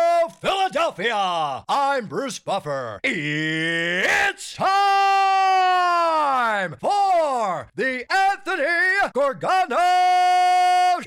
Philadelphia. I'm Bruce Buffer. It's time for the Anthony Gargano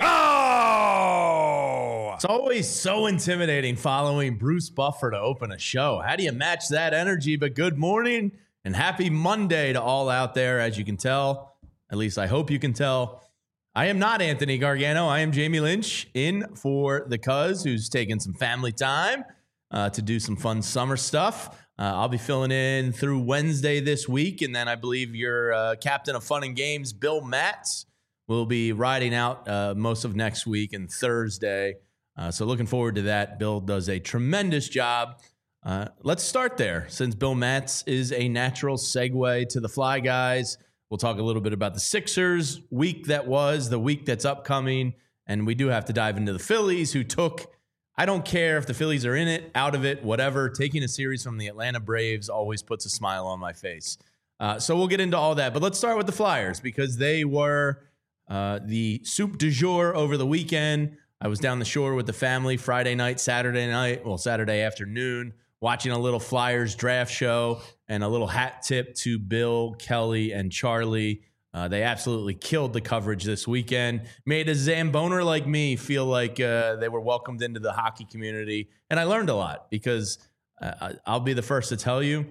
Show. It's always so intimidating following Bruce Buffer to open a show. How do you match that energy? But good morning and happy Monday to all out there. As you can tell, at least I hope you can tell, I am not Anthony Gargano. I am Jamie Lynch in for the Cuz, who's taking some family time to do some fun summer stuff. I'll be filling in through Wednesday this week, and then I believe your captain of fun and games, Bill Matz, will be riding out most of next week and Thursday. So looking forward to that. Bill does a tremendous job. Let's start there, since Bill Matz is a natural segue to the Fly Guys. We'll talk a little bit about the Sixers week that was, the week that's upcoming, and we do have to dive into the Phillies, who took, I don't care if the Phillies are in it, out of it, whatever, taking a series from the Atlanta Braves always puts a smile on my face. So we'll get into all that, but let's start with the Flyers, because they were the soup du jour over the weekend. I was down the shore with the family Friday night, Saturday afternoon, watching a little Flyers draft show and a little hat tip to Bill, Kelly, and Charlie. They absolutely killed the coverage this weekend, made a Zamboner like me feel like they were welcomed into the hockey community. And I learned a lot, because I'll be the first to tell you,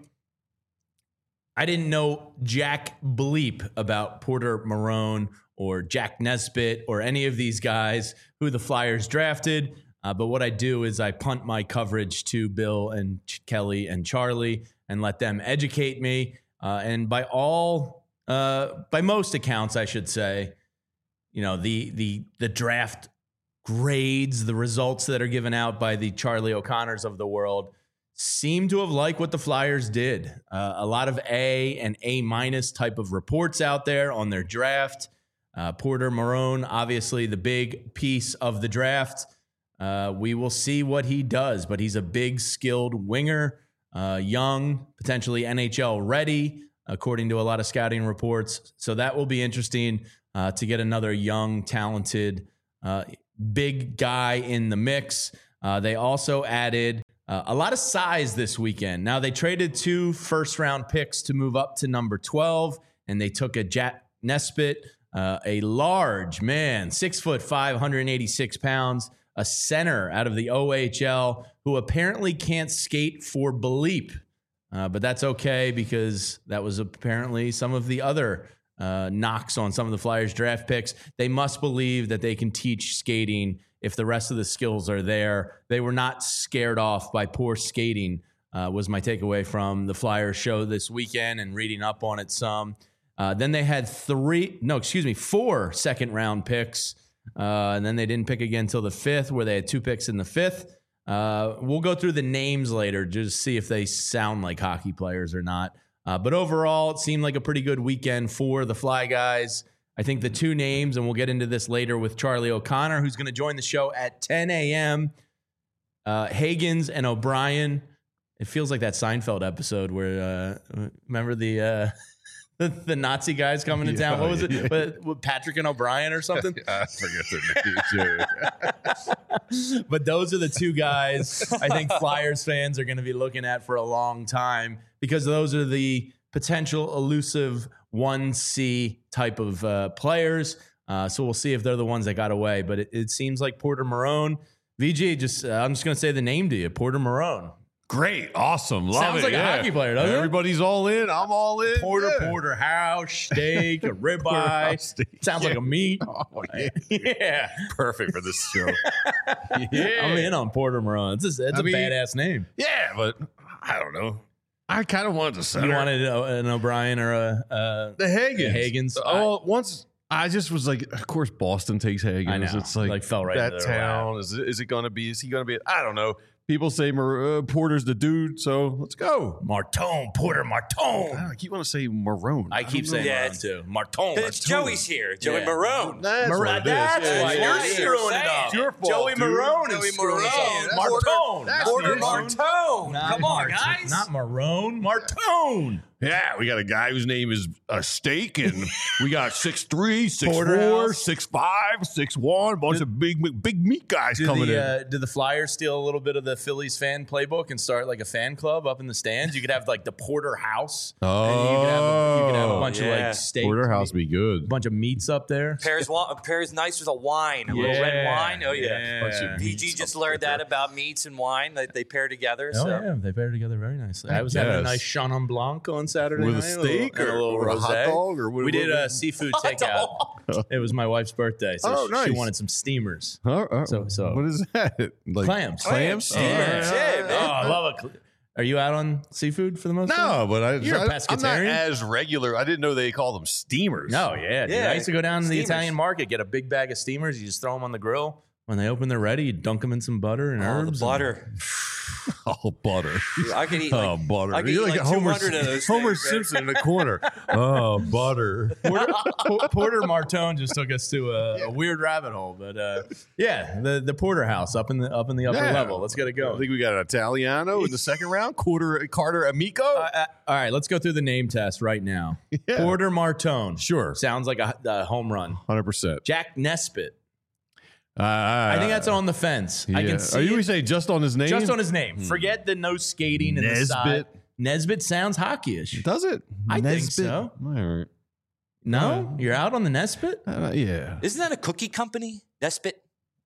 I didn't know jack bleep about Porter Marone or Jack Nesbitt or any of these guys who the Flyers drafted. But what I do is I punt my coverage to Bill and Kelly and Charlie and let them educate me. And by most accounts, I should say, you know, the draft grades, the results that are given out by the Charlie O'Connors of the world seem to have liked what the Flyers did. A lot of A and A- type of reports out there on their draft. Porter Marone, obviously the big piece of the draft. We will see what he does, but he's a big, skilled winger, young, potentially NHL ready, according to a lot of scouting reports. So that will be interesting to get another young, talented, big guy in the mix. They also added a lot of size this weekend. Now, they traded 2 first-round picks to move up to number 12, and they took a Jack Nesbitt, a large man, 6'5", 186 pounds, a center out of the OHL who apparently can't skate for bleep. But that's okay, because that was apparently some of the other knocks on some of the Flyers draft picks. They must believe that they can teach skating if the rest of the skills are there. They were not scared off by poor skating, was my takeaway from the Flyers show this weekend and reading up on it some. Then they had 4 second-round picks. And then they didn't pick again until the 5th, where they had 2 picks in the 5th. We'll go through the names later just to see if they sound like hockey players or not. But overall, it seemed like a pretty good weekend for the Fly Guys. I think the 2 names, and we'll get into this later with Charlie O'Connor, who's going to join the show at 10 a.m., Higgins and O'Brien. It feels like that Seinfeld episode where, remember the Nazi guys coming to town. What was it? With Patrick and O'Brien or something? I forget their names. But those are the 2 guys I think Flyers fans are going to be looking at for a long time, because those are the potential elusive 1C type of players. So we'll see if they're the ones that got away. But it seems like Porter Marone. VG, I'm just going to say the name to you, Porter Marone. Great. Awesome. Love Sounds it. like a hockey player, doesn't it? Everybody's all in. I'm all in. Porterhouse, steak, a ribeye. Sounds like a meat. Oh, yeah. Yeah. Perfect for this show. Yeah. I'm in on Porter Marone. It's a badass name. Yeah, but I don't know. I kind of wanted to center. You wanted an O'Brien or the Higgins. Higgins. Oh, once I just was like, of course, Boston takes Higgins. I know. It's like fell right that into their town. lap. Is it going to be? Is he going to be? I don't know. People say Porter's the dude, so let's go. Martone, Porter Martone. I keep wanting to say Marone. I keep saying Marone too. Martone. It's Joey's here. Joey Yeah. Marone. That's what it is. That's Yeah, why yeah, you're yeah. screwing it up. It's your fault, Joey dude. Marone Joey is screwing us Marone. up. Martone. That's Porter the issue. Martone. Come on, Martone. guys. Not Marone. Martone. Yeah, we got a guy whose name is Steak, and we got 6'3", 6'4", Porterhouse. 6'5", 6'1", bunch of big meat guys coming in. Did the Flyers steal a little bit of the Phillies fan playbook and start like a fan club up in the stands? You could have like the Porterhouse. Oh, and you could have a bunch of like steaks. Porterhouse be A good. bunch of meats up there. Pairs nice with a wine, a little red wine. Oh yeah. PG just learned that about meats and wine that they pair together. Oh So yeah, they pair together very nicely. I was having a guess. nice Chenin Blanc on Saturday With a night, steak and a little or a hot rosé. dog or what? We did a seafood takeout. It was my wife's birthday, so she nice. wanted some steamers. So what is that? Like Clams. Clams? Yeah, Oh, man. I love it. Are you out on seafood for the most part? No, but You're a I'm not pescatarian? as regular. I didn't know they call them steamers. No, yeah, dude. Yeah, I used to go down to the steamers. Italian market, get a big bag of steamers. You just throw them on the grill. When they open, they're ready. You dunk them in some butter and Oh, herbs. the butter. Oh, butter. I could eat. Oh, Like, butter. I could You're eat like like Homer, 200 of those Homer things, man. Simpson in the corner. Oh, butter. Porter Martone just took us to a weird rabbit hole, but the Porterhouse up in the upper Yeah. level. Let's get it I going. think we got an Italiano in the second round. Carter Amico. All right, let's go through the name test right now. Yeah. Porter Martone. Sure. Sounds like a home run. 100%. Jack Nesbitt. I think that's on the fence. I can see Are you it say just on his name? just on his name. Forget the no skating and the Nesbitt. side. Nesbitt sounds hockeyish. Does it? I think Nesbitt? so. All right. No? You're out on the Nesbitt? Yeah. Isn't that a cookie company? Nesbitt.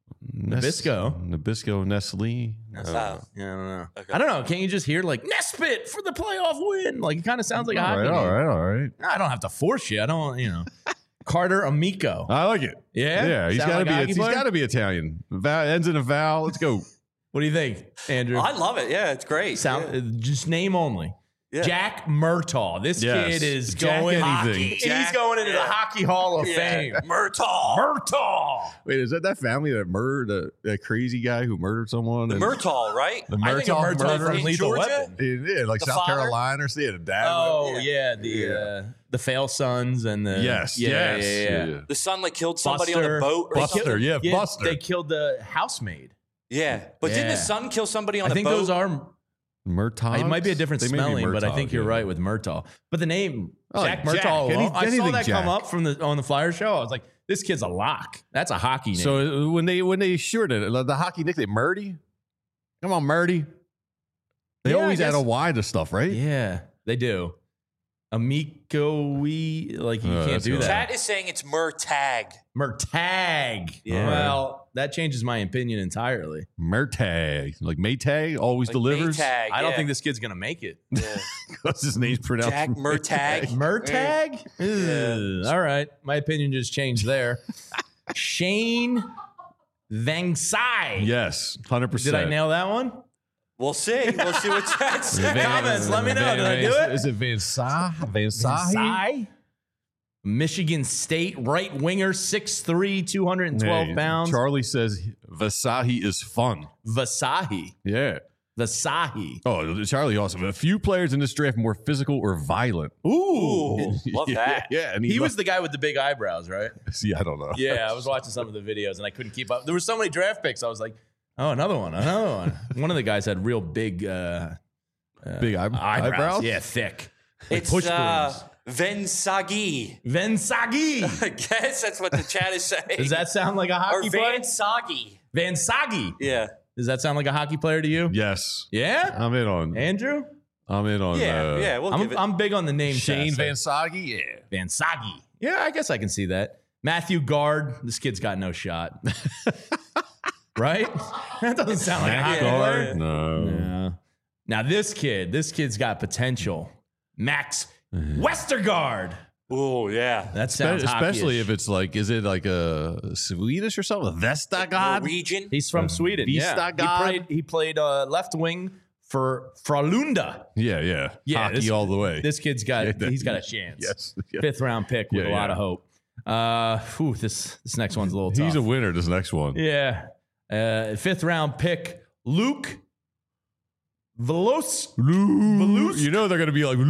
Nabisco, Nestle. Oh. Yeah, I don't know. Okay. I don't know. Can't you just hear like Nesbitt for the playoff win? Like it kind of sounds like a hockey name. All right. I don't have to force you. I don't, Carter Amico. I like it. Yeah? Yeah. He's Sound got to like a be. hockey He's player? got to be Italian. Ends in a vowel. Let's go. What do you think, Andrew? I love it. Yeah, it's great. Just name only. Yeah. Jack Murtaugh. This Yes. kid is Jack going anything. He's Jack- going into the yeah. Hockey Hall of Yeah. Fame. Murtaugh. Murtaugh. Wait, is that family that murdered that crazy guy who murdered someone? The Murtaugh, right? The I think of Murtaugh murder? from In Lethal Georgia? Weapon. Yeah, like The South father? Carolina or the dad. Oh Yeah. the Fail Sons and the Yes. yeah. The son like killed somebody on Buster. a boat or Buster, something. yeah, Yeah, Buster. They killed the housemaid. Yeah. But didn't Yeah. the son kill somebody on I a think boat? those are. Murtaugh. It might be a different spelling, but I think you're right with Murtaugh. But the name Oh, Jack Jack. Murtaugh. alone, I saw Anything that come Jack. up from on the Flyer show. I was like, this kid's a lock. That's a hockey name. So when they shorted it, the hockey nickname Murdy. Come on, Murdy. They Yeah, I always add guess- a Y to stuff, right? yeah, they do. Amico-y, like you can't that's do right. that. Chat is saying it's Murtag. Murtag. Yeah. Well, that changes my opinion entirely. Murtag. Like Maytag always Like delivers. Maytag, I don't yeah. think this kid's gonna make it. Yeah. Because his name's pronounced Jack Murtag. Murtag? Ugh. All right. My opinion just changed there. Shane Vangsai. Yes, 100%. Did I nail that one? We'll see. We'll see what chat says. Comments, let me know. Did I do it? Is it Vansahi? Vangsai? Michigan State right winger, 6'3", 212 Hey, pounds. Charlie says Vasahi is fun. Vasahi. Yeah. Vasahi. Oh, Charlie also. A few players in this draft more physical or violent. Ooh. Love that. Yeah, and He was the guy with the big eyebrows, right? See, I don't know. Yeah, I was watching some of the videos and I couldn't keep up. There were so many draft picks. I was like, oh, another one. One of the guys had real big Big eyebrows. Yeah, thick. Like It's push brooms. Vensagi. Vensagi. I guess that's what the chat is saying. Does that sound like a or hockey player? Vansagi. Vansagi. Yeah. Does that sound like a hockey player to you? Yes. Yeah? I'm in on. Andrew? I'm in on. Yeah. Yeah. We'll give it. I'm big on the name Shane test. Vansagi. Yeah. Vansagi. Yeah, I guess I can see that. Matthew Guard. This kid's got no shot. Right? That doesn't sound like a hockey player. No. Yeah. Now this kid's got potential. Max Westergaard. Oh, yeah. That sounds Especially hockeyish. if it's like, is it like a Swedish or something? Vestagard? Norwegian. He's from Sweden. Yeah. Vistagard. He played left wing for Frölunda. Yeah, yeah. Yeah, Hockey this- all the way. This kid's got Yeah, he's got a chance. Yes. Yeah. 5th round pick with Yeah, a lot yeah. of hope. This next one's a little tough. He's a winner, this next one. Yeah. 5th round pick, Luke Velos. You know they're going to be like,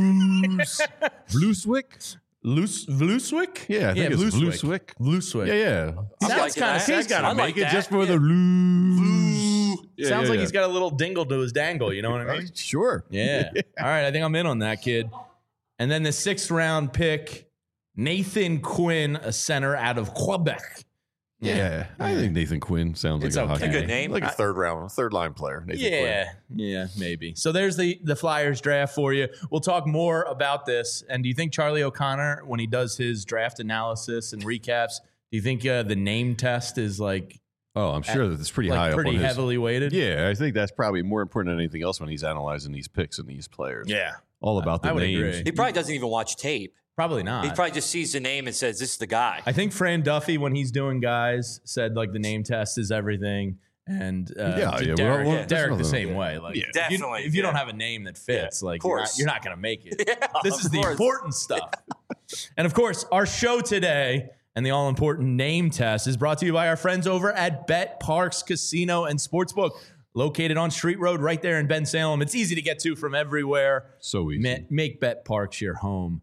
Blueswick? Vluswick? Yeah, I think it's Vluswick. Vluswick. Yeah, yeah. Sounds liking kind of that. He's got to I make like it that. just for Yeah. the blues. Yeah, Sounds yeah, like yeah. he's got a little dingle to his dangle. You know what I mean? Sure. Yeah. All right. I think I'm in on that kid. And then the 6th round pick, Nathan Quinn, a center out of Quebec. Yeah, I think Nathan Quinn sounds It's like a okay. hockey A good name. like a third line player. Nathan Quinn. Yeah, maybe. So there's the Flyers draft for you. We'll talk more about this. And do you think Charlie O'Connor, when he does his draft analysis and recaps, do you think the name test is like Oh, I'm sure that it's pretty high up pretty on his. heavily weighted? Yeah, I think that's probably more important than anything else when he's analyzing these picks and these players. Yeah. All about the I would names. agree. He probably doesn't even watch tape. Probably not. He probably just sees the name and says, "This is the guy." I think Fran Duffy, when he's doing guys, said like the name test is everything. And Derek, there's Derek the nothing- same way. Like, Yeah. Definitely, if you don't yeah. have a name that fits, like course. you're not going to make it. Yeah, This is of the course. important stuff. And of course, our show today and the all-important name test is brought to you by our friends over at Bet Parks Casino and Sportsbook, located on Street Road right there in Ben Salem. It's easy to get to from everywhere. So easy. Make Bet Parks your home.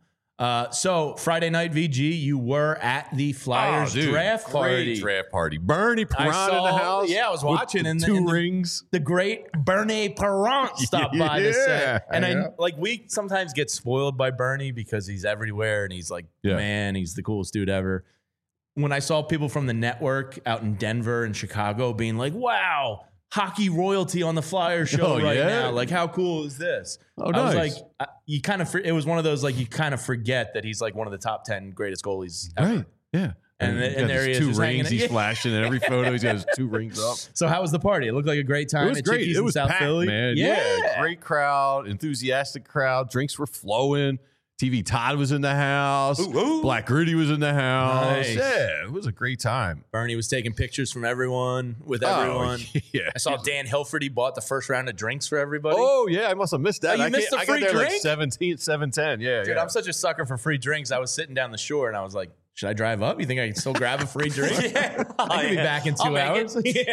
So Friday night, VG, you were at the Flyers draft party. Great draft party. Bernie I Perron in the saw- house. yeah, I was with watching the in the- two in the- rings. The great Bernie Perron stopped by to say, Yeah, and yeah. we sometimes get spoiled by Bernie because he's everywhere and he's like, Yeah. man, he's the coolest dude ever. When I saw people from the network out in Denver and Chicago being like, wow, hockey royalty on the Flyers show Oh, right yeah? now. Like, how cool is this? Oh, I was nice. like, you kind of, it was one of those, like, you kind of forget that he's like one of the top 10 greatest goalies ever. Right. Yeah. And he's there got he his is, two just hanging rings. it. He's Yeah. flashing in every photo. He's got his 2 rings up. So how was the party? It looked like a great time. It was at great. Chickies It in was South packed, Philly. man. Yeah. Great crowd, enthusiastic crowd. Drinks were flowing. TV Todd was in the house. Ooh. Black Rudy was in the house. Nice. Yeah, it was a great time. Bernie was taking pictures from everyone with everyone. Oh, yeah. I saw Dan Hilferty bought the first round of drinks for everybody. Oh, yeah. I must have missed that. Oh, you I missed the I free got there drink? like 7:10. Yeah, Dude, yeah. I'm such a sucker for free drinks. I was sitting down the shore and I was like, should I drive up? You think I can still grab a free drink? Yeah. I could be back in 2 I'll make hours.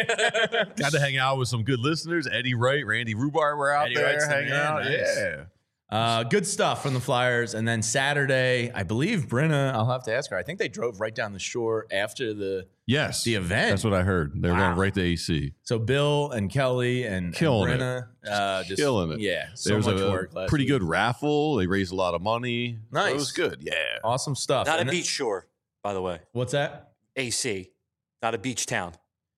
Got to hang out with some good listeners. Eddie Wright, Randy Rubar were out Eddie there Wright's the hanging man. out. Nice. Yeah. Good stuff from the Flyers. And then Saturday, I believe Brenna, I'll have to ask her. I think they drove right down the shore after the Yes. The event. That's what I heard. They were Wow. going right to AC. So Bill and Kelly and Killing it. Brenna, just Killing it. Yeah, so There was much a work. Last pretty week. good raffle. They raised a lot of money. Nice. It was good. Yeah. Awesome stuff. Not a And beach shore, by the way. What's that? AC, not a beach town.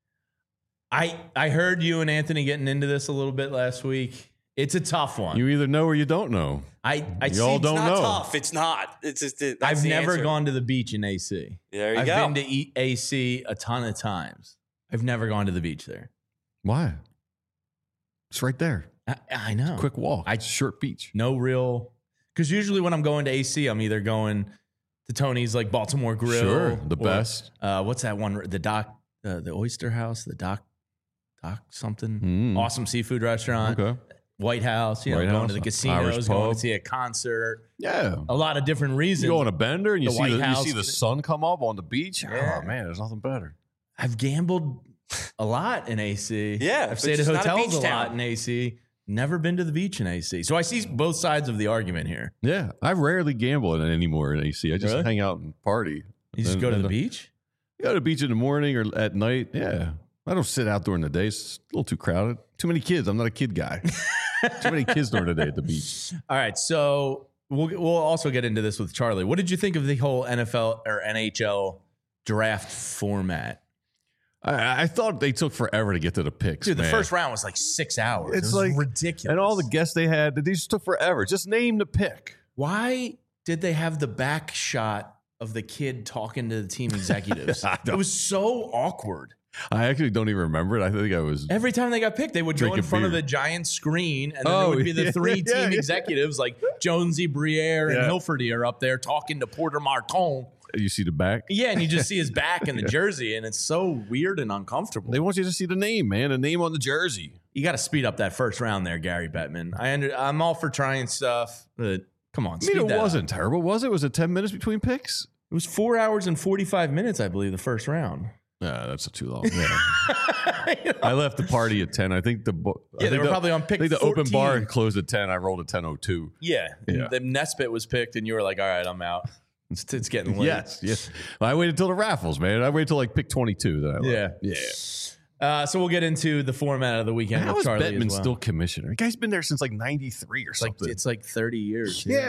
I heard you and Anthony getting into this a little bit last week. It's a tough one. You either know or you don't know. I You see, all It's don't not know. tough. It's not. It's just. That's I've the never answer. gone to the beach in AC. There you I've go. been to AC a ton of times. I've never gone to the beach there. Why? It's right there. I know. Quick walk. It's short beach. No real. Because usually when I'm going to AC, I'm either going to Tony's like Baltimore Grill. Sure, the or, best. What's that one? The Oyster House, the Dock something. Mm. Awesome seafood restaurant. Okay. White House. You know, White going House, to the Irish casinos, going pub. to see a concert. Yeah. A lot of different reasons. You go on a bender and you The see White the, you House. see the sun come up on the beach. Yeah. Oh man, there's nothing better. I've gambled a lot in AC. Yeah, I've but stayed at it's not a hotels beach a lot town. in AC. Never been to the beach in AC. So I see both sides of the argument here. Yeah, I rarely gamble anymore in AC. I just Really? hang out and party. You just And- go to and the beach? You go to the beach in the morning or at night. Yeah, I don't sit out during the day. It's a little too crowded. Too many kids. I'm not a kid guy. Too many kids during the day at the beach. All right. So we'll also get into this with Charlie. What did you think of the whole NFL or NHL draft format? I thought they took forever to get to the picks. Dude, the man. first round was like 6 hours. It's it was like- ridiculous. and all the guests they had, they just took forever. Just name the pick. Why did they have the back shot of the kid talking to the team executives? I don't- It was so awkward. I actually don't even remember it. I think I was. Every time they got picked, they would go in Drinking front of beer. the giant screen, and then Oh, there would be the yeah, three yeah, team yeah. executives like Jonesy, Briere, and Yeah. Hilferty are up there talking to Porter Marton. You see the back. Yeah, and you just see his back in the jersey, and it's so weird and uncomfortable. They want you to see the name, man. The name on the jersey. You got to speed up that first round there, Gary Bettman. I'm all for trying stuff, but come on, I speed mean, it that up. wasn't terrible, was it? Was it 10 minutes between picks? It was 4 hours and 45 minutes, I believe, the first round. Yeah, that's too long. Yeah. I left the party at 10. I think the Yeah, they were probably on pick I think the 14. open bar closed at 10. I rolled at 10:02. Yeah, Yeah. the Nesbitt was picked, and you were like, "All right, I'm out. It's getting late." Yes. Well, I waited till the raffles, man. I waited till like pick 22. Then I left. Yeah. So we'll get into the format of the weekend How with is Charlie Bettman as well. still commissioner? The guy's been there since like 93 or It's like something. it's like 30 years. yeah.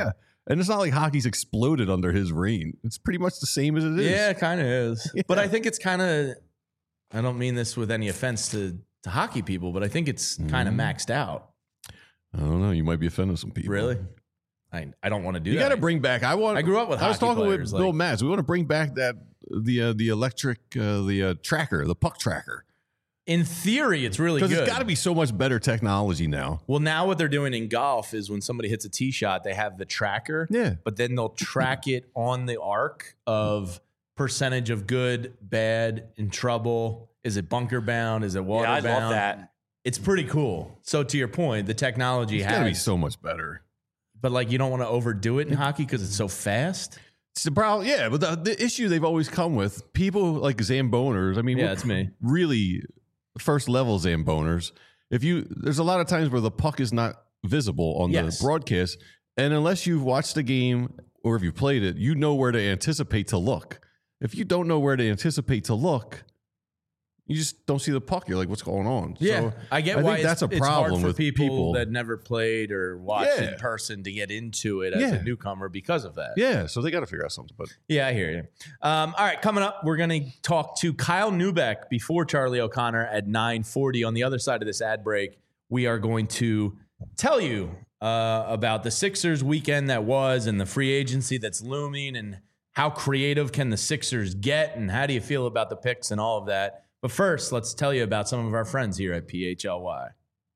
And it's not like hockey's exploded under his reign. It's pretty much the same as it is. Yeah, it kind of is. Yeah. But I think it's kind of, I don't mean this with any offense to hockey people, but I think it's kind of maxed out. I don't know. You might be offending some people. Really? I don't want to do You that. got to bring back. I grew up with. I was talking with Bill Matz. We want to bring back the electric tracker, the puck tracker. In theory, it's really good. Because it's got to be so much better technology now. Well, now what they're doing in golf is when somebody hits a tee shot, they have the tracker. Yeah. But then they'll track it on the arc of percentage of good, bad, in trouble. Is it bunker bound? Is it water bound? I love that. It's pretty cool. So to your point, the technology It's got to be so much better. But like, you don't want to overdo it in hockey because it's so fast. It's the problem. Yeah, but the issue they've always come with, people like Zamboners. I mean, Yeah, it's me. Really, first level Zamboners. There's a lot of times where the puck is not visible on the broadcast, and unless you've watched the game or if you played it, you know where to anticipate to look. If you don't know where to anticipate to look, you just don't see the puck. You're like, what's going on? Yeah, So I get why that's a it's problem hard for with people that never played or watched Yeah. in person to get into it as a newcomer because of that. Yeah, so they got to figure out something. But Yeah, I hear you. All right, coming up, we're going to talk to Kyle Neubeck before Charlie O'Connor at 9:40. On the other side of this ad break, we are going to tell you about the Sixers weekend that was and the free agency that's looming and how creative can the Sixers get and how do you feel about the picks and all of that. But first, let's tell you about some of our friends here at PHLY.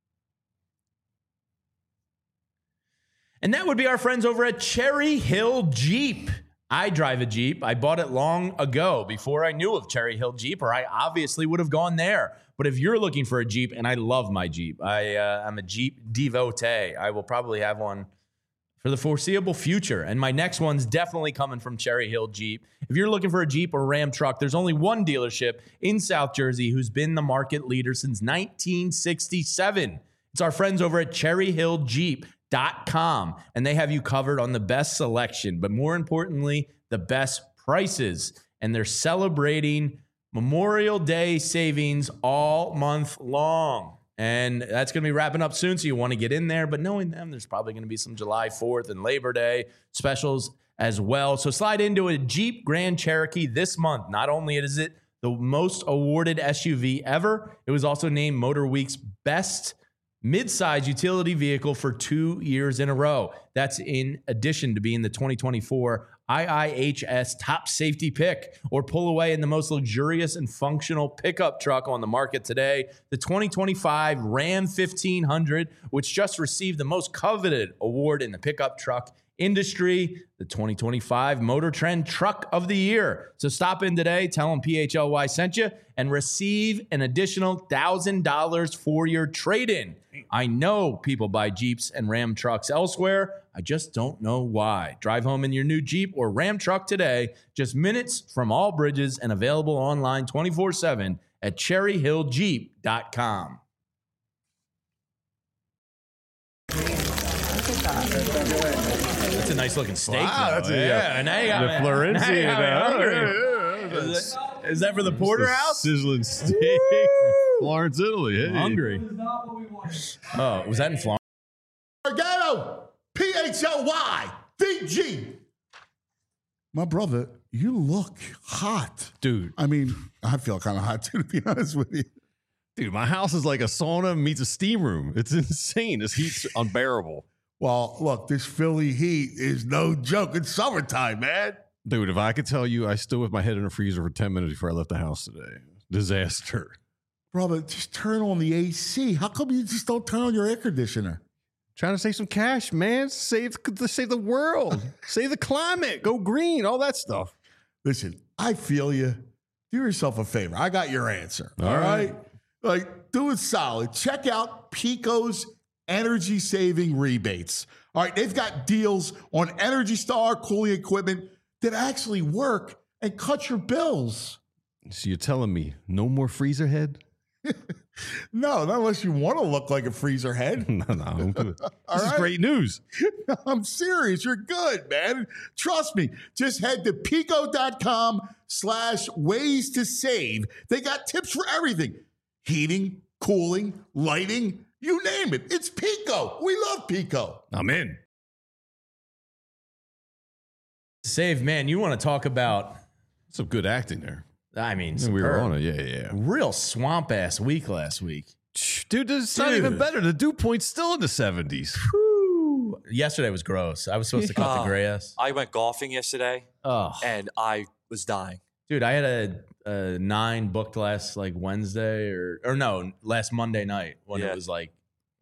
And that would be our friends over at Cherry Hill Jeep. I drive a Jeep. I bought it long ago before I knew of Cherry Hill Jeep, or I obviously would have gone there. But if you're looking for a Jeep, and I love my Jeep, I'm a Jeep devotee. I will probably have one for the foreseeable future. And my next one's definitely coming from Cherry Hill Jeep. If you're looking for a Jeep or Ram truck, there's only one dealership in South Jersey who's been the market leader since 1967. It's our friends over at cherryhilljeep.com. And they have you covered on the best selection, but more importantly, the best prices. And they're celebrating Memorial Day savings all month long. And that's going to be wrapping up soon, so you want to get in there. But knowing them, there's probably going to be some July 4th and Labor Day specials as well. So slide into a Jeep Grand Cherokee this month. Not only is it the most awarded SUV ever, it was also named Motor Week's best midsize utility vehicle for 2 years in a row. That's in addition to being the 2024 IIHS top safety pick, or pull away in the most luxurious and functional pickup truck on the market today, the 2025 Ram 1500, which just received the most coveted award in the pickup truck industry, the 2025 Motor Trend Truck of the Year. So stop in today, tell them PHLY sent you, and receive an additional $1,000 for your trade-in. I know people buy Jeeps and Ram trucks elsewhere. I just don't know why. Drive home in your new Jeep or Ram truck today, just minutes from all bridges, and available online 24/7 at cherryhilljeep.com. That's a nice looking steak. Wow, though. that's now you got the me. Florenzi. Now you got me hungry. Is that for the porterhouse? Sizzling steak from Florence, Italy. Hey. I'm hungry. Oh, was that in Florence? Gargano, PHLY, VG. My brother, you look hot. Dude. I mean, I feel kind of hot too, to be honest with you. Dude, my house is like a sauna meets a steam room. It's insane. This heat's unbearable. Well, look, this Philly heat is no joke. It's summertime, man. Dude, if I could tell you, I stood with my head in a freezer for 10 minutes before I left the house today. Disaster. Brother, just turn on the AC. How come you just don't turn on your air conditioner? Trying to save some cash, man. Save the world. Save the climate. Go green. All that stuff. Listen, I feel you. Do yourself a favor. I got your answer. All right. Like, do it solid. Check out Pico's energy saving rebates. All right. They've got deals on Energy Star cooling equipment that actually work and cut your bills. So you're telling me no more freezer head? No, not unless you want to look like a freezer head. No. I'm good. This is right. great news. I'm serious. You're good, man. Trust me. Just head to pico.com/ways to save. They got tips for everything. Heating, cooling, lighting, you name it. It's Pico. We love Pico. I'm in. Save, man, you want to talk about, Some good acting there. I mean, We were superb. on it. Yeah. Real swamp-ass week last week. Dude, it's not even better. The dew point's still in the 70s. Whew. Yesterday was gross. I was supposed to cut the grass. I went golfing yesterday, Oh, and I was dying. dude, I had a 9 booked last like Wednesday or no, last Monday night when it was like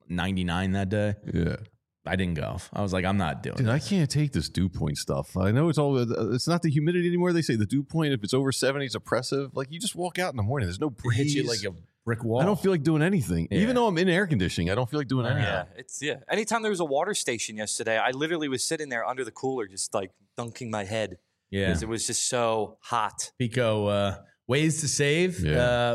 99 that day. Yeah. I didn't golf. I was like, I'm not doing Dude, it. I can't take this dew point stuff. I know it's not the humidity anymore. They say the dew point, if it's over 70, is oppressive. Like, you just walk out in the morning. There's no It breeze. hits you like a brick wall. I don't feel like doing anything. Yeah. Even though I'm in air conditioning, I don't feel like doing anything. Anytime there was a water station yesterday, I literally was sitting there under the cooler, just like dunking my head because it was just so hot. Pico, ways to save. Yeah.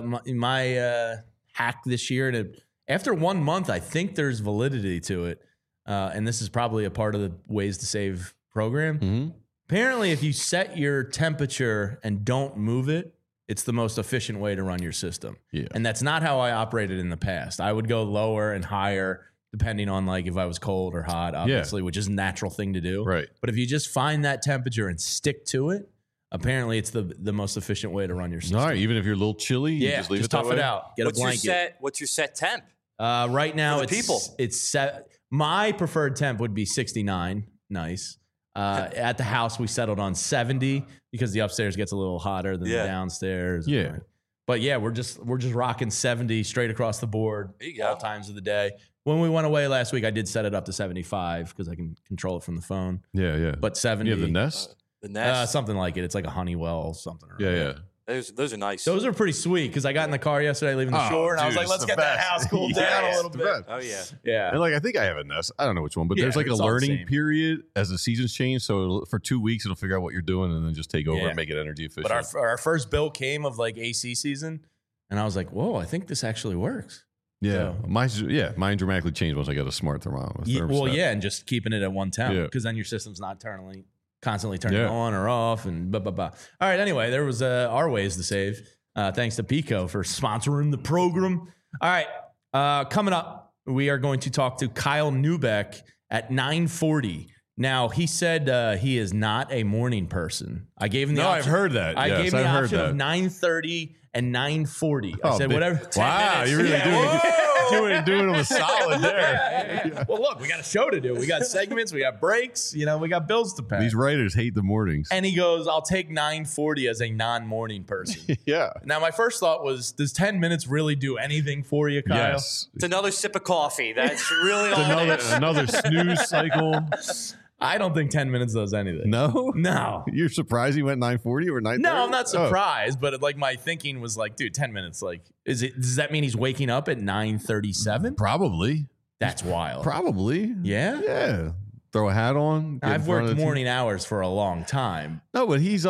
My hack this year, and after 1 month, I think there's validity to it. And this is probably a part of the ways to save program. Mm-hmm. Apparently, if you set your temperature and don't move it, it's the most efficient way to run your system. Yeah. And that's not how I operated in the past. I would go lower and higher depending on like if I was cold or hot, obviously, which is a natural thing to do. Right. But if you just find that temperature and stick to it, apparently it's the most efficient way to run your system. All right. Even if you're a little chilly, you Yeah, just leave just it that tough way? it out. Get a blanket. What's your set temp? Right now, For the people. it's set. My preferred temp would be 69. Nice. At the house, we settled on 70 because the upstairs gets a little hotter than the downstairs. Yeah. But yeah, we're just rocking 70 straight across the board There you go. all times of the day. When we went away last week, I did set it up to 75 because I can control it from the phone. Yeah. But 70, You have the Nest? The Nest. something like it. It's like a Honeywell something. or Yeah. those are nice. Those are pretty sweet because I got in the car yesterday leaving the shore and I was dude, like, it's let's the get that best. house cooled Yeah, down a it's little the bit. best. Oh yeah. Yeah. And like, I think I have a Nest. I don't know which one, but Yeah, there's like a it's all the learning same. period as the seasons change. So for 2 weeks, it'll figure out what you're doing and then just take over Yeah. and make it energy efficient. But our first bill came of like AC season, and I was like, "Whoa, I think this actually works." yeah. So- Mine dramatically changed once I got a smart thermometer. And just keeping it at one temp Yeah. because then your system's not constantly turning Yeah. on or off, and blah blah blah. All right. Anyway, there was our ways to save. Thanks to Pico for sponsoring the program. All right, coming up, we are going to talk to Kyle Neubeck at 9:40. Now, he said he is not a morning person. I gave him the No, option. I've heard that. I Yes, gave him the I've heard option of that. 9:30 and 9:40. I said, big- whatever. 10 Wow, minutes. you're really Yeah. doing them a solid there. Yeah. Well, look, we got a show to do. We got segments, we got breaks, we got bills to pay. These writers hate the mornings. And he goes, I'll take 9:40 as a non-morning person. Yeah. Now, my first thought was, does 10 minutes really do anything for you, Kyle? Yes. It's another sip of coffee. That's really all it is. Another snooze cycle. I don't think 10 minutes does anything. No? No. You're surprised he went 9:40 or 9:30? No, I'm not surprised, but like my thinking was like, dude, 10 minutes, like, does that mean he's waking up at 9:37? Probably. That's wild. Probably. Yeah? Yeah. Throw a hat on. get in I've front of worked the morning hours for a long time. No, but he's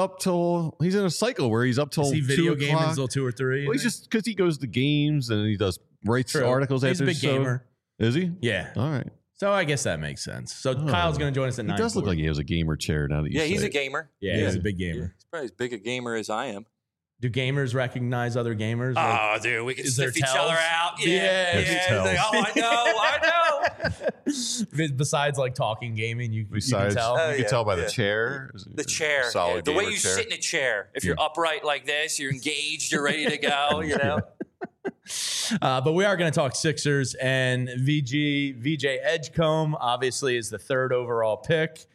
in a cycle where he's up till Is he 2 video gaming o'clock. until 2 or 3? Well, he's just because he goes to games and he writes True. articles He's after a big the show. gamer. Is he? Yeah. All right. So I guess that makes sense. So Kyle's going to join us at 9:40. He does look like he has a gamer chair now that you Yeah, say he's a it. gamer. Yeah, he's a big gamer. He's probably as big a gamer as I am. Do gamers recognize other gamers? Like, Oh, dude, we can is there sniff each tells? other out. Yeah, Yeah. there's It's like, tells. oh, I know. besides like talking gaming, you Besides, can tell. you Oh, can yeah, tell by yeah. the chair. The chair. Solid Yeah. The way gamer you chair. sit in a chair. If you're upright like this, you're engaged, you're ready to go, But we are going to talk Sixers, and VJ Edgecombe obviously is the 3rd overall pick.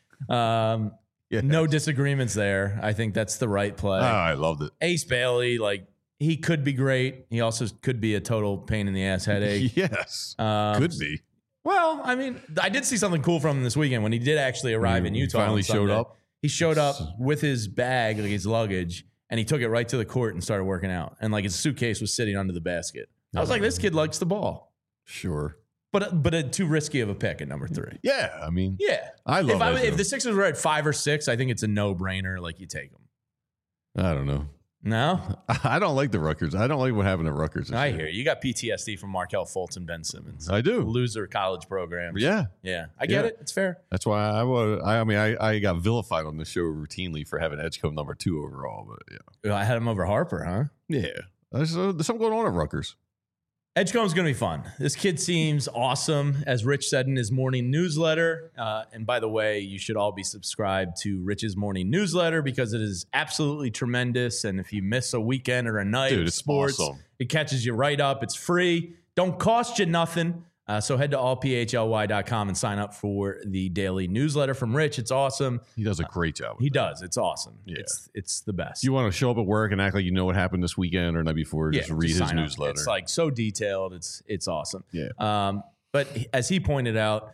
No disagreements there. I think that's the right play. Oh, I loved it. Ace Bailey, like, he could be great. He also could be a total pain in the ass headache. Yes. Um, Could be. Well, I mean, I did see something cool from him this weekend when he did actually arrive in He Utah. finally on showed Sunday. up? He showed up with his bag, like his luggage, and he took it right to the court and started working out. And like his suitcase was sitting under the basket. I was like, this kid likes the ball, Sure. but too risky of a pick at number 3. Yeah. I mean, Yeah, I love it. if the Sixers were at 5 or 6, I think it's a no brainer. Like you take them. I don't know. No, I don't like the Rutgers. I don't like what happened at Rutgers. this I year. hear you got PTSD from Markelle Fultz and Ben Simmons. I do. Loser college programs. Yeah. Yeah, I get Yeah. it. It's fair. That's why I got vilified on the show routinely for having Edgecombe number 2 overall. But yeah. I had him over Harper, huh? Yeah. There's something going on at Rutgers. Edgecombe's going to be fun. This kid seems awesome, as Rich said in his morning newsletter. And by the way, you should all be subscribed to Rich's morning newsletter because it is absolutely tremendous. And if you miss a weekend or a night of sports, awesome. It catches you right up. It's free. Don't cost you nothing. So head to allphly.com and sign up for the daily newsletter from Rich. It's awesome. He does a great job. He does. It's awesome. Yeah. It's the best. You want to show up at work and act like you know what happened this weekend or night before, just read his newsletter. It's like so detailed. It's awesome. Yeah. But as he pointed out,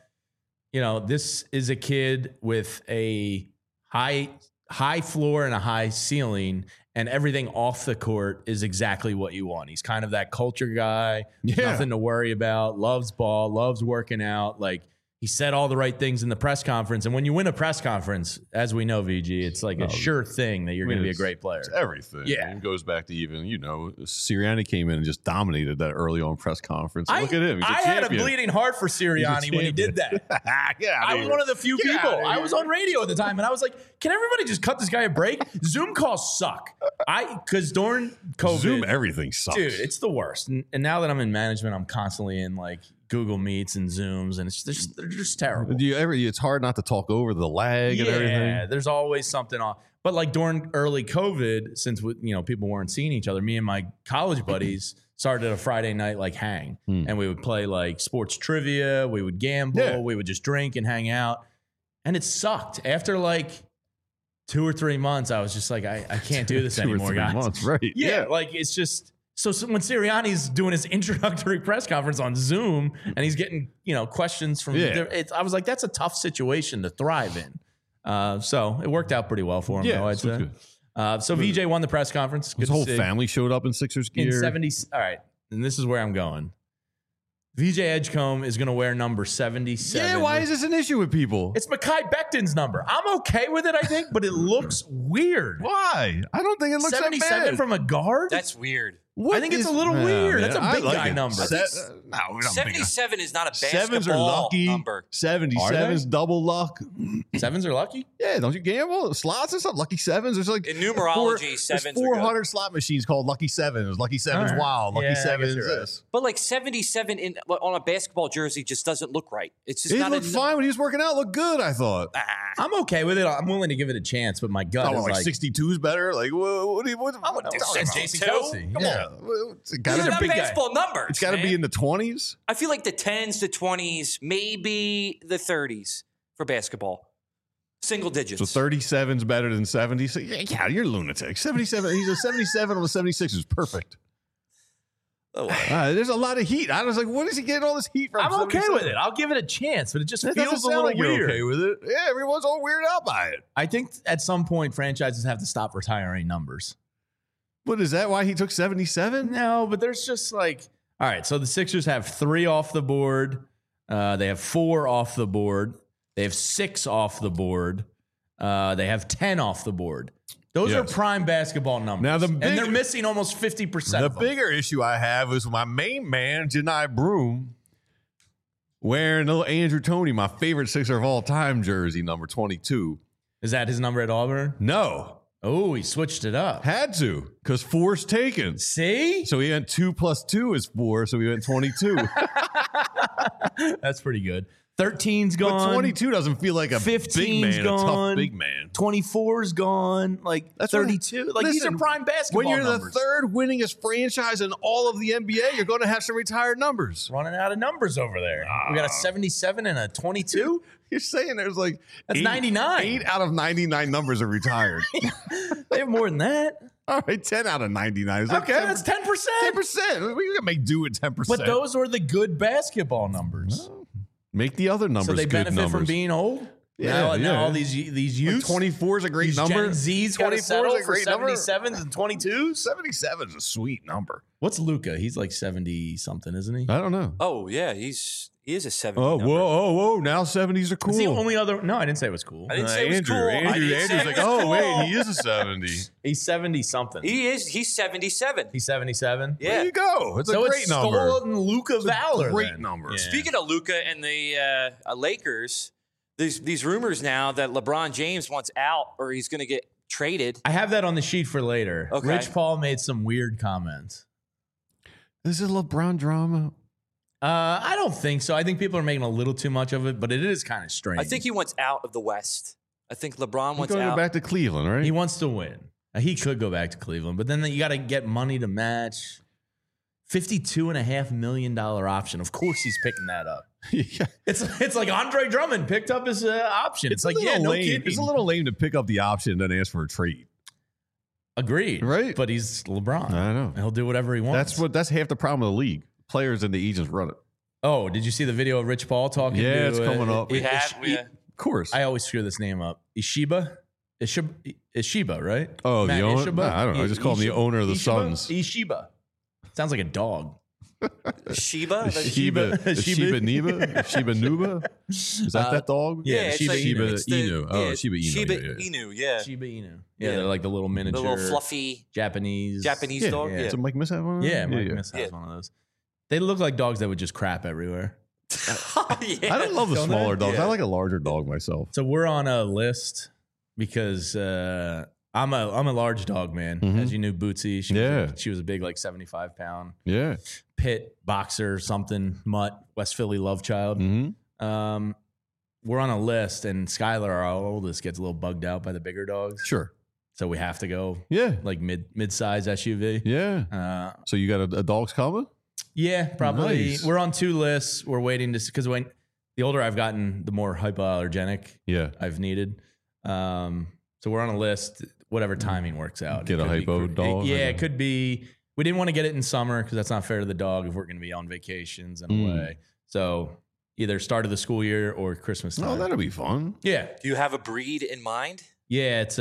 this is a kid with a high floor and a high ceiling, and everything off the court is exactly what you want. He's kind of that culture guy. Nothing to worry about. Loves ball. Loves working out. Like, he said all the right things in the press conference. And when you win a press conference, as we know, VG, it's like a sure thing that you're going to be a great player. It's everything. Yeah. It goes back to even, Sirianni came in and just dominated that early on press conference. Look at him. I had a bleeding heart for Sirianni when he did that. I was one of the few people. I was on radio at the time, and I was like, can everybody just cut this guy a break? Zoom calls suck. Because during COVID. Zoom, everything sucks. Dude, it's the worst. And now that I'm in management, I'm constantly in like Google Meets and Zooms, and they're just terrible. It's hard not to talk over the lag and everything. Yeah, there's always something off. But like during early COVID, since people weren't seeing each other, me and my college buddies started a Friday night like hang, and we would play like sports trivia, we would gamble, we would just drink and hang out, and it sucked. After like 2 or 3 months, I was just like, I can't do this anymore, guys. 2 or 3 months, right? Yeah, like it's just. So when Sirianni's doing his introductory press conference on Zoom and he's getting, questions from, I was like, that's a tough situation to thrive in. So it worked out pretty well for him, though, I'd say. So VJ won the press conference. His whole family showed up in Sixers gear. In 70. All right. And this is where I'm going. VJ Edgecombe is going to wear number 77. Yeah, why is this an issue with people? It's Mekhi Becton's number. I'm okay with it, I think, but it looks weird. Why? I don't think it looks 77 that bad. From a guard? That's weird. I think it's a little weird. That's a big guy number. 77 is not a Sevens are lucky. number. 77's double luck. Sevens are lucky? Yeah, don't you gamble? Slots and stuff. Lucky sevens. There's like in numerology, sevens. 400 slot machines called Lucky Sevens. Lucky Sevens Wild. Lucky Sevens this. But like 77 on a basketball jersey just doesn't look right. It's just not. It looked fine when he was working out. Looked good, I thought. I'm okay with it. I'm willing to give it a chance, but my gut is like 62 is better. Like what do you? I would do Jason Kelce. Come on. It's got to be baseball numbers. It's got to be in the 20s. I feel like the 10s, the 20s, maybe the 30s for basketball. Single digits. So 37's better than 70. So yeah, you're a lunatic. 77. He's a 77 on the 76 is perfect. There's a lot of heat. I was like, what is he getting all this heat from? I'm okay with it. I'll give it a chance, but it just feels a little like weird. You're okay with it? Yeah, everyone's all weirded out by it. I think at some point franchises have to stop retiring numbers. What is that? Why he took 77? No, but there's just like, all right. So the Sixers have 3 off the board. They have 4 off the board. They have 6 off the board. They have 10 off the board. Those are prime basketball numbers. Now and they're missing almost 50%. The bigger issue I have is my main man, Janai Broom, wearing little Andrew Toney, my favorite Sixer of all time jersey, number 22. Is that his number at Auburn? No. Oh, he switched it up. Had to, because 4's taken. See? So he went 2 plus 2 is 4, so he went 22. That's pretty good. 13's gone. But 22 doesn't feel like a big man, gone. a tough big man. 24's gone. Like that's 32. Like these are prime basketball When you're numbers. The third winningest franchise in all of the NBA, you're going to have some retired numbers. Running out of numbers over there. We got a 77 and a 22. You're saying there's like that's 99. 8 out of 99 numbers are retired. They have more than that. All right, 10 out of 99. Is okay, that's 10%. 10%. We can make do with 10%. But those were the good basketball numbers. Make the other numbers. So they good benefit numbers. from being old. Yeah, now all these youths. 24 is a great number. Gen Z's got to settle for 77s and 22s. 77 is a sweet number. What's Luka? He's like 70 something, isn't he? I don't know. Oh yeah, he is a 70. Oh number. whoa! Now 70s are cool. It's the only other. No, I didn't say it was cool. I didn't say it was cool. Andrew's like, oh wait, he is a 70. He's 70 something. He is. He's 77. He's 77. Yeah. There you go. It's a great number. So it's Luka Valor. Great number. Yeah. Speaking of Luka and the Lakers, there's these rumors now that LeBron James wants out or he's going to get traded. I have that on the sheet for later. Okay. Rich Paul made some weird comments. Is it LeBron drama? I don't think so. I think people are making a little too much of it, but it is kind of strange. I think he wants out of the West. I think LeBron wants He's going out. to go back to Cleveland, right? He wants to win. He could go back to Cleveland, but then you got to get money to match. $52.5 million option. Of course, he's picking that up. Yeah. It's like Andre Drummond picked up his option. It's like, yeah, no kidding. It's a little lame to pick up the option and then ask for a trade. Agreed. Right. But he's LeBron. I know. He'll do whatever he wants. That's half the problem of the league. Players and the agents run it. Oh, did you see the video of Rich Paul talking? Yeah, to, it's coming up. We have. Of course. I always screw this name up. Ishiba, right? Oh, Matt the owner? Ishiba? Nah, I don't know. I just call him the owner of the Suns. Ishiba. Sounds like a dog. Sheba? Shiba Nuba? Is that dog? Yeah, it's Shiba like- Inu. it's the- Inu. Oh, Shiba Inu. Shiba yeah, yeah. Inu, yeah. Shiba Inu. Yeah, Yeah. they're like the little The miniature, little fluffy Japanese Yeah, dog. yeah. Yeah. Is it Mike Miss have one? Yeah, Mike Miss Yeah. has one of those. They look like dogs that would just crap everywhere. Yeah. I don't love the Don't smaller they? dogs. Yeah. I like a larger dog myself. So we're on a list because I'm a large dog man. Mhm. As you knew, Bootsy. She was a big, like 75-pound Yeah. pit boxer, something mutt, West Philly love child. Mm-hmm. We're on a list, and Skylar, our oldest, gets a little bugged out by the bigger dogs. Sure. So we have to go Yeah. like mid-size SUV. Yeah. So you got a dog's coming? Yeah, probably. Nice. We're on 2 lists. We're waiting to, because when the older I've gotten, the more hypoallergenic Yeah. I've needed. So we're on a list. Whatever timing works out. Get It a could be hypo dog? Yeah, it could be. We didn't want to get it in summer because that's not fair to the dog if we're going to be on vacations and away. So either start of the school year or Christmas time. Oh, that'll be fun. Yeah, Do you have a breed in mind? yeah. It's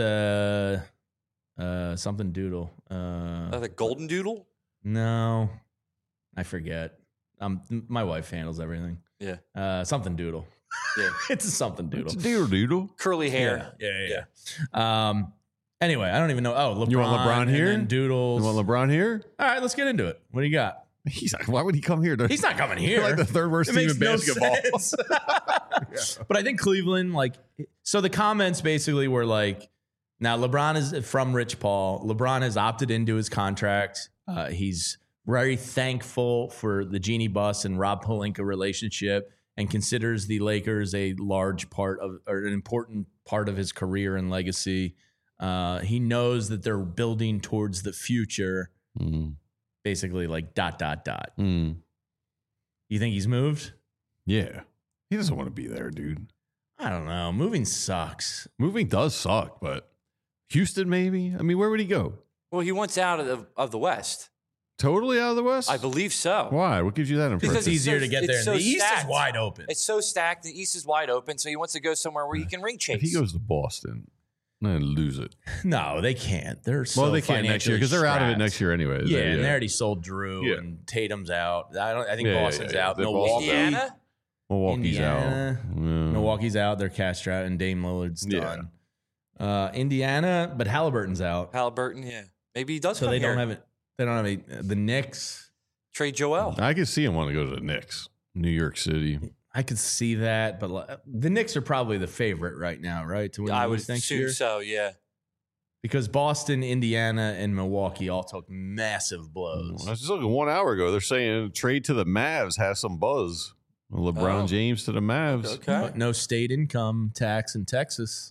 something doodle. The golden doodle? No, I forget. My wife handles everything. Yeah. Something doodle. Yeah. It's a something doodle. It's a doodle. Curly hair. Yeah. Anyway, I don't even know. Oh, LeBron. You want LeBron and here? then Doodles. You want LeBron here? All right, let's get into it. What do you got? He's like, why would he come here? He's not coming You're here. like the third worst It team makes in no basketball. sense. But I think Cleveland, so the comments basically were like, now LeBron is from Rich Paul. LeBron has opted into his contract. He's very thankful for the Jeannie Buss and Rob Pelinka relationship and considers the Lakers a large part of, or an important part of his career and legacy. He knows that they're building towards the future, basically like ... You think he's moved? Yeah. He doesn't want to be there, dude. I don't know. Moving sucks. Moving does suck, but Houston maybe? I mean, where would he go? Well, he wants out of the West. Totally out of the West? I believe so. Why? What gives you that impression? Because It's easier so- to get there. it's And so the East stacked. is wide open. It's so stacked. The East is wide open, so he wants to go somewhere where he can ring chase. If he goes to Boston, then lose it. No, they can't. They're so Well, they can't next year because they're out of it financially next year anyway. strapped. Yeah, and they already sold Drew Yeah. and Tatum's out. I think Yeah, Boston's yeah, yeah. out. They're Milwaukee, Indiana? Milwaukee's Indiana. out. Yeah. Milwaukee's out. They're cashed out, and Dame Lillard's done. Indiana, but Halliburton's out, Halliburton, yeah. Maybe he does so come they here. don't have it. They don't have the Knicks. Trade Joel. I could see him want to go to the Knicks, New York City. I could see that, but the Knicks are probably the favorite right now, right? To win I the would East next assume year, so, yeah. because Boston, Indiana, and Milwaukee all took massive blows. I was just looking 1 hour ago. They're saying trade to the Mavs has some buzz. LeBron Oh. James to the Mavs. Okay. But no state income tax in Texas.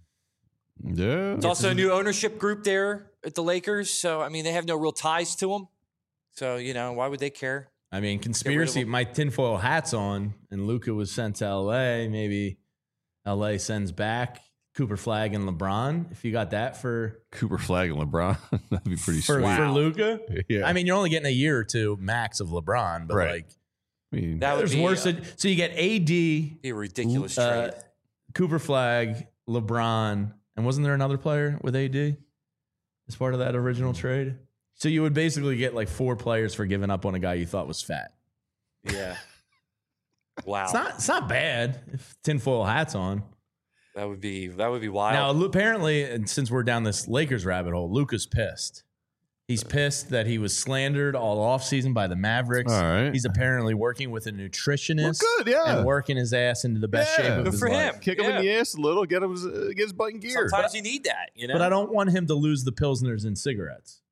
Yeah. It's also a new ownership group there at the Lakers. So, I mean, they have no real ties to them. So, why would they care? I mean, conspiracy. them. My tinfoil hat's on, and Luka was sent to LA. Maybe LA sends back Cooper Flag and LeBron. If you got that for Cooper Flag and LeBron. That'd be pretty sweet. for Luka, Yeah. I mean, you're only getting a year or two max of LeBron, but Right. like I mean, That would there's be, worse. So you get AD, be a ridiculous trade. Cooper Flag, LeBron, and wasn't there another player with AD as part of that original trade? So you would basically get like 4 players for giving up on a guy you thought was fat. Yeah. Wow. It's not bad if tinfoil hat's on. That would be wild. Now, apparently, and since we're down this Lakers rabbit hole, Luka's pissed. He's pissed that he was slandered all offseason by the Mavericks. All right. He's apparently working with a nutritionist. Well, good, yeah. And working his ass into the best Yeah. shape of Good his for life. him. kick him in the ass a little, get his butt in gear. Sometimes you need that, But I don't want him to lose the Pilsners and cigarettes.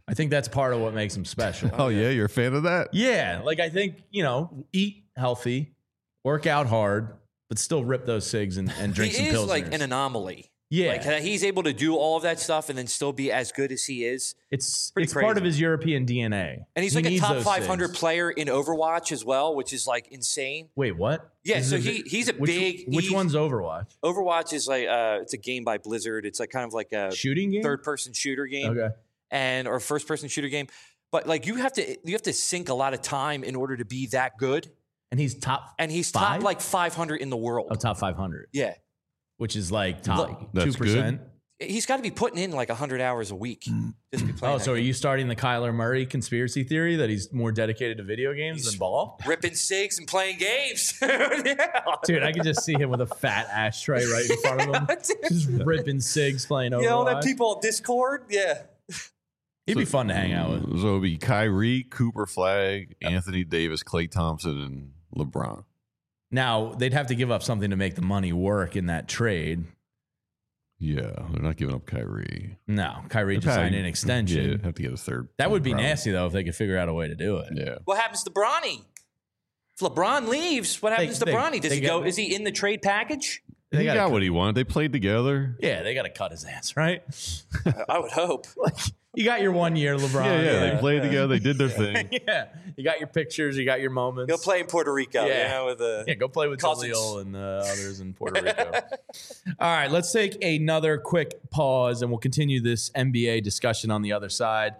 I think that's part of what makes him special. Oh, yeah? You're a fan of that? Yeah. Like, I think, eat healthy, work out hard, but still rip those cigs and drink some pilsners. He is like an anomaly. Yeah. Like he's able to do all of that stuff and then still be as good as he is. It's part of his European DNA. And he's like a top 500 player in Overwatch as well, which is like insane. Wait, what? Yeah, so he's a big... Which one's Overwatch? Overwatch is like, it's a game by Blizzard. It's like kind of like a... shooting game? Third-person shooter game. Okay. Or first-person shooter game. But like you have to sink a lot of time in order to be that good. And he's top top like 500 in the world. Oh, top 500. Yeah. Which is like top 2%. Good. He's got to be putting in like 100 hours a week. Just be playing. Oh, so are you starting the Kyler Murray conspiracy theory that he's more dedicated to video games than ball? Ripping cigs and playing games. Dude, I can just see him with a fat ashtray right in front of him. Just ripping cigs, playing Overwatch. Yeah, all that people on Discord. Yeah. He'd be fun to hang out with. So it would be Kyrie, Cooper Flag, Anthony Davis, Klay Thompson, and LeBron. Now, they'd have to give up something to make the money work in that trade. Yeah, they're not giving up Kyrie. No, Kyrie just signed an extension. Yeah, have to get a third. That would be nasty, though, if they could figure out a way to do it. Yeah. What happens to Bronny? If LeBron leaves, what happens to Bronny? Does he go? Is he in the trade package? He got what he wanted. They played together. Yeah, they got to cut his ass, right? I would hope. You got your 1 year, LeBron. Yeah, they played together. They did their thing. Yeah, you got your pictures. You got your moments. Go play in Puerto Rico. Go play with Jaleel and others in Puerto Rico. All right, let's take another quick pause, and we'll continue this NBA discussion on the other side.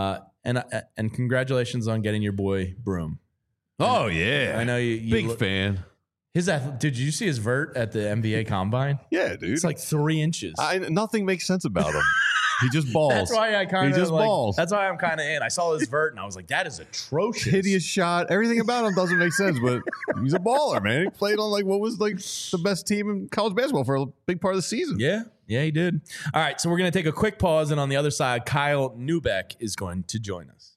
And congratulations on getting your boy Broom. Oh yeah, I know you big fan. Did you see his vert at the NBA Combine? Yeah, dude. It's like 3 inches. Nothing makes sense about him. He just balls. That's why I kind of balls. That's why I'm kind of in. I saw his vert and I was like, that is atrocious. Hideous shot. Everything about him doesn't make sense, but he's a baller, man. He played on what was the best team in college basketball for a big part of the season. Yeah, he did. All right, so we're going to take a quick pause, and on the other side, Kyle Neubeck is going to join us.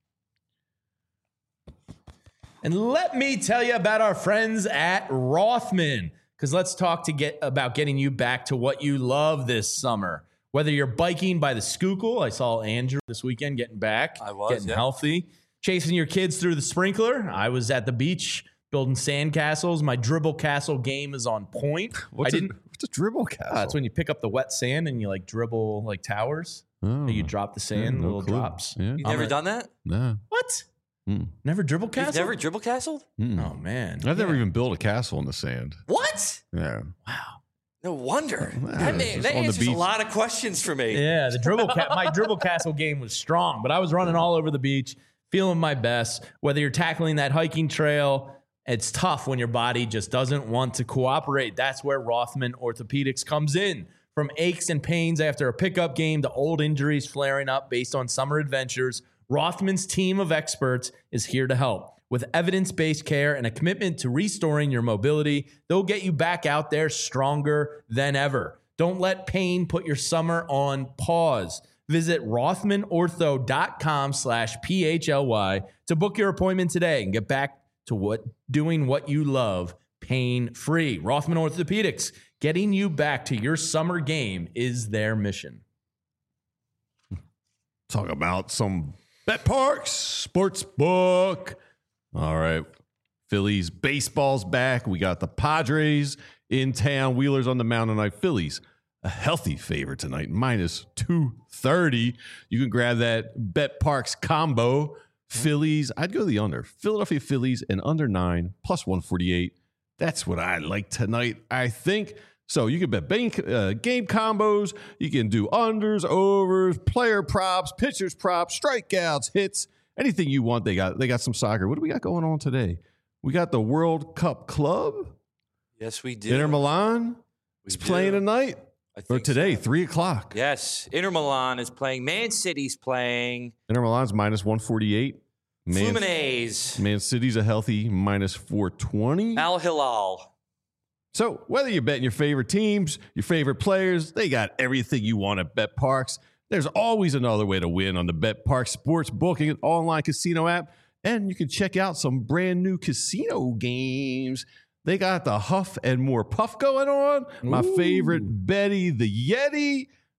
And let me tell you about our friends at Rothman, because let's talk about getting you back to what you love this summer. Whether you're biking by the Schuylkill, I saw Andrew this weekend getting back, getting healthy, chasing your kids through the sprinkler. I was at the beach building sandcastles. My dribble castle game is on point. What's a dribble castle? It's when you pick up the wet sand and you dribble like towers. Oh. You drop the sand, little drops. Yeah. You've never done that? No. What? Never dribble castle? You've never dribble castled? Oh, man. I've never even built a castle in the sand. What? Yeah. Wow. No wonder. That answers a lot of questions for me. Yeah, my dribble castle game was strong, but I was running all over the beach, feeling my best. Whether you're tackling that hiking trail, it's tough when your body just doesn't want to cooperate. That's where Rothman Orthopedics comes in. From aches and pains after a pickup game to old injuries flaring up based on summer adventures, Rothman's team of experts is here to help. With evidence-based care and a commitment to restoring your mobility, they'll get you back out there stronger than ever. Don't let pain put your summer on pause. Visit rothmanortho.com/PHLY to book your appointment today and get back to doing what you love pain-free. Rothman Orthopedics, getting you back to your summer game is their mission. Talk about some BetParx Sportsbook. All right. Phillies baseball's back. We got the Padres in town. Wheelers on the mound tonight. Phillies, a healthy favorite tonight, minus 230. You can grab that BetParx combo. Phillies, I'd go the under. Philadelphia Phillies and under 9, plus 148. That's what I like tonight, I think. So you can bet game combos. You can do unders, overs, player props, pitchers props, strikeouts, hits. Anything you want, they got some soccer. What do we got going on today? We got the World Cup Club. Yes, we do. Inter Milan is playing tonight. Or today, 3 o'clock. Yes, Inter Milan is playing. Man City's playing. Inter Milan's minus 148. Fluminense. Man City's a healthy minus 420. Al Hilal. So whether you're betting your favorite teams, your favorite players, they got everything you want at BetParx. There's always another way to win on the BetParx Sportsbook, an online casino app, and you can check out some brand new casino games. They got the Huff and More Puff going on. My favorite, Betty the Yeti.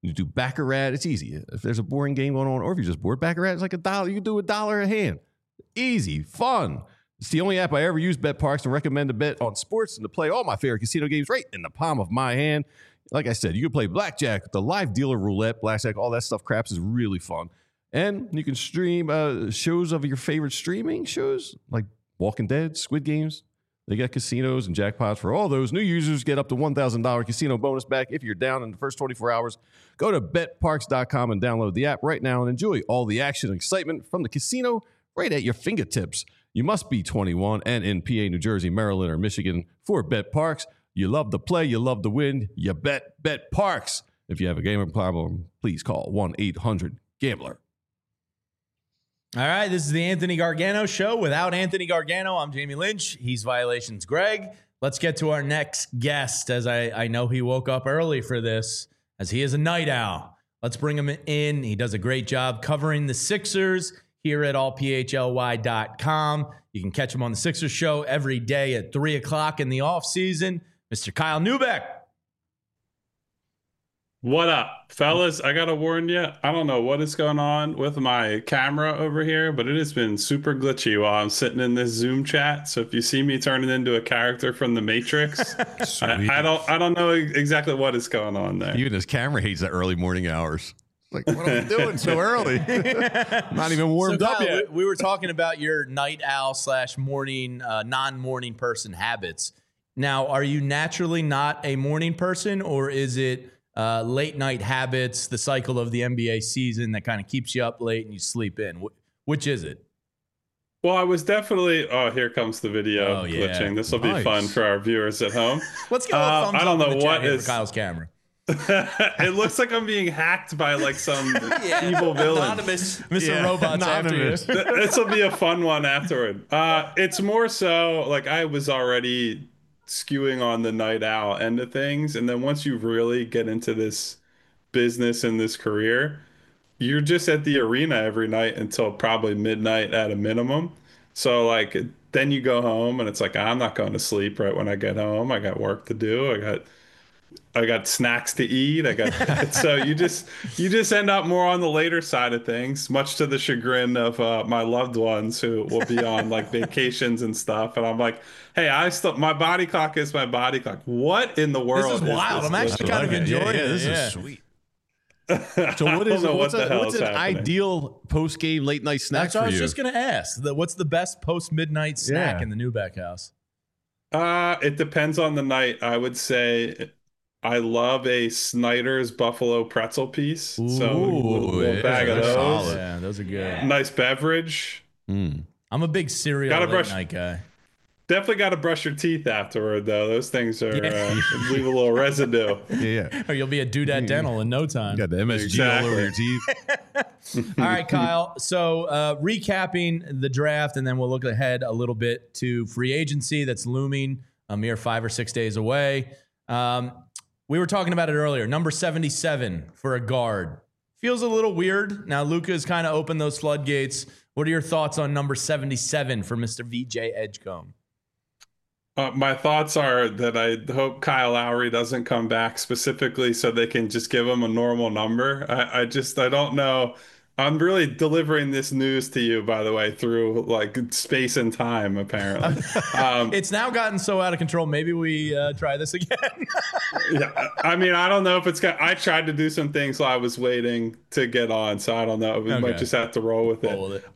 You do Baccarat. It's easy. If there's a boring game going on, or if you're just bored, Baccarat is like $1. You can do $1 a hand. Easy, fun. It's the only app I ever use, BetParx, and recommend to bet on sports and to play all my favorite casino games right in the palm of my hand. Like I said, you can play blackjack, the live dealer roulette, blackjack, all that stuff. Craps is really fun. And you can stream shows of your favorite streaming shows like Walking Dead, Squid Games. They got casinos and jackpots for all those. New users get up to $1,000 casino bonus back if you're down in the first 24 hours. Go to betparx.com and download the app right now and enjoy all the action and excitement from the casino right at your fingertips. You must be 21 and in PA, New Jersey, Maryland, or Michigan for BetParx. You love to play, you love to win, you bet BetParx. If you have a gambling problem, please call 1-800-GAMBLER. All right, this is the Anthony Gargano Show. Without Anthony Gargano, I'm Jamie Lynch. He's Violations Greg. Let's get to our next guest, as I know he woke up early for this, as he is a night owl. Let's bring him in. He does a great job covering the Sixers here at allphly.com. You can catch him on the Sixers show every day at 3 o'clock in the offseason. Mr. Kyle Neubeck. What up, fellas? I got to warn you, I don't know what is going on with my camera over here, but it has been super glitchy while I'm sitting in this Zoom chat. So if you see me turning into a character from The Matrix, I don't know exactly what is going on there. Even his camera hates the early morning hours. Like, what are we doing so early? Not even warmed up yet. We were talking about your night owl / morning, non-morning person habits. Now, are you naturally not a morning person, or is it late night habits, the cycle of the NBA season that kind of keeps you up late and you sleep in? Which is it? Well, I was definitely. Oh, here comes the video glitching. This will be fun for our viewers at home. Let's get a thumbs I don't up know in the what chat here is for Kyle's camera. It looks like I'm being hacked by like some evil villain. Anonymous, Mr. Robot's anonymous. after you. This will be a fun one afterward. It's more so like I was already skewing on the night owl end of things, and then once you really get into this business and this career, you're just at the arena every night until probably midnight at a minimum. So like then you go home and it's like, I'm not going to sleep right when I get home. I got work to do. I got snacks to eat. So you just end up more on the later side of things, much to the chagrin of my loved ones who will be on like vacations and stuff. And I'm like, hey, my body clock is my body clock. What in the world? This is wild. I'm actually kind of enjoying it. This is sweet. So what's an ideal post-game late night snack for you? That's what I was just going to ask. What's the best post-midnight snack in the Neubeck house? It depends on the night. I would say I love a Snyder's Buffalo pretzel piece. Ooh, so a bag of those. Solid. Yeah, those are good. Nice beverage. I'm a big cereal late night guy. Definitely got to brush your teeth afterward, though. Those things are leave a little residue. Yeah. Or you'll be a Dudette Dental in no time. You got the MSG all over your teeth. All right, Kyle. So recapping the draft, and then we'll look ahead a little bit to free agency that's looming a mere 5 or 6 days away. We were talking about it earlier. Number 77 for a guard. Feels a little weird. Now, Luka has kind of opened those floodgates. What are your thoughts on number 77 for Mr. VJ Edgecombe? My thoughts are that I hope Kyle Lowry doesn't come back specifically so they can just give him a normal number. I don't know. I'm really delivering this news to you, by the way, through like space and time, apparently. It's now gotten so out of control. Maybe we try this again. Yeah, I mean, I don't know if I tried to do some things while I was waiting to get on, so I don't know. We might just have to roll with it.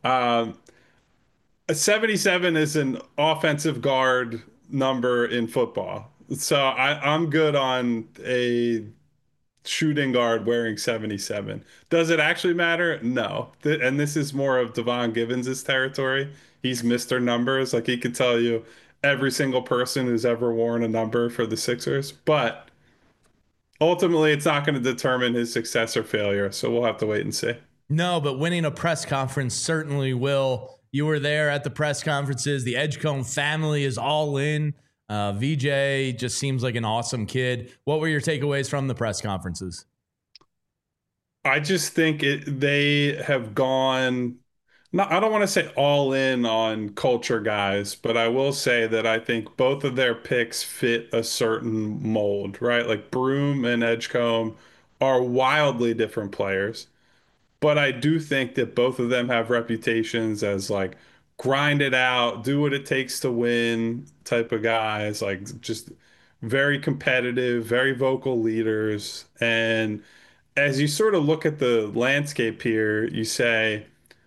77 is an offensive guard number in football. So I'm good on a shooting guard wearing 77. Does it actually matter? No. And this is more of Devon Givens' territory. He's Mr. Numbers. Like he could tell you every single person who's ever worn a number for the Sixers. But ultimately, it's not going to determine his success or failure. So we'll have to wait and see. No, but winning a press conference certainly will. You were there at the press conferences. The Edgecombe family is all in. VJ just seems like an awesome kid. What were your takeaways from the press conferences? I just think they have gone, I don't want to say all in on culture guys, but I will say that I think both of their picks fit a certain mold, right? Like Broom and Edgecombe are wildly different players. But I do think that both of them have reputations as like grind it out, do what it takes to win type of guys, like just very competitive, very vocal leaders. And as you sort of look at the landscape here, you say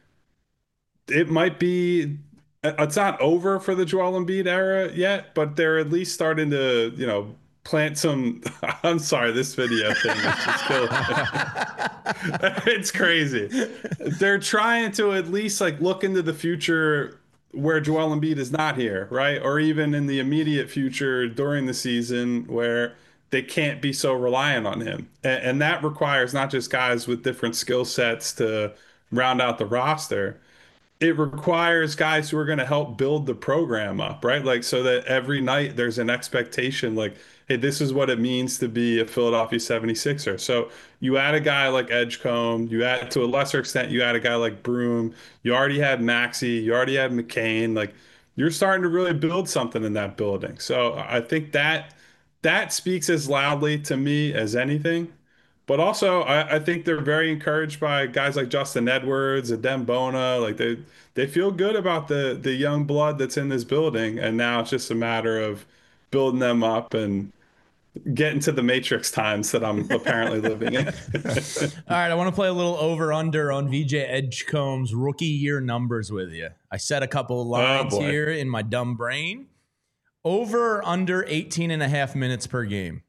it might be it's not over for the Joel Embiid era yet, but they're at least starting to, plant some. I'm sorry, this video thing is just killing me. It's crazy. They're trying to at least like look into the future where Joel Embiid is not here, right? Or even in the immediate future during the season where they can't be so reliant on him. And that requires not just guys with different skill sets to round out the roster. It requires guys who are going to help build the program up, right? Like, so that every night there's an expectation, like, hey, this is what it means to be a Philadelphia 76er. So you add a guy like Edgecombe, you add, to a lesser extent, you add a guy like Broome, you already had Maxey, you already had McCain. Like, you're starting to really build something in that building. So I think that speaks as loudly to me as anything. But also, I think they're very encouraged by guys like Justin Edwards, Adem Bona. Like they feel good about the young blood that's in this building, and now it's just a matter of building them up and getting to the matrix times that I'm apparently living in. All right, I want to play a little over-under on VJ Edgecombe's rookie year numbers with you. I set a couple of lines here in my dumb brain. Over under 18 and a half minutes per game.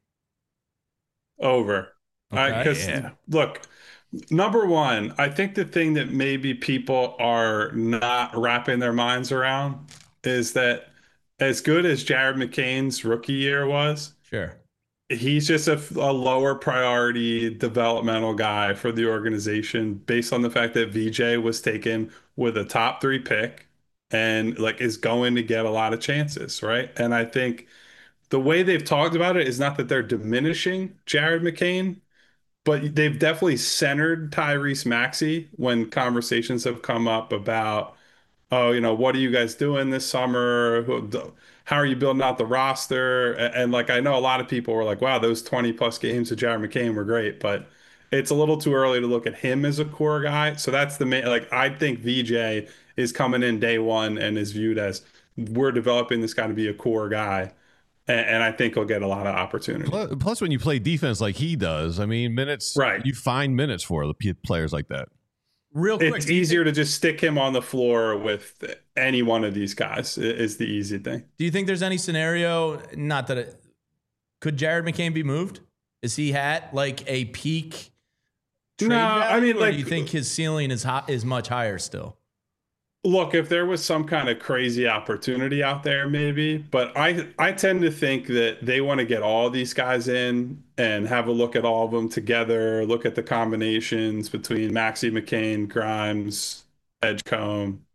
Over. Because look, number one, I think the thing that maybe people are not wrapping their minds around is that as good as Jared McCain's rookie year was, sure, he's just a lower priority developmental guy for the organization based on the fact that VJ was taken with a top 3 pick and like is going to get a lot of chances, right? And I think the way they've talked about it is not that they're diminishing Jared McCain, but they've definitely centered Tyrese Maxey when conversations have come up about, oh, what are you guys doing this summer? How are you building out the roster? And like, I know a lot of people were like, wow, those 20 plus games with Jared McCain were great, but it's a little too early to look at him as a core guy. So that's the main, like, I think VJ is coming in day one and is viewed as, we're developing this guy to be a core guy. And I think he'll get a lot of opportunity. Plus, when you play defense like he does, I mean, minutes, right? You find minutes for the players like that. Real quick, it's easier to just stick him on the floor with any one of these guys is the easy thing. Do you think there's any scenario, not that it, could Jared McCain be moved? Is he at like a peak trade value, I mean, or do you think his ceiling is much higher still? Look, if there was some kind of crazy opportunity out there, maybe. But I tend to think that they want to get all these guys in and have a look at all of them together, look at the combinations between Maxey, McCain, Grimes, Edgecombe.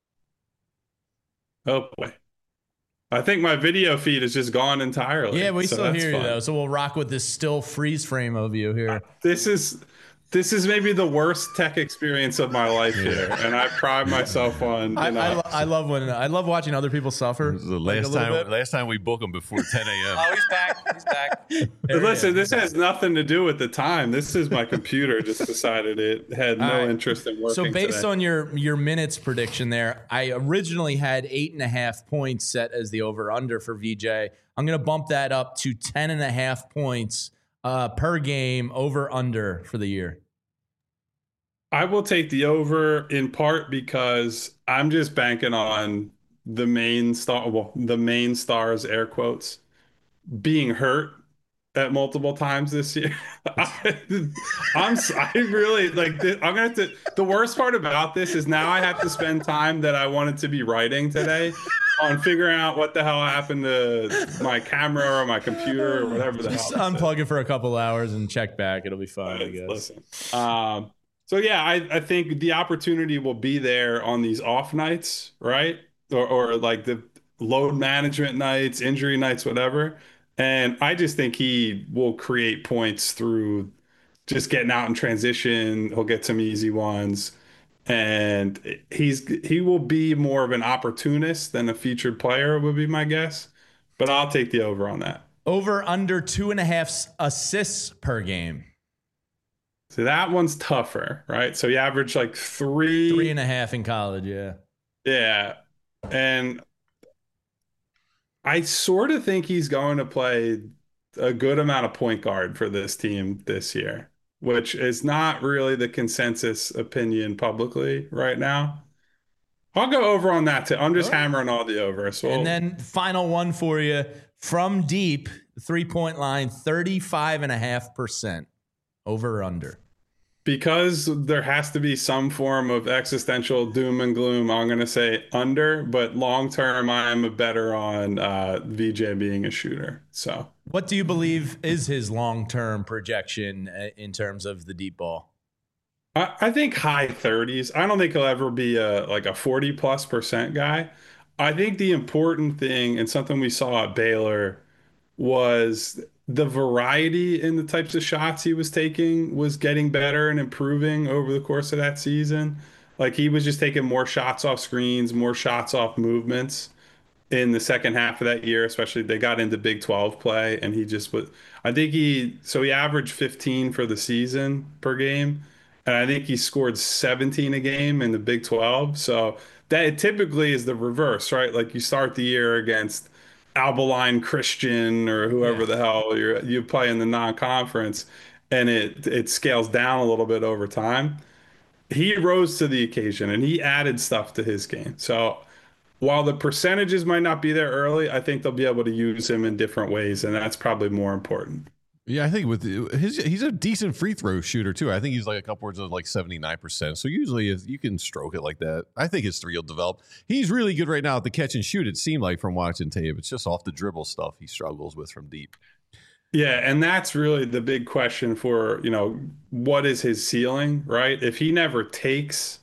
Oh, boy. I think my video feed is just gone entirely. Yeah, we still hear you, though. So we'll rock with this still freeze frame of you here. This is maybe the worst tech experience of my life here, and I pride myself on. I love watching other people suffer. This is the last time we book him before 10 a.m. Oh, he's back. He's back. Listen, this has nothing to do with the time. This is my computer just decided it had no interest in working. So based today. on your minutes prediction there, I originally had 8.5 points set as the over under for VJ. I'm going to bump that up to 10.5 points per game over under for the year. I will take the over in part because I'm just banking on the main stars, air quotes, being hurt at multiple times this year. I really like this. I'm gonna have to. The worst part about this is now I have to spend time that I wanted to be writing today on figuring out what the hell happened to my camera or my computer or whatever the hell. Just unplug it for a couple hours and check back. It'll be fine, I guess. Listen. So yeah, I think the opportunity will be there on these off nights, right? Or like the load management nights, injury nights, whatever. And I just think he will create points through just getting out in transition. He'll get some easy ones. And he will be more of an opportunist than a featured player would be my guess. But I'll take the over on that. Over under 2.5 assists per game. So that one's tougher, right? So he averaged like 3.5 in college. Yeah. Yeah. And I sort of think he's going to play a good amount of point guard for this team this year, which is not really the consensus opinion publicly right now. I'll go over on that too. I'm just hammering all the over. So and then final one for you from deep 3-point line, 35.5% over or under. Because there has to be some form of existential doom and gloom, I'm going to say under, but long term, I am a better on VJ being a shooter. So, what do you believe is his long term projection in terms of the deep ball? I think high 30s. I don't think he'll ever be a 40+% guy. I think the important thing and something we saw at Baylor was the variety in the types of shots he was taking was getting better and improving over the course of that season. Like he was just taking more shots off screens, more shots off movements in the second half of that year, especially they got into Big 12 play and he just was, I think he averaged 15 for the season per game. And I think he scored 17 a game in the Big 12. So that typically is the reverse, right? Like you start the year against Albaline Christian or whoever the hell you play in the non-conference, and it scales down a little bit over time. He rose to the occasion and he added stuff to his game. So while the percentages might not be there early, I think they'll be able to use him in different ways, and that's probably more important. Yeah, I think with he's a decent free throw shooter too. I think he's like a couple words of like 79%. So usually you can stroke it like that. I think his three will develop. He's really good right now at the catch and shoot. It seemed like from watching tape, it's just off the dribble stuff he struggles with from deep. Yeah, and that's really the big question for, what is his ceiling, right? If he never takes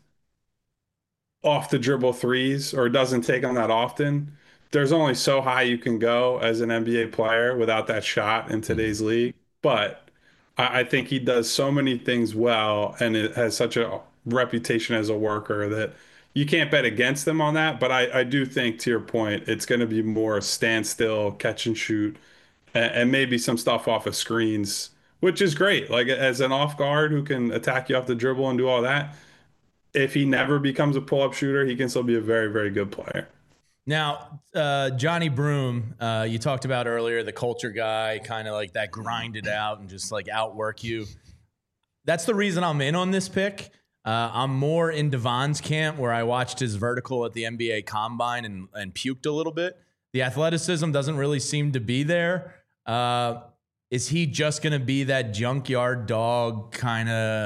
off the dribble threes or doesn't take them that often, there's only so high you can go as an NBA player without that shot in today's league. But I think he does so many things well, and it has such a reputation as a worker that you can't bet against him on that. But I do think, to your point, it's going to be more standstill, catch and shoot, and maybe some stuff off of screens, which is great. Like as an off guard who can attack you off the dribble and do all that, if he never becomes a pull-up shooter, he can still be a very, very good player. Now, Johnny Broome, you talked about earlier, the culture guy, kind of like that grind it out and just like outwork you. That's the reason I'm in on this pick. I'm more in Devon's camp where I watched his vertical at the NBA Combine and puked a little bit. The athleticism doesn't really seem to be there. Is he just going to be that junkyard dog kind of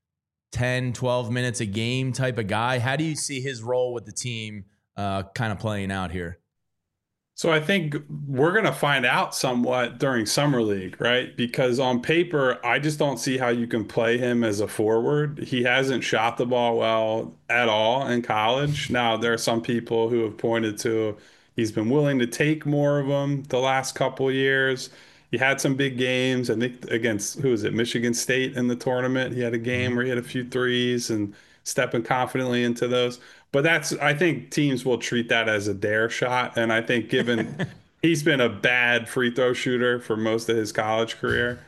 10, 12 minutes a game type of guy? How do you see his role with the team kind of playing out here? So I think we're going to find out somewhat during Summer League, right? Because on paper, I just don't see how you can play him as a forward. He hasn't shot the ball well at all in college. Now, there are some people who have pointed to he's been willing to take more of them the last couple of years. He had some big games, I think against, Michigan State in the tournament. He had a game where he had a few threes and stepping confidently into those. But I think teams will treat that as a dare shot. And I think given he's been a bad free throw shooter for most of his college career,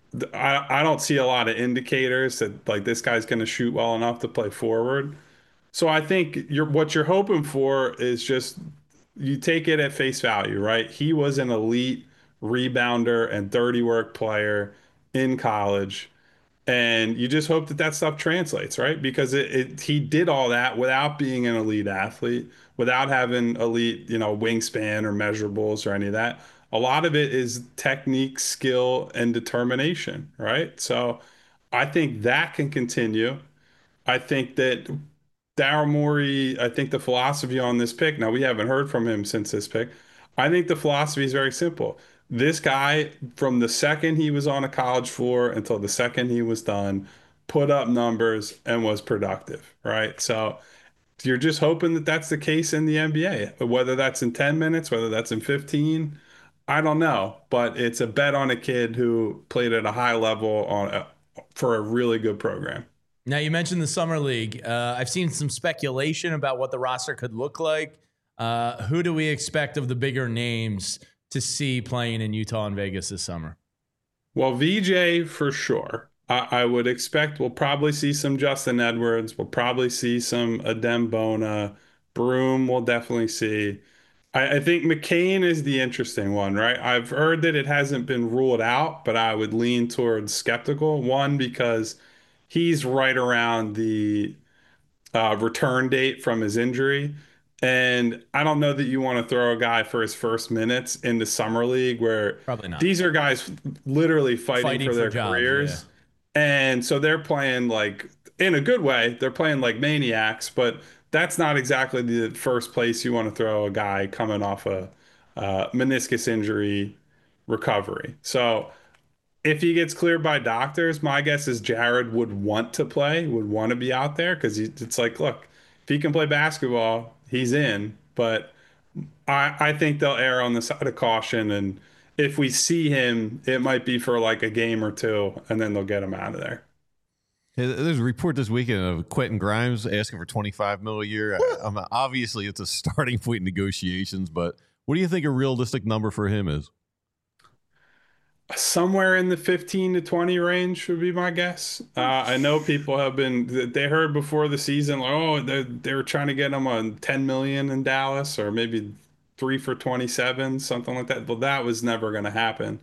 I don't see a lot of indicators that like this guy's going to shoot well enough to play forward. So I think what you're hoping for is just you take it at face value, right? He was an elite rebounder and dirty work player in college. And you just hope that stuff translates, right? Because he did all that without being an elite athlete, without having elite, wingspan or measurables or any of that. A lot of it is technique, skill, and determination, right? So I think that can continue. I think that Daryl Morey, I think the philosophy on this pick, now we haven't heard from him since this pick. I think the philosophy is very simple. This guy, from the second he was on a college floor until the second he was done, put up numbers and was productive, right? So you're just hoping that that's the case in the NBA, whether that's in 10 minutes, whether that's in 15, I don't know. But it's a bet on a kid who played at a high level for a really good program. Now, you mentioned the Summer League. I've seen some speculation about what the roster could look like. Who do we expect of the bigger names to see playing in Utah and Vegas this summer? Well, VJ for sure. I would expect we'll probably see some Justin Edwards. We'll probably see some Adem Bona. Broom we'll definitely see. I think McCain is the interesting one, right? I've heard that it hasn't been ruled out, but I would lean towards skeptical. One, because he's right around the return date from his injury. And I don't know that you want to throw a guy for his first minutes into Summer League where Probably not. these are guys literally fighting for their jobs, careers. And so they're playing like, in a good way, they're playing like maniacs, but that's not exactly the first place you want to throw a guy coming off a meniscus injury recovery. So if he gets cleared by doctors, my guess is Jared would want to play, would want to be out there because it's like, look, if he can play basketball, he's in. But I think they'll err on the side of caution. And if we see him, it might be for like a game or two, and then they'll get him out of there. There's a report this weekend of Quentin Grimes asking for $25 million a year. Obviously, it's a starting point in negotiations, but what do you think a realistic number for him is? Somewhere in the 15 to 20 range would be my guess. I know people have been, they heard before the season, like, oh, they were trying to get him on 10 million in Dallas, or maybe 3 for 27, something like that. Well, that was never going to happen.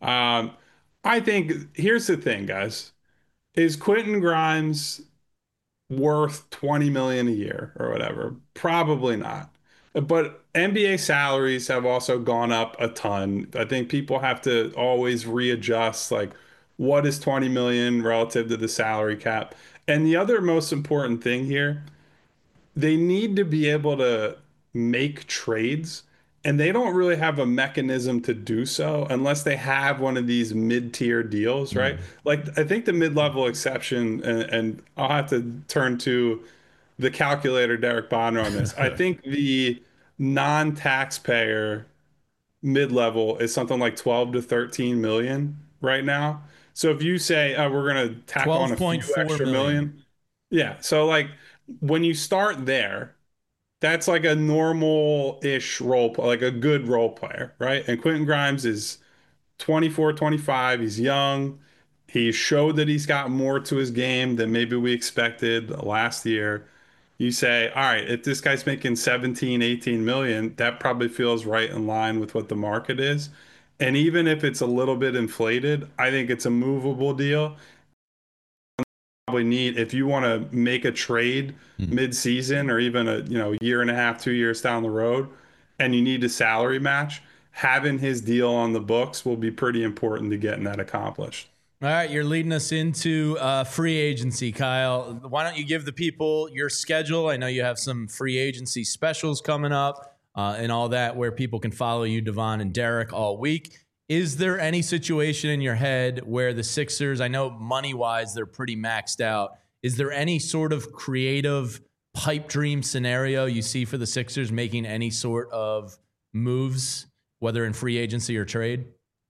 I think here's the thing, guys. Is Quentin Grimes worth 20 million a year or whatever? Probably not. But NBA salaries have also gone up a ton. I think people have to always readjust, like, what is 20 million relative to the salary cap? And the other most important thing here, they need to be able to make trades, and they don't really have a mechanism to do so unless they have one of these mid-tier deals, right? Like, I think the mid-level exception, and I'll have to turn to the calculator, Derek Bonner, on this. I think the non-taxpayer mid-level is something like 12 to 13 million right now. So if you say we're going to tack on a few extra million, yeah. So like when you start there, that's like a normal-ish role, like a good role player, right? And Quentin Grimes is 24, 25. He's young. He showed that he's got more to his game than maybe we expected last year. You say, all right, if this guy's making 17, 18 million, that probably feels right in line with what the market is. And even if it's a little bit inflated, I think it's a movable deal. Probably need, if you want to make a trade mid-season or even a year and a half, 2 years down the road, and you need a salary match, having his deal on the books will be pretty important to getting that accomplished. All right, you're leading us into free agency, Kyle. Why don't you give the people your schedule? I know you have some free agency specials coming up and all that where people can follow you, Devon and Derek, all week. Is there any situation in your head where the Sixers, I know money-wise they're pretty maxed out, is there any sort of creative pipe dream scenario you see for the Sixers making any sort of moves, whether in free agency or trade?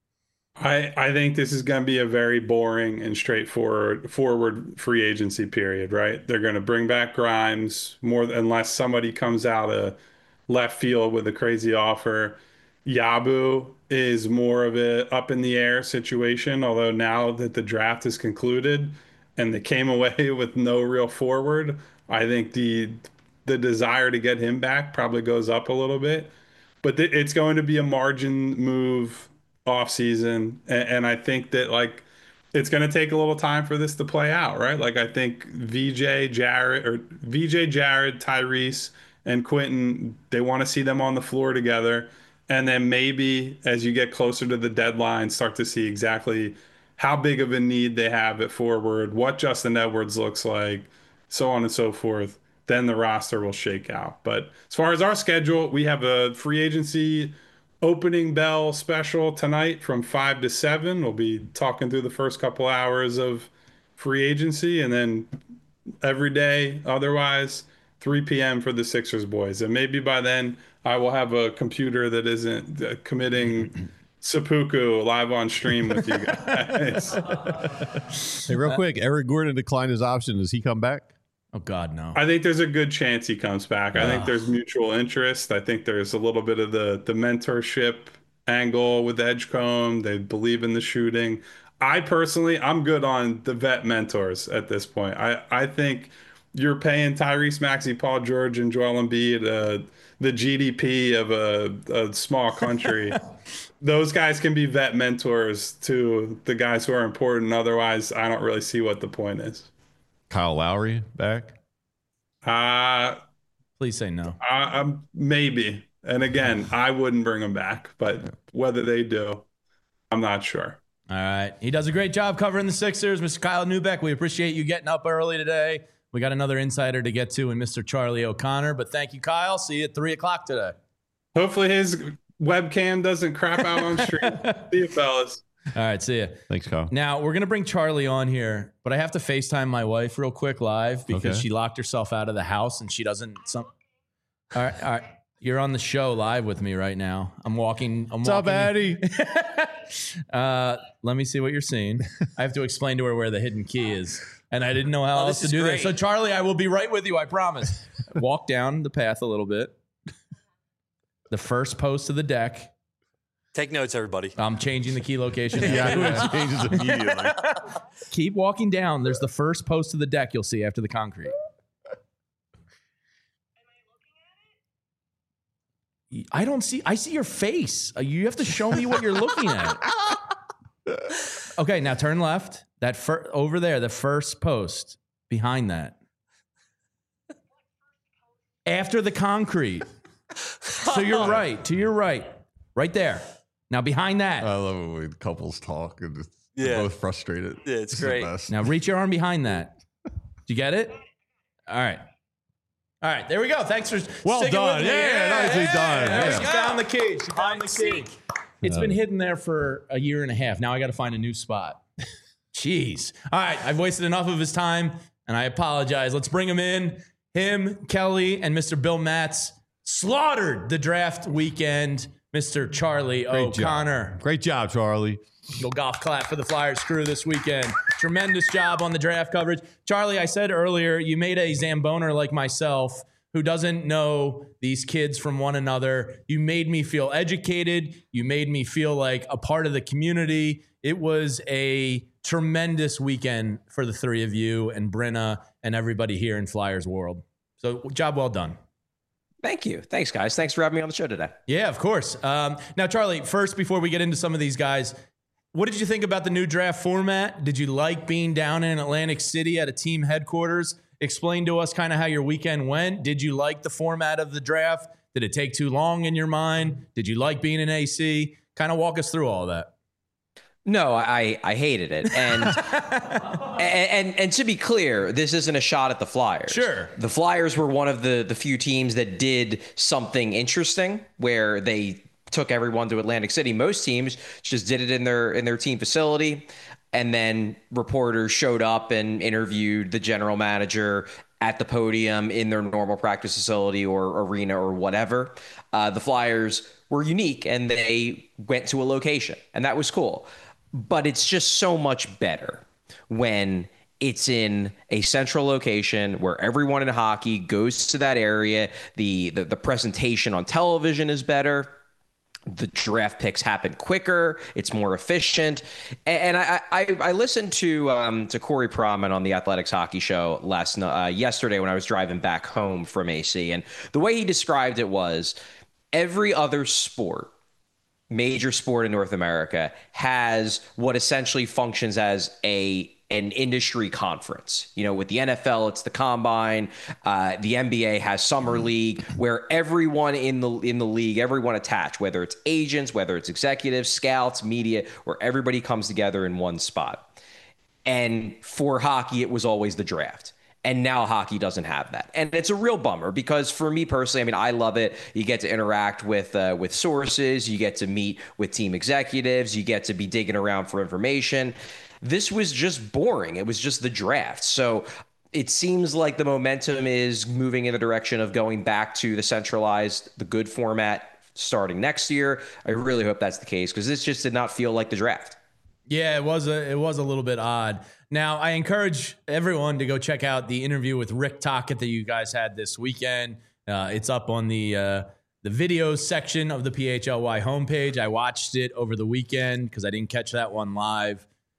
I think this is going to be a very boring and straightforward free agency period, right? They're going to bring back Grimes unless somebody comes out of left field with a crazy offer. Yabu is more of a up in the air situation, although now that the draft is concluded and they came away with no real forward, I think the desire to get him back probably goes up a little bit. But it's going to be a margin move off season, and I think that like it's going to take a little time for this to play out, right? Like I think VJ, Jared, Tyrese, and Quentin, they want to see them on the floor together, and then maybe as you get closer to the deadline, start to see exactly how big of a need they have at forward, what Justin Edwards looks like, so on and so forth. Then the roster will shake out. But as far as our schedule, we have a free agency opening bell special tonight from 5 to 7. We'll be talking through the first couple hours of free agency, and then every day otherwise 3 p.m. for the Sixers boys. And maybe by then I will have a computer that isn't committing seppuku live on stream with you guys. Hey, real quick, Eric Gordon declined his option. Does he come back? Oh, God, no. I think there's a good chance he comes back. I think there's mutual interest. I think there's a little bit of the mentorship angle with Edgecombe. They believe in the shooting. I personally, I'm good on the vet mentors at this point. I think you're paying Tyrese Maxey, Paul George, and Joel Embiid the GDP of a small country. Those guys can be vet mentors to the guys who are important. Otherwise, I don't really see what the point is. Kyle Lowry back? Please say no. Maybe. And again, I wouldn't bring him back, but whether they do, I'm not sure. All right. He does a great job covering the Sixers. Mr. Kyle Neubeck, we appreciate you getting up early today. We got another insider to get to in Mr. Charlie O'Connor, but thank you, Kyle. See you at 3 o'clock today. Hopefully his webcam doesn't crap out on stream. See you, fellas. All right, see ya. Thanks, Kyle. Now, we're going to bring Charlie on here, but I have to FaceTime my wife real quick live because she locked herself out of the house and she doesn't... All right. You're on the show live with me right now. What's up, Addie? Let me see what you're seeing. I have to explain to her where the hidden key is. And I didn't know how else to do this. So, Charlie, I will be right with you, I promise. Walk down the path a little bit. The first post of the deck. Take notes, everybody. I'm changing the key location. Yeah, it changes immediately. Keep walking down. There's the first post of the deck you'll see after the concrete. I don't see. I see your face. You have to show me what you're looking at. Okay, now turn left. That over there, the first post behind that. After the concrete. So you're right. To your right. Right there. Now behind that. I love it when couples talk and they're both frustrated. Yeah, it's great. Now reach your arm behind that. Did you get it? All right. All right, there we go. Thanks for well done. Nicely done. She found the key. She found the key. It's been hidden there for a year and a half. Now I got to find a new spot. Jeez. All right, I've wasted enough of his time, and I apologize. Let's bring him in. Him, Kelly, and Mr. Bill Matz slaughtered the draft weekend. Mr. Charlie O'Connor. Great job, Charlie. Little golf clap for the Flyers crew this weekend. Tremendous job on the draft coverage. Charlie, I said earlier, you made a Zamboner like myself who doesn't know these kids from one another. You made me feel educated. You made me feel like a part of the community. It was a tremendous weekend for the three of you and Brenna and everybody here in Flyers world. So job well done. Thank you. Thanks, guys. Thanks for having me on the show today. Yeah, of course. Now, Charlie, first, before we get into some of these guys, what did you think about the new draft format? Did you like being down in Atlantic City at a team headquarters? Explain to us kind of how your weekend went. Did you like the format of the draft? Did it take too long in your mind? Did you like being in AC? Kind of walk us through all of that. No, I hated it. And, and to be clear, this isn't a shot at the Flyers. Sure. The Flyers were one of the few teams that did something interesting where they took everyone to Atlantic City. Most teams just did it in their team facility. And then reporters showed up and interviewed the general manager at the podium in their normal practice facility or arena or whatever. The Flyers were unique and they went to a location, and that was cool. But it's just so much better when it's in a central location where everyone in hockey goes to that area. The presentation on television is better. The draft picks happen quicker. It's more efficient. And I listened to Corey Pronman on the Athletics Hockey Show yesterday when I was driving back home from AC. And the way he described it was every other sport, major sport in North America, has what essentially functions as an industry conference. You know, with the NFL, it's the Combine. The NBA has Summer League, where everyone in the league, everyone attached, whether it's agents, whether it's executives, scouts, media, where everybody comes together in one spot. And for hockey, it was always the draft. And now hockey doesn't have that. And it's a real bummer because for me personally, I mean, I love it. You get to interact with sources. You get to meet with team executives. You get to be digging around for information. This was just boring. It was just the draft. So it seems like the momentum is moving in the direction of going back to the centralized, the good format starting next year. I really hope that's the case because this just did not feel like the draft. Yeah, it was a little bit odd. Now, I encourage everyone to go check out the interview with Rick Tocchet that you guys had this weekend. It's up on the videos section of the PHLY homepage. I watched it over the weekend because I didn't catch that one live.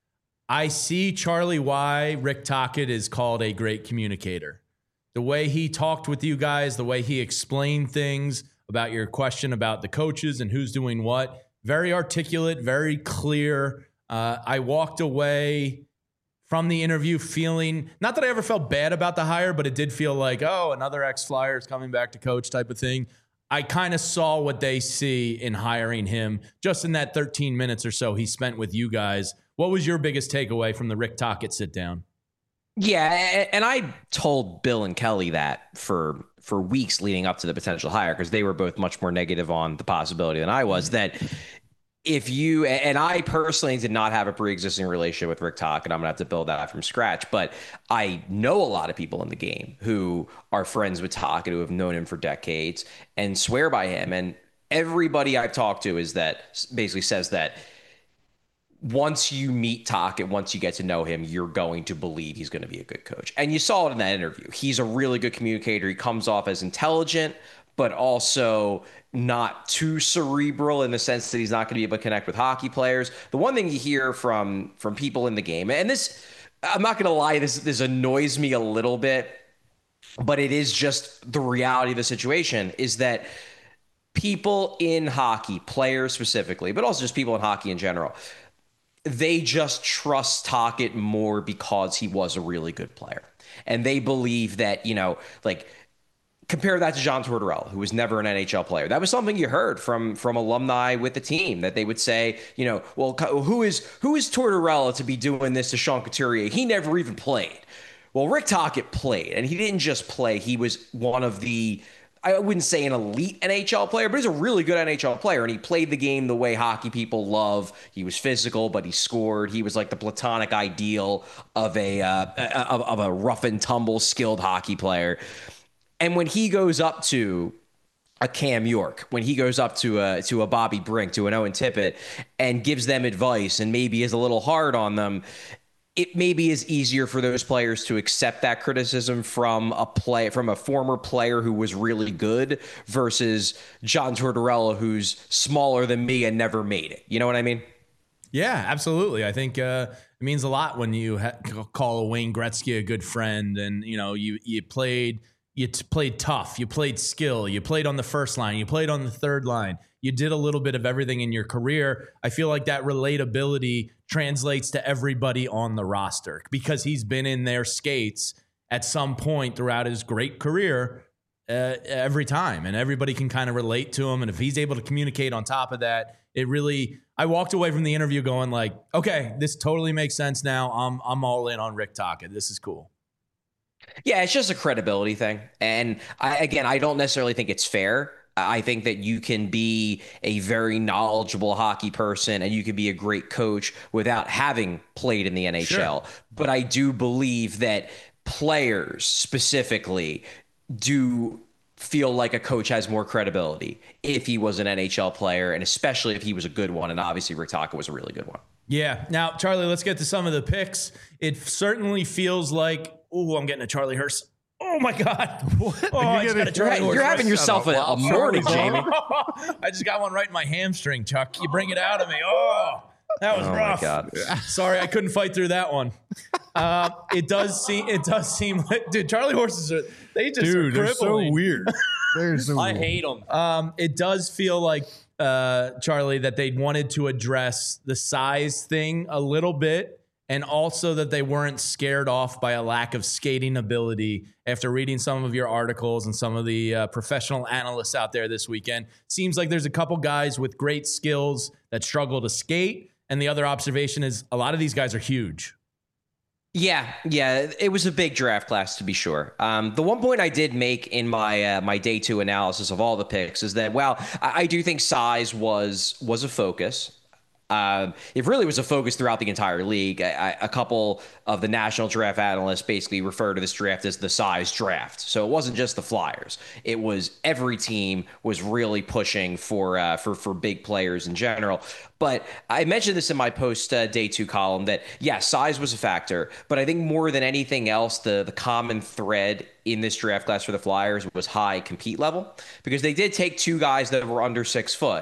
I see, Charlie, why Rick Tocchet is called a great communicator. The way he talked with you guys, the way he explained things about your question about the coaches and who's doing what, very articulate, very clear. I walked away from the interview feeling, not that I ever felt bad about the hire, but it did feel like, oh, another ex-Flyer is coming back to coach type of thing. I kind of saw what they see in hiring him just in that 13 minutes or so he spent with you guys. What was your biggest takeaway from the Rick Tocchet sit down? Yeah, and I told Bill and Kelly that for weeks leading up to the potential hire, because they were both much more negative on the possibility than I was, that if you, and I personally did not have a pre-existing relationship with Rick Tocchet, and I'm gonna have to build that out from scratch, but I know a lot of people in the game who are friends with Tocchet, who have known him for decades and swear by him. And everybody I've talked to basically says that once you meet Tocchet, once you get to know him, you're going to believe he's going to be a good coach. And you saw it in that interview. He's a really good communicator. He comes off as intelligent, but also not too cerebral in the sense that he's not going to be able to connect with hockey players. The one thing you hear from people in the game, and this, I'm not going to lie, this annoys me a little bit, but it is just the reality of the situation, is that people in hockey, players specifically, but also just people in hockey in general, they just trust Tocchet more because he was a really good player. And they believe that, like, compare that to John Tortorella, who was never an NHL player. That was something you heard from alumni with the team, that they would say, well, who is Tortorella to be doing this to Sean Couturier? He never even played. Well, Rick Tocchet played, and he didn't just play. He was one of the, I wouldn't say an elite NHL player, but he's a really good NHL player, and he played the game the way hockey people love. He was physical, but he scored. He was like the platonic ideal of a rough and tumble skilled hockey player. And when he goes up to a Cam York, when he goes up to a Bobby Brink, to an Owen Tippett, and gives them advice and maybe is a little hard on them, it maybe is easier for those players to accept that criticism from a former player who was really good versus John Tortorella, who's smaller than me and never made it. You know what I mean? Yeah, absolutely. I think it means a lot when you call a Wayne Gretzky a good friend, and you played tough, you played skill, you played on the first line, you played on the third line. You did a little bit of everything in your career. I feel like that relatability translates to everybody on the roster because he's been in their skates at some point throughout his great career every time. And everybody can kind of relate to him. And if he's able to communicate on top of that, I walked away from the interview going like, okay, this totally makes sense now. I'm all in on Rick Tocchet. This is cool. Yeah, it's just a credibility thing. And I don't necessarily think it's fair. I think that you can be a very knowledgeable hockey person and you can be a great coach without having played in the NHL. Sure. But I do believe that players specifically do feel like a coach has more credibility if he was an NHL player, and especially if he was a good one. And obviously Rick Tocchet was a really good one. Yeah. Now, Charlie, let's get to some of the picks. It certainly feels like, I'm getting a Charlie Hurst. Oh my God! What? Oh, you're having yourself a morning, Jamie. I just got one right in my hamstring, Chuck. You bring it out of me. Oh, that was rough. My God. Sorry, I couldn't fight through that one. It does seem like, dude, Charlie horses are crippling. They're so weird. I hate them. It does feel like Charlie, that they wanted to address the size thing a little bit. And also that they weren't scared off by a lack of skating ability after reading some of your articles and some of the professional analysts out there this weekend. Seems like there's a couple guys with great skills that struggle to skate. And the other observation is a lot of these guys are huge. Yeah, it was a big draft class, to be sure. The one point I did make in my my day two analysis of all the picks is that, I do think size was a focus. It really was a focus throughout the entire league. A couple of the national draft analysts basically refer to this draft as the size draft. So it wasn't just the Flyers. It was every team was really pushing for big players in general. But I mentioned this in my post day two column that, size was a factor. But I think more than anything else, the common thread in this draft class for the Flyers was high compete level, because they did take two guys that were under 6 foot.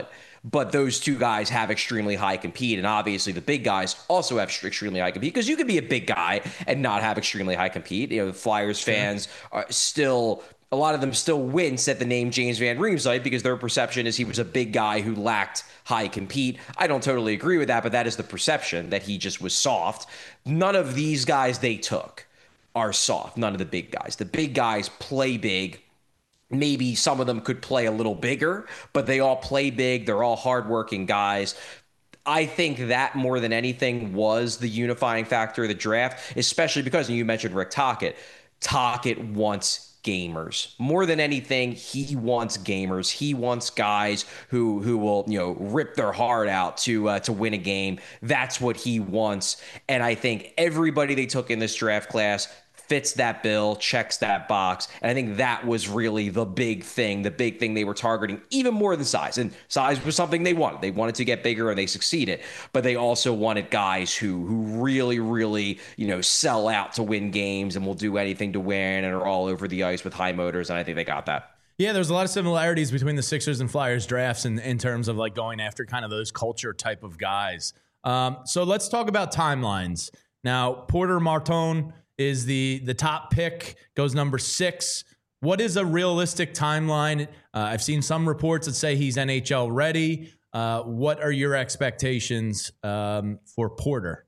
but those two guys have extremely high compete, and obviously the big guys also have extremely high compete, because you could be a big guy and not have extremely high compete. You know, the Flyers fans are still, a lot of them still wince at the name James Van Riemsdyk because their perception is he was a big guy who lacked high compete. I don't totally agree with that, but that is the perception, that he just was soft. None of these guys they took are soft. None of the big guys. The big guys play big. Maybe some of them could play a little bigger, but they all play big. They're all hardworking guys. I think that more than anything was the unifying factor of the draft, especially because, and you mentioned Rick Tocchet. Tocchet wants gamers. More than anything, he wants gamers. He wants guys who will, you know, rip their heart out to win a game. That's what he wants. And I think everybody they took in this draft class fits that bill, checks that box. And I think that was really the big thing they were targeting, even more than size. And size was something they wanted. They wanted to get bigger, and they succeeded. But they also wanted guys who really, really, you know, sell out to win games and will do anything to win and are all over the ice with high motors. And I think they got that. Yeah, there's a lot of similarities between the Sixers and Flyers drafts in terms of like going after kind of those culture type of guys. So let's talk about timelines. Now, Porter Martone is the top pick, goes number 6. What is a realistic timeline? I've seen some reports that say he's NHL ready. What are your expectations for Porter?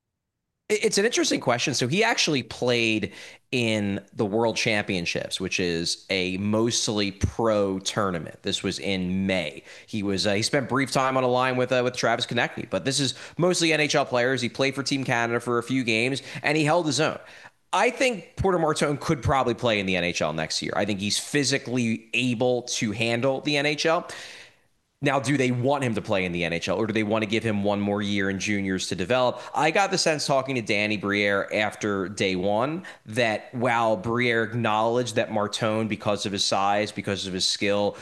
It's an interesting question. So he actually played in the World Championships, which is a mostly pro tournament. This was in May. He spent brief time on a line with Travis Konecny, but this is mostly NHL players. He played for Team Canada for a few games, and he held his own. I think Porter Martone could probably play in the NHL next year. I think he's physically able to handle the NHL. Now, do they want him to play in the NHL, or do they want to give him one more year in juniors to develop? I got the sense talking to Danny Briere after day one that while Briere acknowledged that Martone, because of his size, because of his skill,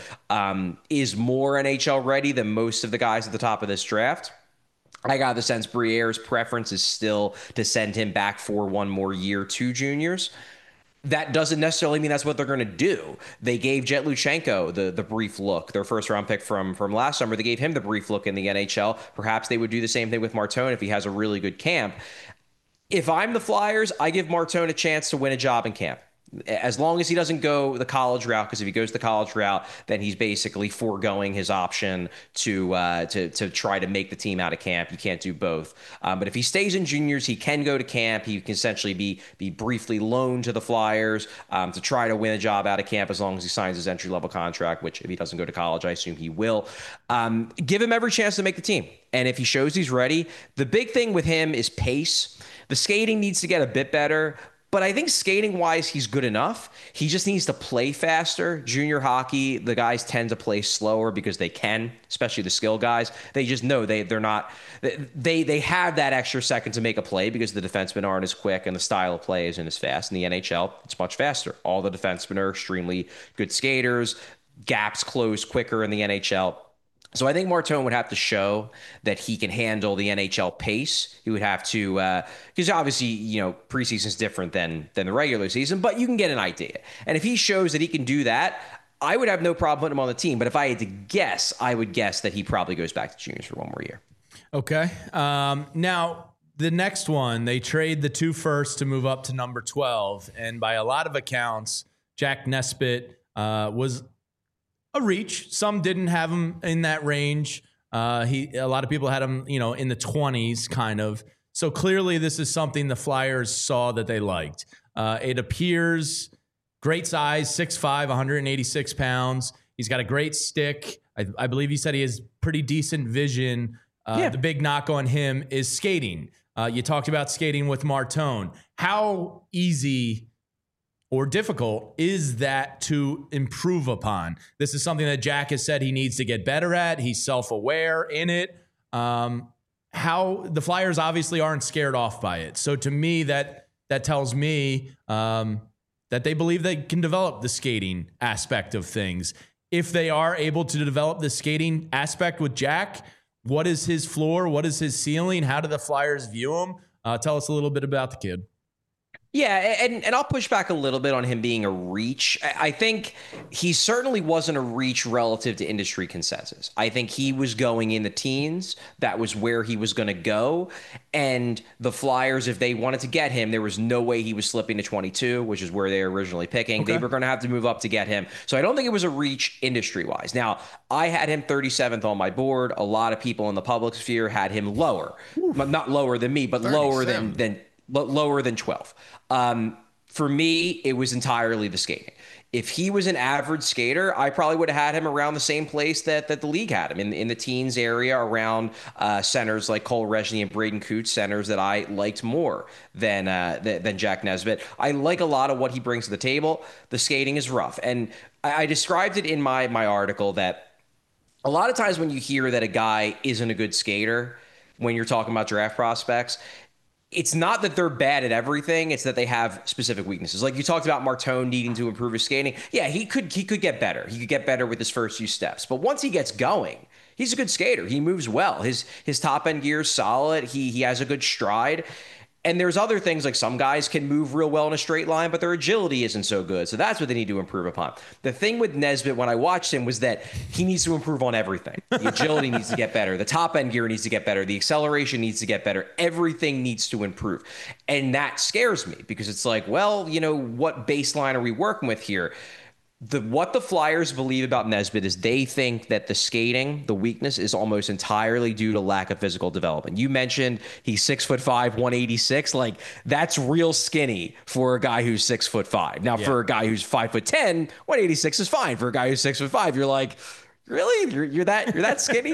is more NHL ready than most of the guys at the top of this draft, I got the sense Briere's preference is still to send him back for one more year to juniors. That doesn't necessarily mean that's what they're going to do. They gave Jet Luchenko the brief look, their first round pick from last summer. They gave him the brief look in the NHL. Perhaps they would do the same thing with Martone if he has a really good camp. If I'm the Flyers, I give Martone a chance to win a job in camp. As long as he doesn't go the college route, because if he goes the college route, then he's basically foregoing his option to try to make the team out of camp. You can't do both. But if he stays in juniors, he can go to camp. He can essentially be briefly loaned to the Flyers to try to win a job out of camp, as long as he signs his entry-level contract, which if he doesn't go to college, I assume he will. Give him every chance to make the team. And if he shows he's ready, the big thing with him is pace. The skating needs to get a bit better, but I think skating-wise, he's good enough. He just needs to play faster. Junior hockey, the guys tend to play slower because they can, especially the skill guys. They just know they're not. They have that extra second to make a play because the defensemen aren't as quick and the style of play isn't as fast. In the NHL, it's much faster. All the defensemen are extremely good skaters. Gaps close quicker in the NHL. So I think Martone would have to show that he can handle the NHL pace. He would have to, because obviously, you know, preseason is different than the regular season, but you can get an idea. And if he shows that he can do that, I would have no problem putting him on the team. But if I had to guess, I would guess that he probably goes back to juniors for one more year. Okay. Now, the next one, they trade the 2 firsts to move up to number 12. And by a lot of accounts, Jack Nesbitt was a reach. Some didn't have him in that range. A lot of people had him, you know, in the 20s kind of. So clearly this is something the Flyers saw that they liked. It appears great size, 6'5", 186 pounds. He's got a great stick. I believe he said he has pretty decent vision. The big knock on him is skating. You talked about skating with Martone. How easy or difficult is that to improve upon? This is something that Jack has said he needs to get better at. He's self-aware in it. How the Flyers obviously aren't scared off by it. So to me, that tells me that they believe they can develop the skating aspect of things. If they are able to develop the skating aspect with Jack, what is his floor? What is his ceiling? How do the Flyers view him? Tell us a little bit about the kid. Yeah, and I'll push back a little bit on him being a reach. I think he certainly wasn't a reach relative to industry consensus. I think he was going in the teens. That was where he was going to go. And the Flyers, if they wanted to get him, there was no way he was slipping to 22, which is where they were originally picking. Okay. They were going to have to move up to get him. So I don't think it was a reach industry-wise. Now, I had him 37th on my board. A lot of people in the public sphere had him lower. Ooh. Not lower than me, but lower than 12. For me, it was entirely the skating. If he was an average skater, I probably would have had him around the same place that the league had him, in the teens area, around centers like Cole Rezhny and Braden Coots, centers that I liked more than Jack Nesbitt. I like a lot of what he brings to the table. The skating is rough. And I described it in my article that a lot of times when you hear that a guy isn't a good skater, when you're talking about draft prospects, it's not that they're bad at everything. It's that they have specific weaknesses. Like you talked about Martone needing to improve his skating. Yeah, he could get better. He could get better with his first few steps. But once he gets going, he's a good skater. He moves well. His top end gear is solid. He has a good stride. And there's other things, like some guys can move real well in a straight line, but their agility isn't so good. So that's what they need to improve upon. The thing with Nesbitt when I watched him was that he needs to improve on everything. The agility needs to get better. The top end gear needs to get better. The acceleration needs to get better. Everything needs to improve. And that scares me because it's like, well, what baseline are we working with here? What the Flyers believe about Nesbitt is they think that the skating, the weakness, is almost entirely due to lack of physical development. You mentioned he's 6'5", 186. Like, that's real skinny for a guy who's 6'5". Now, for a guy who's 5'10", 186 is fine. For a guy who's 6'5", you're like, really? You're that skinny?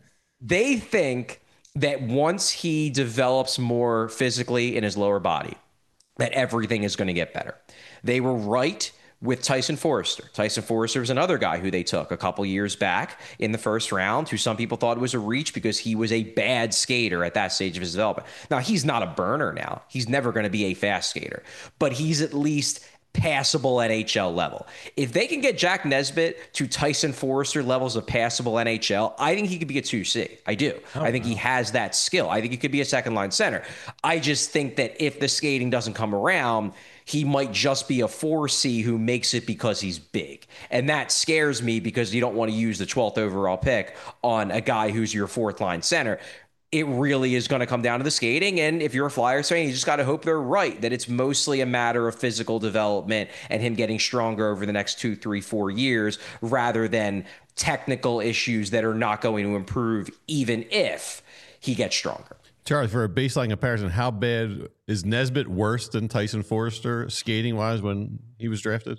They think that once he develops more physically in his lower body, that everything is going to get better. They were right with Tyson Foerster. Tyson Foerster was another guy who they took a couple years back in the first round, who some people thought was a reach because he was a bad skater at that stage of his development. Now, he's not a burner now. He's never going to be a fast skater, but he's at least passable NHL level. If they can get Jack Nesbitt to Tyson Foerster levels of passable NHL, I think he could be a 2C. I do. I think he has that skill. I think he could be a second line center. I just think that if the skating doesn't come around, he might just be a 4C who makes it because he's big. And that scares me because you don't want to use the 12th overall pick on a guy who's your fourth line center. It really is going to come down to the skating. And if you're a Flyers fan, you just got to hope they're right, that it's mostly a matter of physical development and him getting stronger over the next 2, 3, 4 years rather than technical issues that are not going to improve even if he gets stronger. Charlie, for a baseline comparison, how bad is Nesbitt worse than Tyson Foerster skating-wise when he was drafted?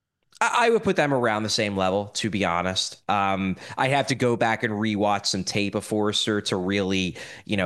I would put them around the same level, to be honest. I have to go back and rewatch some tape of Foerster to really,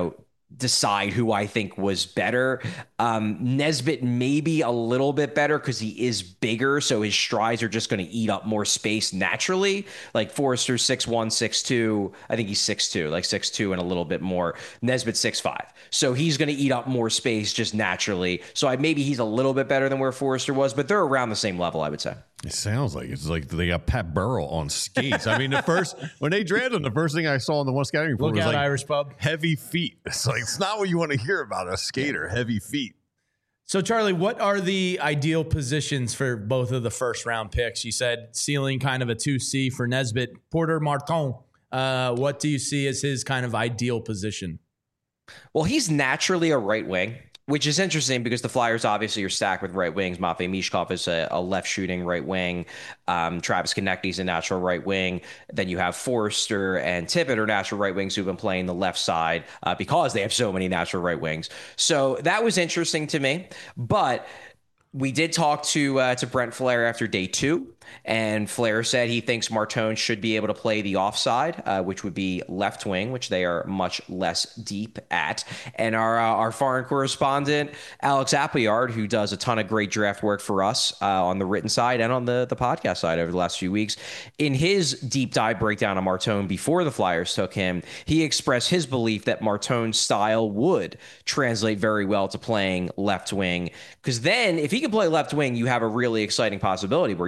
decide who I think was better. Nesbitt maybe a little bit better because he is bigger, so his strides are just going to eat up more space naturally. Like Foerster's 6'1", 6'2". I think he's 6'2", like 6'2" and a little bit more. Nesbitt's 6'5". So he's going to eat up more space just naturally. So maybe he's a little bit better than where Foerster was, but they're around the same level, I would say. It sounds like it's like they got Pat Burrell on skates. I mean, when they drafted him, the first thing I saw in the one scouting report was like Irish pub, heavy feet. It's like, it's not what you want to hear about a skater, heavy feet. So, Charlie, what are the ideal positions for both of the first round picks? You said ceiling kind of a 2C for Nesbitt. Porter Martone, what do you see as his kind of ideal position? Well, he's naturally a right wing, which is interesting because the Flyers obviously are stacked with right wings. Matvei Mishkov is a left shooting right wing. Travis Konecny's a natural right wing. Then you have Foerster and Tippett are natural right wings who've been playing the left side because they have so many natural right wings. So that was interesting to me. But we did talk to Brent Flair after day 2, and Flair said he thinks Martone should be able to play the offside, which would be left wing, which they are much less deep at. And our foreign correspondent, Alex Appleyard, who does a ton of great draft work for us on the written side and on the podcast side over the last few weeks, in his deep dive breakdown of Martone before the Flyers took him, he expressed his belief that Martone's style would translate very well to playing left wing. Because then if he can play left wing, you have a really exciting possibility where you could have a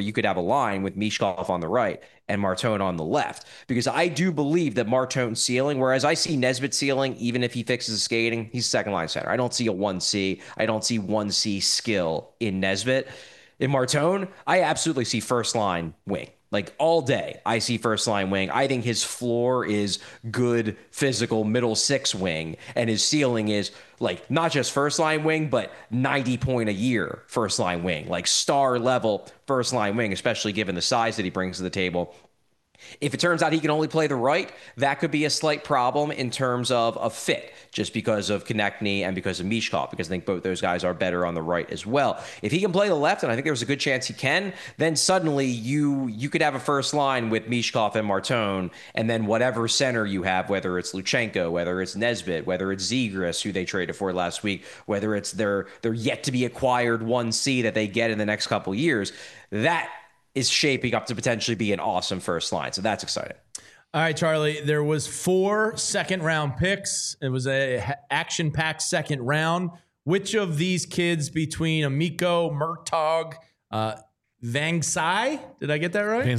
line with Mishkov on the right and Martone on the left, because I do believe that Martone's ceiling, whereas I see Nesbitt's ceiling, even if he fixes his skating, he's second line center. I don't see a 1C. I don't see 1C skill in Nesbitt. In Martone, I absolutely see first line wing. Like all day, I see first line wing. I think his floor is good physical middle six wing, and his ceiling is like not just first line wing, but 90 point a year first line wing, like star level first line wing, especially given the size that he brings to the table. If it turns out he can only play the right, that could be a slight problem in terms of a fit, just because of Konechny and because of Mishkov, because I think both those guys are better on the right as well. If he can play the left, and I think there's a good chance he can, then suddenly you could have a first line with Mishkov and Martone, and then whatever center you have, whether it's Luchenko, whether it's Nesbitt, whether it's Zegras, who they traded for last week, whether it's their yet to be acquired 1C that they get in the next couple years, that is shaping up to potentially be an awesome first line. So that's exciting. All right, Charlie, there was 4 second-round picks. It was a action-packed second round. Which of these kids between Amico, Murtaugh, Vansai, did I get that right?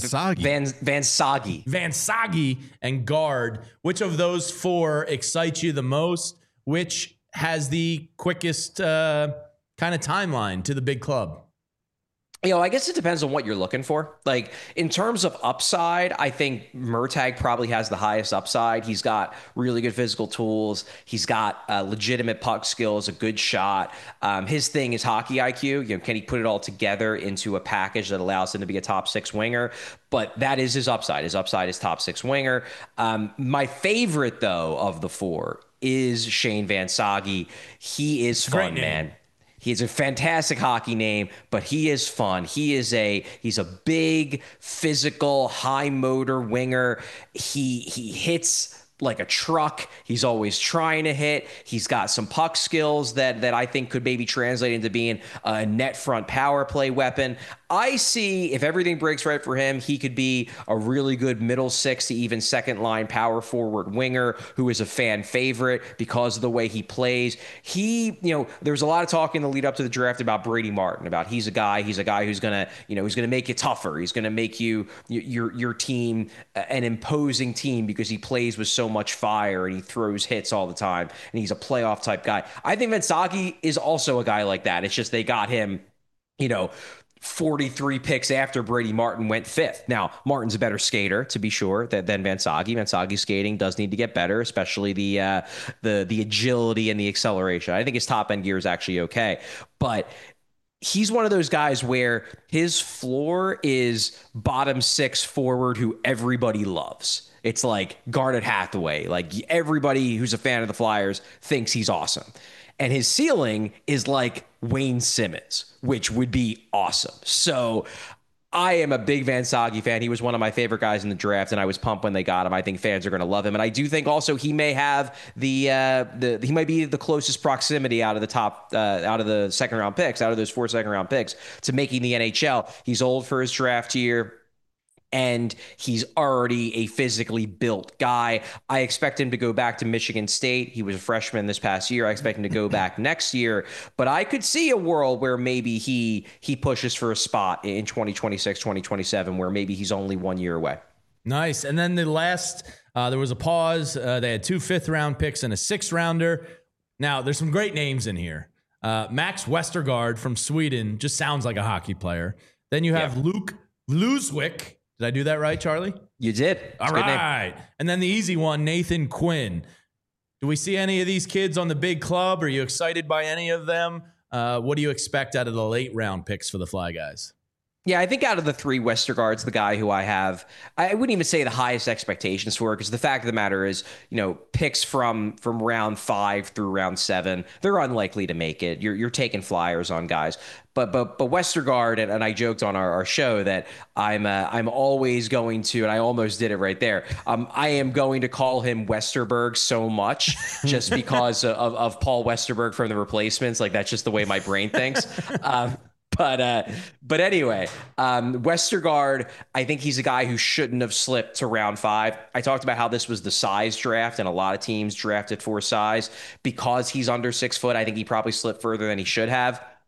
Vansagi and Guard. Which of those 4 excites you the most? Which has the quickest kind of timeline to the big club? I guess it depends on what you're looking for. Like in terms of upside, I think Murtaugh probably has the highest upside. He's got really good physical tools. He's got legitimate puck skills, a good shot. His thing is hockey IQ. Can he put it all together into a package that allows him to be a top 6 winger? But that is his upside. His upside is top 6 winger. My favorite, though, of the 4 is Shane Vansagi. He is fun, man. He's a fantastic hockey name, but he is fun. He's a big, physical, high motor winger. He hits like a truck. He's always trying to hit. He's got some puck skills that I think could maybe translate into being a net front power play weapon. I see if everything breaks right for him, he could be a really good middle 6 to even second line power forward winger who is a fan favorite because of the way he plays. There's a lot of talk in the lead up to the draft about Brady Martin, about he's a guy who's going to make you tougher. He's going to make your team an imposing team because he plays with so much fire and he throws hits all the time and he's a playoff type guy. I think Vansagi is also a guy like that. It's just they got him, 43 picks after Brady Martin went 5th. Now, Martin's a better skater, to be sure, than Vansagi. Vansagi's skating does need to get better, especially the agility and the acceleration. I think his top end gear is actually okay, but he's one of those guys where his floor is bottom 6 forward who everybody loves. It's like Garnet Hathaway. Like everybody who's a fan of the Flyers thinks he's awesome. And his ceiling is like Wayne Simmons, which would be awesome. So I am a big Vansagi fan. He was one of my favorite guys in the draft, and I was pumped when they got him. I think fans are going to love him. And I do think also he may have he might be the closest proximity out of the second round picks, out of those 4 second round picks, to making the NHL. He's old for his draft year, and he's already a physically built guy. I expect him to go back to Michigan State. He was a freshman this past year. I expect him to go back next year. But I could see a world where maybe he pushes for a spot in 2026, 2027, where maybe he's only 1 year away. Nice. And then the last, there was a pause. They had 2 5th-round picks and a 6th-rounder. Now, there's some great names in here. Max Westergaard from Sweden just sounds like a hockey player. Then you have Luke Luswick. Did I do that right, Charlie? You did. All right. And then the easy one, Nathan Quinn. Do we see any of these kids on the big club? Are you excited by any of them? What do you expect out of the late round picks for the Fly Guys? Yeah, I think out of the 3, Westergaard's the guy who I wouldn't even say the highest expectations for, because the fact of the matter is, picks from round 5 through round 7, they're unlikely to make it. You're taking flyers on guys. But Westergaard, and I joked on our show that I'm always going to, and I almost did it right there. I am going to call him Westerberg so much just because of Paul Westerberg from The Replacements. Like that's just the way my brain thinks. But anyway, Westergaard, I think he's a guy who shouldn't have slipped to round 5. I talked about how this was the size draft, and a lot of teams drafted for size. Because he's under 6 foot, I think he probably slipped further than he should have.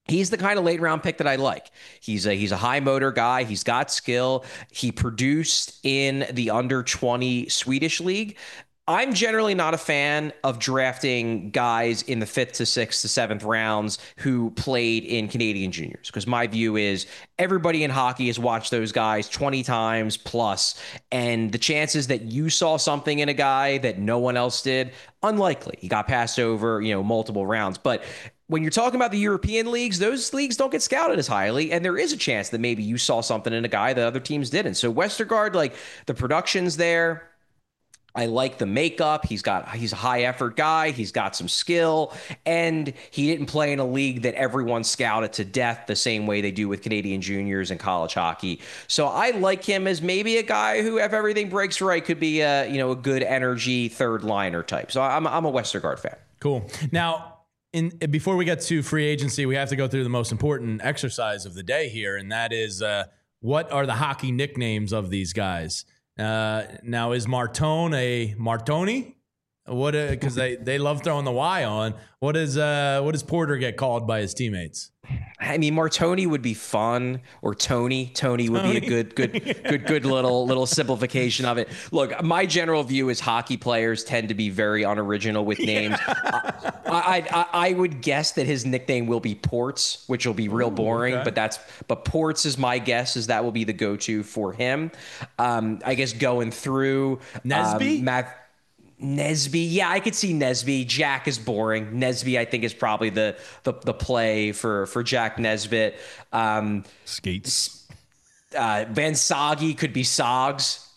He's the kind of late round pick that I like. He's a high motor guy. He's got skill. He produced in the under 20 Swedish league. I'm generally not a fan of drafting guys in the 5th to 6th to 7th rounds who played in Canadian juniors, because my view is everybody in hockey has watched those guys 20 times plus, and the chances that you saw something in a guy that no one else did, unlikely. He got passed over, multiple rounds. But when you're talking about the European leagues, those leagues don't get scouted as highly, and there is a chance that maybe you saw something in a guy that other teams didn't. So Westergaard, like, the production's there. I like the makeup. He's a high effort guy. He's got some skill, and he didn't play in a league that everyone scouted to death the same way they do with Canadian juniors and college hockey. So I like him as maybe a guy who, if everything breaks right, could be a good energy third liner type. So I'm a Westergaard fan. Cool. Now, before we get to free agency, we have to go through the most important exercise of the day here, and that is what are the hockey nicknames of these guys? Now, is Martone a Martoni? What? Because they love throwing the Y on. What does Porter get called by his teammates? I mean, Martoni would be fun, or Tony. Tony would be a good little simplification of it. Look, my general view is hockey players tend to be very unoriginal with names. Yeah. I would guess that his nickname will be Ports, which will be real boring. Okay. But Ports is my guess, is that will be the go-to for him. I guess going through Nesby. Nesby, yeah, I could see Nesby. Jack is boring. Nesby, I think, is probably the play for Jack Nesbitt. Skates. Van Soggy could be Sogs.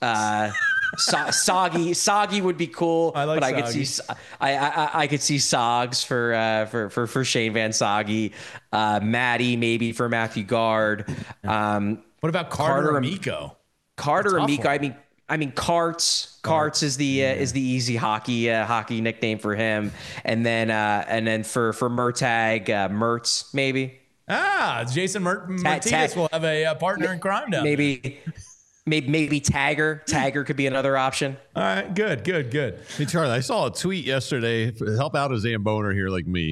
Soggy would be cool. I like but Soggy. I could see Sogs for Shane Van Soggy. Matty maybe for Matthew Guard. What about Carter Amico? Carter Amico. I mean, Carts is the easy hockey nickname for him, and then for Murtag, Mertz maybe. Jason Martinez will have a partner in crime down maybe. Maybe Tagger. Tagger could be another option. All right, good. Hey, Charlie, I saw a tweet yesterday. Help out a Zamboner here like me.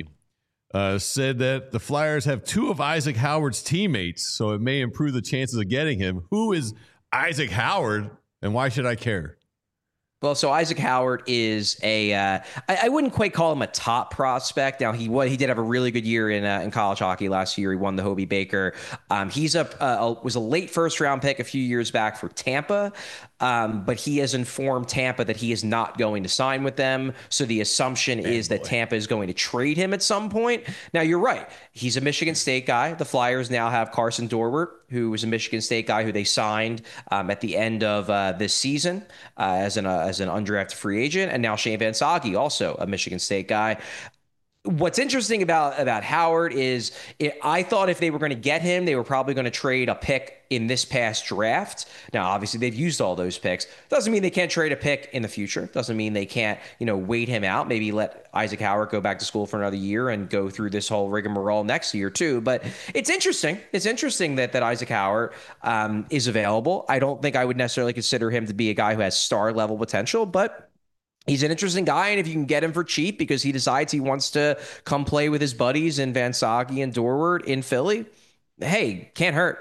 Said that the Flyers have 2 of Isaac Howard's teammates, so it may improve the chances of getting him. Who is Isaac Howard? And why should I care? Well, so Isaac Howard is I wouldn't quite call him a top prospect. Now he did have a really good year in college hockey last year. He won the Hobey Baker. He's was a late first round pick a few years back for Tampa. But he has informed Tampa that he is not going to sign with them. So the assumption is that Tampa is going to trade him at some point. Now, you're right. He's a Michigan State guy. The Flyers now have Carson Dorwart, who was a Michigan State guy who they signed at the end of this season as an undrafted free agent. And now Shane Van Soggy, also a Michigan State guy. What's interesting about Howard is I thought if they were going to get him, they were probably going to trade a pick in this past draft. Now, obviously, they've used all those picks. Doesn't mean they can't trade a pick in the future. Doesn't mean they can't, wait him out. Maybe let Isaac Howard go back to school for another year and go through this whole rigmarole next year, too. But it's interesting. It's interesting that Isaac Howard is available. I don't think I would necessarily consider him to be a guy who has star-level potential, but he's an interesting guy, and if you can get him for cheap because he decides he wants to come play with his buddies in Van Soggy and Dorwart in Philly, hey, can't hurt.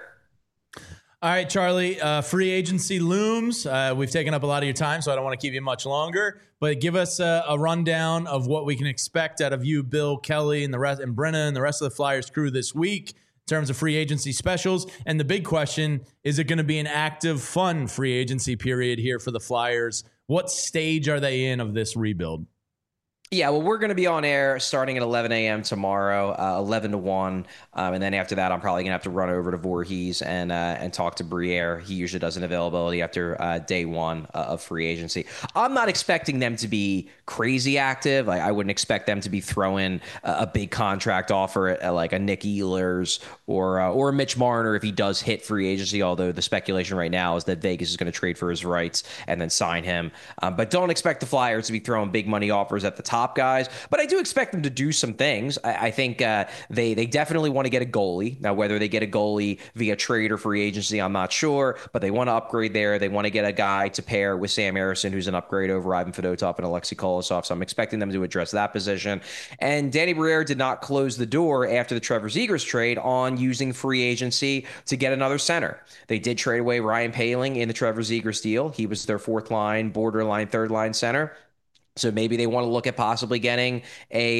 All right, Charlie, free agency looms. We've taken up a lot of your time, so I don't want to keep you much longer. But give us a rundown of what we can expect out of you, Bill, Kelly, and Brenna and the rest of the Flyers crew this week in terms of free agency specials. And the big question, is it going to be an active, fun free agency period here for the Flyers? What stage are they in of this rebuild? Yeah, well, we're going to be on air starting at 11 a.m. tomorrow, 11 to 1. And then after that, I'm probably going to have to run over to Voorhees and talk to Briere. He usually does an availability after day one of free agency. I'm not expecting them to be crazy active. I wouldn't expect them to be throwing a big contract offer at like a Nick Ehlers or a Mitch Marner if he does hit free agency, although the speculation right now is that Vegas is going to trade for his rights and then sign him. But don't expect the Flyers to be throwing big money offers at the top top guys, but I do expect them to do some things. I think they definitely want to get a goalie. Now, whether they get a goalie via trade or free agency, I'm not sure, but they want to upgrade there. They want to get a guy to pair with Sam Harrison, who's an upgrade over Ivan Fedotov and Alexei Kolosov. So I'm expecting them to address that position. And Danny Briere did not close the door after the Trevor Zegras trade on using free agency to get another center. They did trade away Ryan Poehling in the Trevor Zegras deal. He was their fourth line, borderline third line center. So maybe they want to look at possibly getting a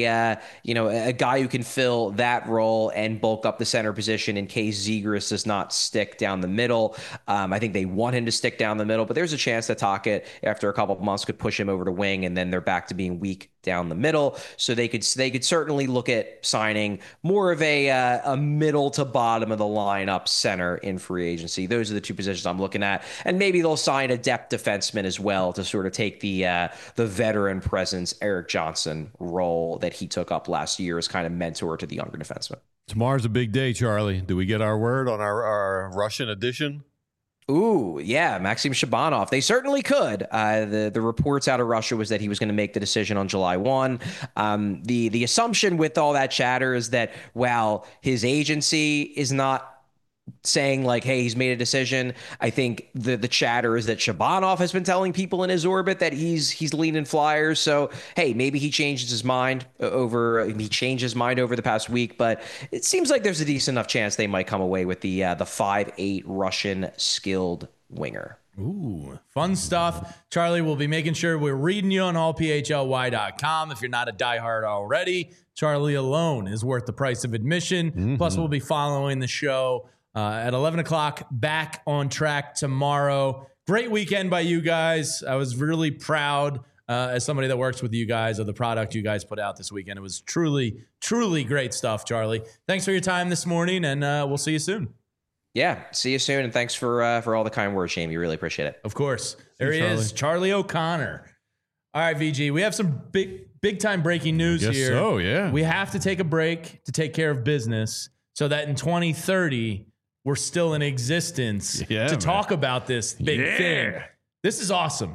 guy who can fill that role and bulk up the center position in case Zegras does not stick down the middle. I think they want him to stick down the middle, but there's a chance that Tocchet, after a couple of months, could push him over to wing, and then they're back to being weak down the middle. So they could certainly look at signing more of a middle to bottom of the lineup center in free agency. Those are the two positions I'm looking at, and maybe they'll sign a depth defenseman as well to sort of take the veteran presence Erik Johnson role that he took up last year as kind of mentor to the younger defenseman. Tomorrow's a big day, Charlie. Do we get our word on our Russian edition? Ooh, yeah, Maxim Shabanov. They certainly could. The reports out of Russia was that he was going to make the decision on July 1. The assumption with all that chatter is that while his agency is not saying like, hey, he's made a decision, I think the chatter is that Shabanov has been telling people in his orbit that he's leaning Flyers. So, hey, maybe he changed his mind over the past week, but it seems like there's a decent enough chance they might come away with the 5'8" Russian skilled winger. Ooh, fun stuff. Charlie, will be making sure we're reading you on allphly.com. If you're not a diehard already, Charlie alone is worth the price of admission. Mm-hmm. Plus, we'll be following the show at 11 o'clock, back on track tomorrow. Great weekend by you guys. I was really proud as somebody that works with you guys of the product you guys put out this weekend. It was truly, truly great stuff, Charlie. Thanks for your time this morning, and we'll see you soon. Yeah, see you soon, and thanks for all the kind words, Jamie. Really appreciate it. Of course. There he is, Charlie O'Connor. All right, VG, we have some big time breaking news here. So, yeah. We have to take a break to take care of business so that in 2030 we're still in existence to talk about this big thing. This is awesome.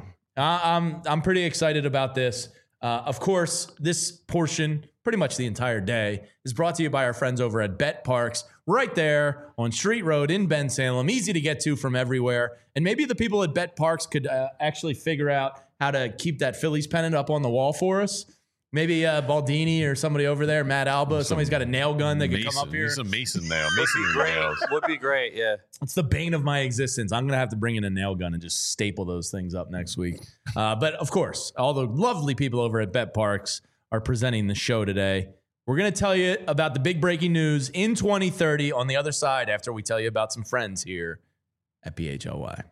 I'm pretty excited about this. Of course, this portion, pretty much the entire day, is brought to you by our friends over at Bet Parks, right there on Street Road in Bensalem. Easy to get to from everywhere. And maybe the people at Bet Parks could actually figure out how to keep that Phillies pennant up on the wall for us. Maybe Baldini or somebody over there, Matt Alba, somebody's got a nail gun that could come up here. He's a mason now. Would be great, yeah. It's the bane of my existence. I'm going to have to bring in a nail gun and just staple those things up next week. But, of course, all the lovely people over at Bet Parks are presenting the show today. We're going to tell you about the big breaking news in 2030 on the other side after we tell you about some friends here at BHLY.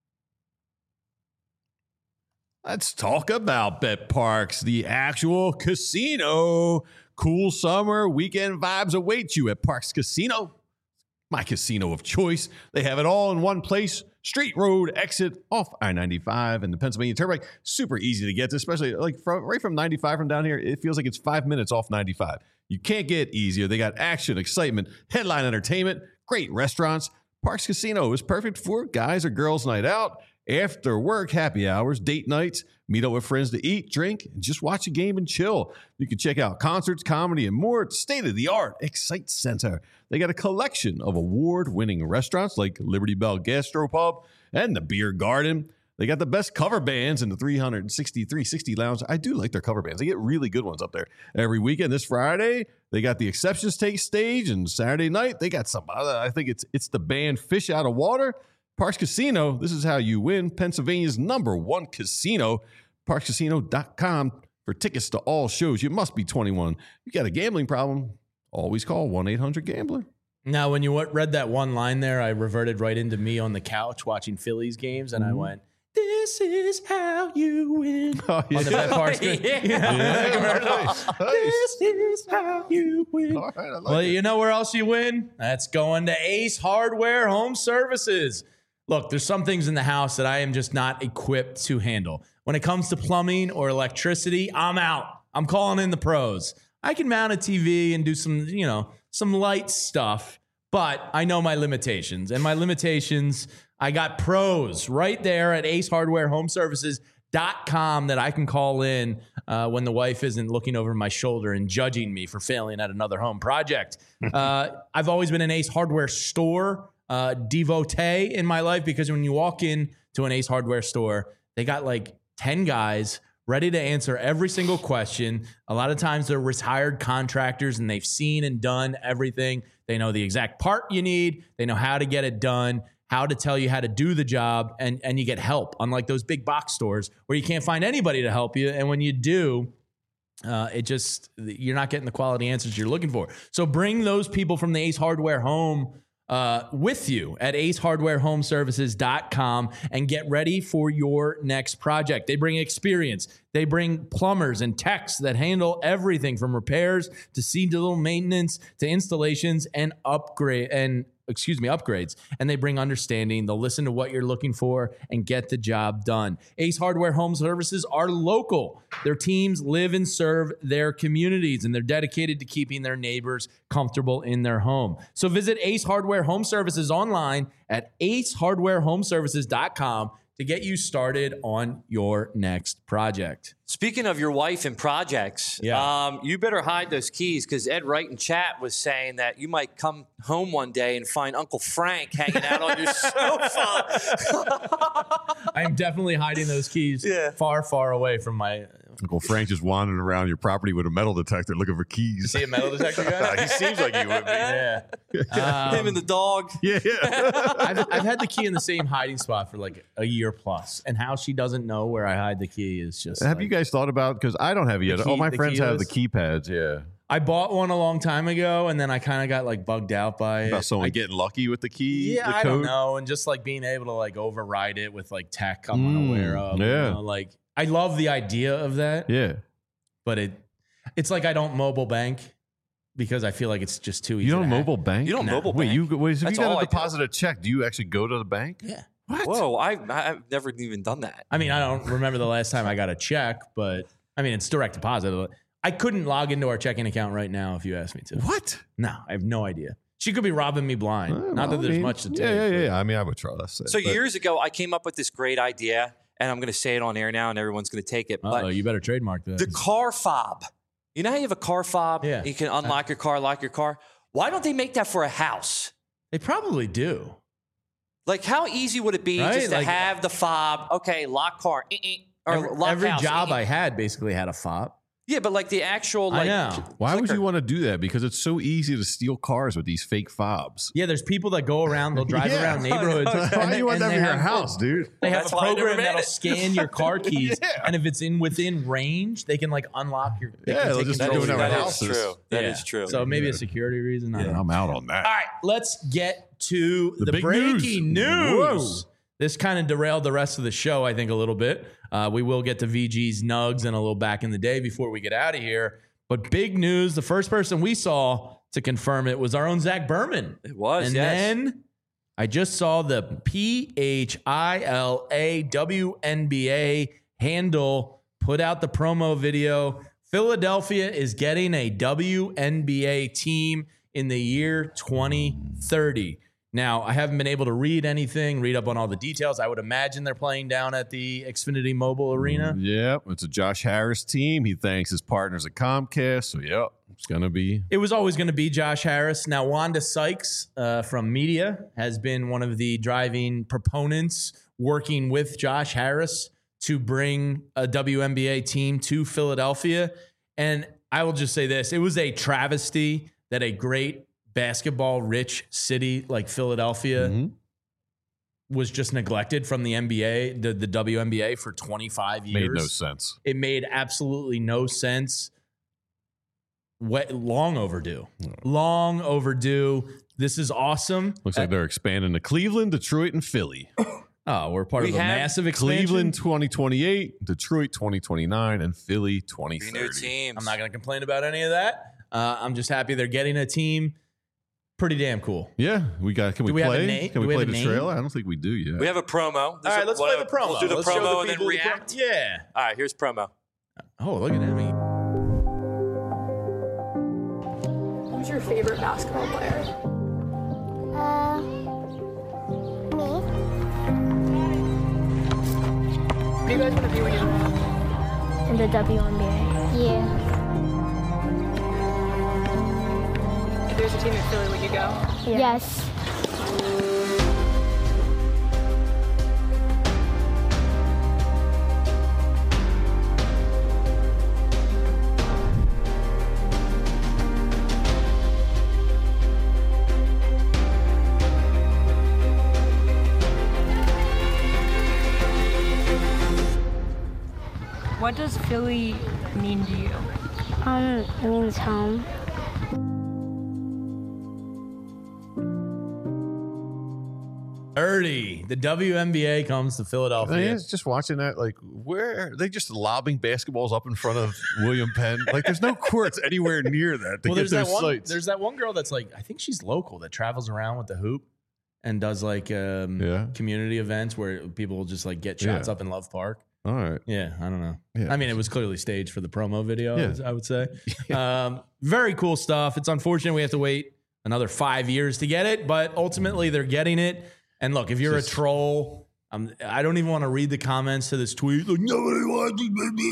Let's talk about Bet Parks, the actual casino. Cool summer weekend vibes await you at Parks Casino, my casino of choice. They have it all in one place. Street Road exit off I-95 and the Pennsylvania Turnpike. Super easy to get to, especially like right from 95 from down here. It feels like it's 5 minutes off 95. You can't get easier. They got action, excitement, headline entertainment, great restaurants. Parks Casino is perfect for guys or girls night out, after work, happy hours, date nights, meet up with friends to eat, drink, and just watch a game and chill. You can check out concerts, comedy, and more at state-of-the-art Excite Center. They got a collection of award-winning restaurants like Liberty Bell Gastropub and the Beer Garden. They got the best cover bands in the 360 Lounge. I do like their cover bands. They get really good ones up there every weekend. This Friday, they got the Exceptions Take stage, and Saturday night, they got some other, I think it's the band Fish Out of Water. Parks Casino, this is how you win. Pennsylvania's #1 casino. ParksCasino.com for tickets to all shows. You must be 21. You got a gambling problem, always call 1-800-GAMBLER. Now, when you read that one line there, I reverted right into me on the couch watching Phillies games, and I went, "This is how you win." On the Bet Parks screen. This is how you win. All right, well, you know where else you win? That's going to Ace Hardware Home Services. Look, there's some things in the house that I am just not equipped to handle. When it comes to plumbing or electricity, I'm out. I'm calling in the pros. I can mount a TV and do some light stuff, but I know my limitations. And my limitations, I got pros right there at Ace Hardware Home Services. .com that I can call in when the wife isn't looking over my shoulder and judging me for failing at another home project. I've always been an Ace Hardware store devotee in my life, because when you walk in to an Ace Hardware store, they got like 10 guys ready to answer every single question. A lot of times they're retired contractors and they've seen and done everything. They know the exact part you need. They know how to get it done, how to tell you how to do the job, and you get help, unlike those big box stores where you can't find anybody to help you. And when you do, you're not getting the quality answers you're looking for. So bring those people from the Ace Hardware home with you at acehardwarehomeservices.com and get ready for your next project. They bring experience. They bring plumbers and techs that handle everything from repairs to seasonal maintenance to installations and upgrades. And they bring understanding. They'll listen to what you're looking for and get the job done. Ace Hardware Home Services are local. Their teams live and serve their communities, and they're dedicated to keeping their neighbors comfortable in their home. So visit Ace Hardware Home Services online at acehardwarehomeservices.com to get you started on your next project. Speaking of your wife and projects, you better hide those keys, because Ed Wright in chat was saying that you might come home one day and find Uncle Frank hanging out on your sofa. I'm definitely hiding those keys far, far away from my... Uncle Frank just wandering around your property with a metal detector looking for keys. You see a metal detector guy? He seems like he would be. Yeah. Him and the dog. Yeah. I've had the key in the same hiding spot for like a year plus, and how she doesn't know where I hide the key is just... Have you guys thought about, because I don't have it yet. All my friends have the keypads, yeah. I bought one a long time ago, and then I kind of got like bugged out by about someone getting lucky with the key. Yeah, I don't know, and just like being able to like override it with like tech I'm unaware of. Yeah, you know, like I love the idea of that. Yeah, but it's like I don't mobile bank because I feel like it's just too easy. You don't mobile bank? You don't mobile bank? Wait, if you got to deposit a check, do you actually go to the bank? Yeah. What? Whoa, I've never even done that. I mean, I don't remember the last time I got a check, but I mean, it's direct deposit. I couldn't log into our checking account right now if you asked me to. What? No, I have no idea. She could be robbing me blind. Not that there's much to take. Yeah. I mean, I would trust. So years ago, I came up with this great idea, and I'm going to say it on air now, and everyone's going to take it. But you better trademark that. The car fob. You know how you have a car fob? Yeah. You can unlock your car, lock your car. Why don't they make that for a house? They probably do. Like, how easy would it be just to have the fob? Okay, lock car. Or lock every house. job I had basically had a fob. Yeah, but like the actual, like, I know. Why clicker. would you want to do that? Because it's so easy to steal cars with these fake fobs. Yeah, there's people that go around, they'll drive around neighborhoods. Why do you want that in your house, dude? They have That's a why I never program made that'll it. scan your car keys, and if it's within range, they can like unlock your. They'll just control do it of your at That house. is houses. true. That is true. So maybe a security reason. I don't know. I'm out on that. All right, let's get to the big breaking news. Whoa. This kind of derailed the rest of the show, I think, a little bit. We will get to VG's Nugs and a little back in the day before we get out of here. But big news, the first person we saw to confirm it was our own Zach Berman. It was, and then I just saw the PHILA handle put out the promo video. Philadelphia is getting a WNBA team in the year 2030. Now, I haven't been able to read up on all the details. I would imagine they're playing down at the Xfinity Mobile Arena. Yep, it's a Josh Harris team. He thanks his partners at Comcast. So, yep, it's going to be. It was always going to be Josh Harris. Now, Wanda Sykes from media has been one of the driving proponents working with Josh Harris to bring a WNBA team to Philadelphia. And I will just say this. It was a travesty that a great basketball-rich city like Philadelphia was just neglected from the NBA, the WNBA, for 25 years. Made no sense. It made absolutely no sense. Long overdue. Long overdue. This is awesome. Looks like they're expanding to Cleveland, Detroit, and Philly. Oh, we're part of a massive expansion. Cleveland 2028, Detroit 2029, and Philly 2030. new teams. I'm not going to complain about any of that. I'm just happy they're getting a team. Pretty damn cool. Yeah, we got. Can we we have a play? name? Can Do we we play have a the name? trailer? I don't think we do yet. We have a promo. All right, let's play the promo. We'll do the Let's show promo and the then people the react. Yeah. All right, here's promo. Oh, look at him. Who's your favorite basketball player? Me. do you guys want to be when you grow up? In the WNBA. Yeah. If there's a team in Philly, would you go? Yeah. Yes. What does Philly mean to you? It means home. Early, the WNBA comes to Philadelphia. I mean, it's just watching that, like, where are they just lobbing basketballs up in front of William Penn? Like, there's no courts anywhere near that. Well, there's that one girl that's like, I think she's local that travels around with the hoop and does like community events where people will just like get shots up in Love Park. All right. Yeah, I don't know. Yeah. I mean, it was clearly staged for the promo video, I would say. Very cool stuff. It's unfortunate we have to wait another 5 years to get it, but ultimately they're getting it. And look, if you're a troll, I don't even want to read the comments to this tweet. Like, nobody wants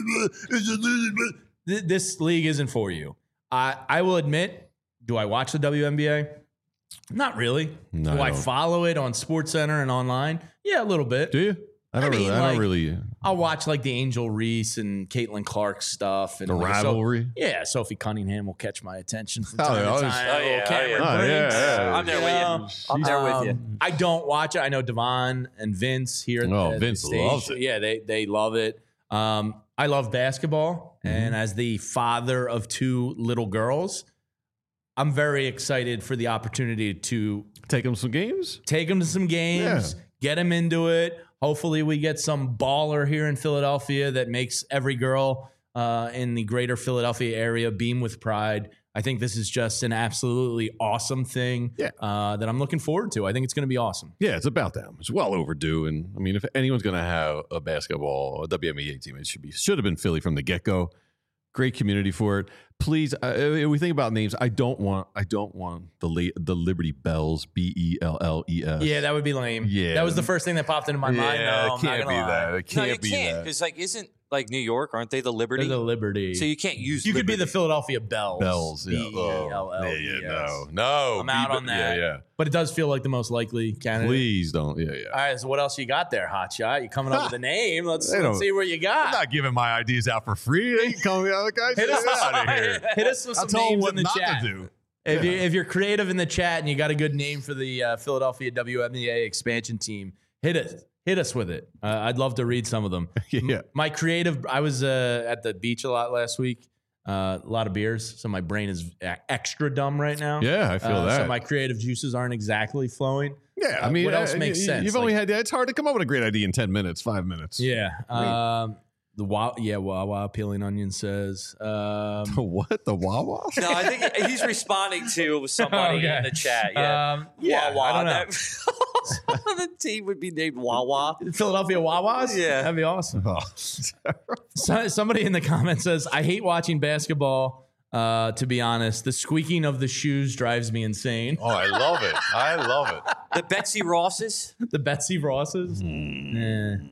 it. This league isn't for you. I will admit, do I watch the WNBA? Not really. No, do I follow it on SportsCenter and online? Yeah, a little bit. Do you? I don't really. I'll watch like the Angel Reese and Caitlin Clark stuff. And the rivalry? Sophie Cunningham will catch my attention from Oh, time yeah, to time. Cameron Briggs. I'm there with you. I'm there with you. I don't watch it. I know Devon and Vince here at the Vince station. loves it. Yeah, they love it. I love basketball. And as the father of two little girls, I'm very excited for the opportunity to Take them some games? take them to some games, get them into it. Hopefully we get some baller here in Philadelphia that makes every girl in the greater Philadelphia area beam with pride. I think this is just an absolutely awesome thing that I'm looking forward to. I think it's going to be awesome. Yeah, it's about them. It's well overdue. And I mean, if anyone's going to have a basketball, a WNBA team, it should have been Philly from the get-go. Great community for it. Please, if we think about names, I don't want the Liberty Bells, BELLES. Yeah, that would be lame. Yeah, that was the first thing that popped into my mind. No, it can't be that. It can't be that. Because like, isn't like New York? Aren't they the Liberty? They're the Liberty. So you can't use. You could be the Philadelphia Bells. Bells. Yeah. BELLES. No. I'm out on that. Yeah. But it does feel like the most likely candidate. Please don't. Yeah. All right. So what else you got there, Hotshot? You coming up with a name? Let's see what you I'm got. not giving my ideas out for free. They can call me out, guys. Hit us out of here. Hit us with some I'll names what in the not chat. to do. If you're creative in the chat and you got a good name for the Philadelphia WNBA expansion team, hit us with it. I'd love to read some of them. Yeah. My creative, I was at the beach a lot last week. A lot of beers, so my brain is extra dumb right now. Yeah, I feel that. So my creative juices aren't exactly flowing. Yeah, I mean, what else makes sense? You've only had. It's hard to come up with a great idea in 10 minutes, 5 minutes. Yeah. Wawa Peeling Onion says. The what? The Wawa? No, I think he's responding to somebody in the chat. Yeah, Wawa. I don't know. The team would be named Wawa. Philadelphia Wawas? Yeah. That'd be awesome. Oh. Somebody in the comments says, I hate watching basketball. To be honest, the squeaking of the shoes drives me insane. Oh, I love it. I love it. The Betsy Rosses? The Betsy Rosses? No.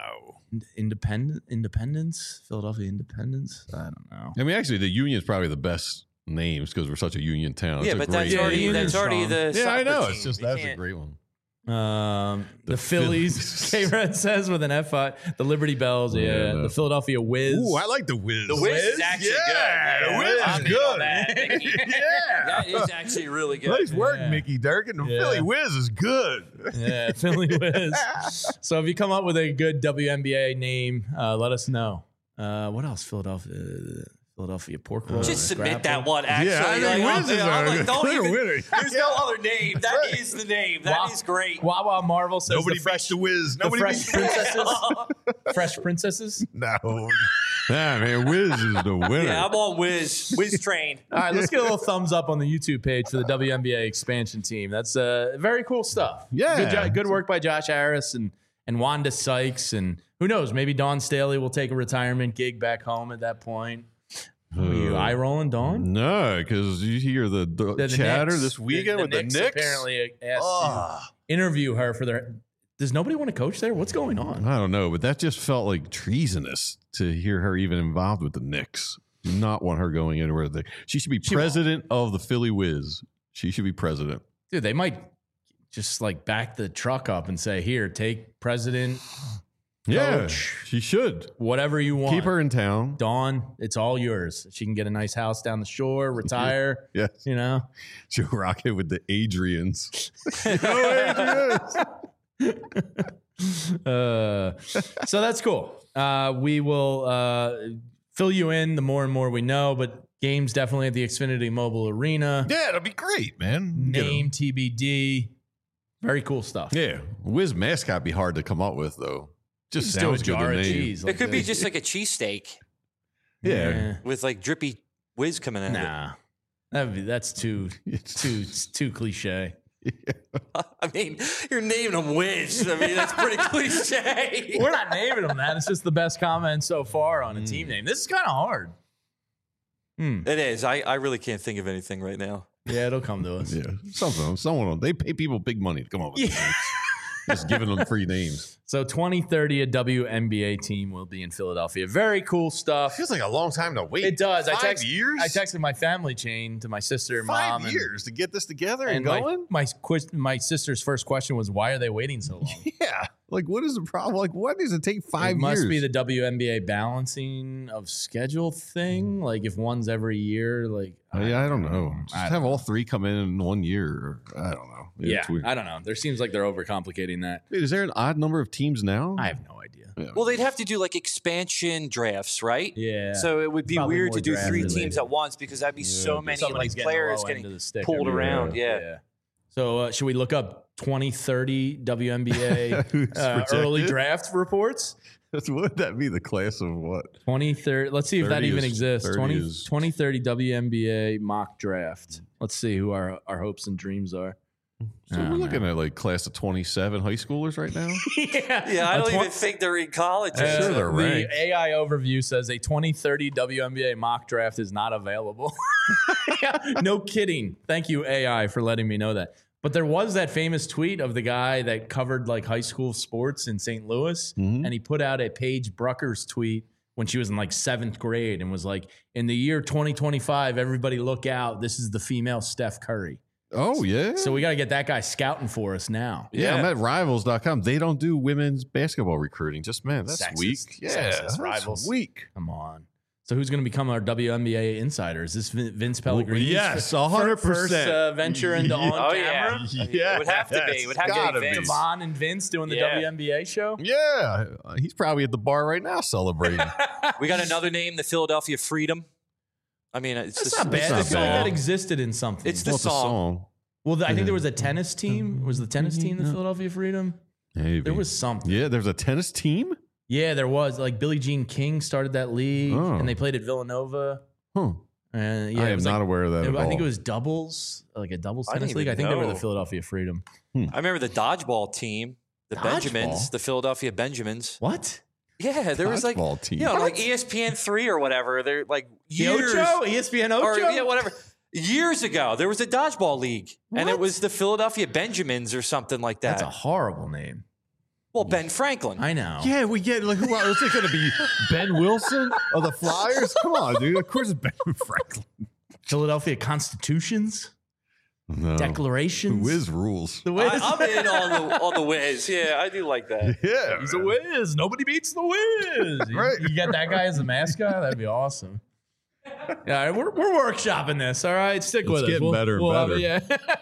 Independence? Philadelphia Independence? I don't know. I mean, actually, the Union is probably the best names because we're such a Union town. Yeah, but that's already the Yeah, I know. team. It's just that's a great one. The Phillies, K-Red says with an F5. The Liberty Bells, the Philadelphia Wiz. Ooh, I like the Wiz. The Wiz is actually good. The Wiz is good. That is actually really good. Nice work, Mickey Durkin. The Philly Wiz is good. Yeah, Philly Wiz. So if you come up with a good WNBA name, let us know. What else? Philadelphia pork roll. Just submit that one, actually. Yeah, I think Wiz is there's no other name. That is the name. That is great. Wawa Marvel says Nobody beats the Wiz. The Fresh Princesses. Fresh Princesses? No. Nah, man, Wiz is the winner. Yeah, I'm on Wiz train. All right, let's get a little thumbs up on the YouTube page for the WNBA expansion team. That's very cool stuff. Yeah. Good work by Josh Harris and Wanda Sykes. And who knows, maybe Dawn Staley will take a retirement gig back home at that point. Are you eye rolling, Dawn? No, because you hear the chatter Knicks, this weekend with the Knicks. Apparently asked to interview her for Does nobody want to coach there? What's going on? I don't know, but that just felt like treasonous to hear her even involved with the Knicks. Do not want her going anywhere. She should be president of the Philly Whiz. She should be president. Dude, they might just like back the truck up and say, here, take president. Yeah, coach, she should. Whatever you want. Keep her in town. Dawn, it's all yours. She can get a nice house down the shore, retire. Yes. You know? She'll rock it with the Adrians. So that's cool. We will fill you in the more and more we know, but games definitely at the Xfinity Mobile Arena. Yeah, it'll be great, man. Name TBD. Very cool stuff. Yeah. Whiz mascot be hard to come up with, though. Just do sounds a good jar to of me. cheese. It could be just like a cheesesteak Yeah. with like drippy whiz coming out. Nah. That's too cliche. I mean, you're naming them whiz. I mean, that's pretty cliche. We're not naming them that. It's just the best comment so far on a team name. This is kind of hard. It is. I really can't think of anything right now. Yeah, it'll come to us. Yeah. Someone. They pay people big money to come up with these names. Just giving them free names. So 2030, a WNBA team will be in Philadelphia. Very cool stuff. Feels like a long time to wait. It does. 5 years? I texted my family chain to my sister and 5 mom. years to get this together and And going? my sister's first question was, why are they waiting so long? Yeah. Like, what is the problem? Like, what does it take 5 years? It must be the WNBA balancing of schedule thing. Like, if one's every year, like... I don't know. Just have all three come in 1 year. Or, I don't know. Yeah, I don't know. There seems like they're overcomplicating that. Wait, is there an odd number of teams now? I have no idea. Yeah. Well, they'd have to do like expansion drafts, right? Yeah. So it would be Probably weird more to do draft 3 related. teams at once because that'd be so many Somebody's like getting the players low end getting of the stick pulled every around. year. Yeah. So should we look up 2030 WNBA early draft reports? Would that be the class of what? 2030. Let's see if that 30 even is- exists. 30 is- 2030 WNBA mock draft. Let's see who our hopes and dreams are. So we're looking at like class of 27 high schoolers right now. Yeah, I don't even think they're in college. I'm sure they're ranked. The AI overview says a 2030 WNBA mock draft is not available. No kidding. Thank you, AI, for letting me know that. But there was that famous tweet of the guy that covered like high school sports in St. Louis, and he put out a Paige Bruckers tweet when she was in like 7th grade and was like, in the year 2025, everybody look out. This is the female Steph Curry. Oh, yeah. So we got to get that guy scouting for us now. Yeah, I'm at rivals.com. They don't do women's basketball recruiting. Just, man, that's Sexist. weak. Yeah, Sexist that's Rivals. weak. Come on. So who's going to become our WNBA insider? Is this Vince Pellegrini's yes, 100%. first venture into on Oh, camera? yeah. It would have to be. It would have to Gotta be be. Vince. Devon and Vince doing the Yeah. WNBA show? Yeah, he's probably at the bar right now celebrating. We got another name, the Philadelphia Freedom. I mean, it's That's the not bad. not I feel like bad. that existed in something. It's the Well, it's a song. Well, I think there was a tennis team. Was the tennis team the Philadelphia Freedom? Maybe. There was something. Yeah, there's a tennis team? Yeah, there was. Like Billie Jean King started that league, Oh. and they played at Villanova. Huh. And yeah, I it am was not like, aware of that at I think all. it was doubles, like a doubles I didn't tennis league. even I think they were the know. Philadelphia Freedom. I remember the dodgeball team, the Dodgeball? Benjamins, the Philadelphia Benjamins. What? Yeah, there was like, Dodgeball team. you know, like ESPN 3 or whatever. They're like The years. Ocho? ESPN Ocho? Or, yeah, whatever. Years ago, there was a dodgeball league, and it What? was the Philadelphia Benjamins or something like that. That's a horrible name. Well, Ben Franklin. I know. Yeah, we get like who else? Is it going to be Ben Wilson of the Flyers? Come on, dude. Of course, it's Ben Franklin. Philadelphia Constitutions? No. Declarations? Whiz rules. The Wiz. I'm in on the whiz. Yeah, I do like that. Yeah, He's a Wiz. Nobody beats the Wiz. Right. You get that guy as a mascot? That'd be awesome. Yeah, we're workshopping this. All right, stick with us. getting better and better. Yeah.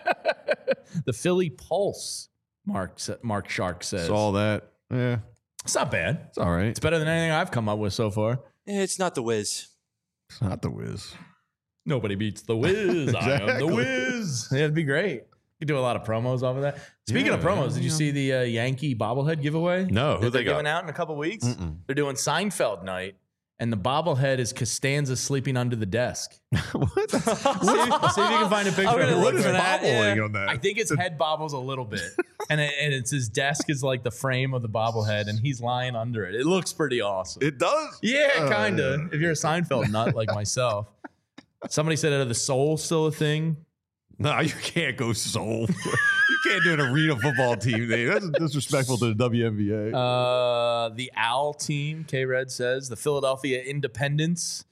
The Philly Pulse. Mark Shark says Saw that. Yeah, it's not bad. it's all right. It's better than anything I've come up with so far. It's not the whiz. It's not the Whiz. Nobody beats the Wiz. I am the Exactly. Wiz. Yeah, it'd be great. You do a lot of promos off of that. Speaking of Yeah, promos, did you see the Yankee bobblehead giveaway? No, who that they they're got? giving out in a couple weeks? Mm-mm. They're doing Seinfeld night, and the bobblehead is Costanza sleeping under the desk. What? See if you can find a picture. I'm gonna of it. look What is for that, bobbling yeah. on that? I think his head bobbles a little bit, and it's his desk is like the frame of the bobblehead, and he's lying under it. It looks pretty awesome. It does. Yeah, kind of. If you're a Seinfeld nut like myself. Somebody said, are the soul still a thing? No, you can't go soul. You can't do an arena football team name. That's disrespectful to the WNBA. The Owl team, K-Red says. The Philadelphia Independents.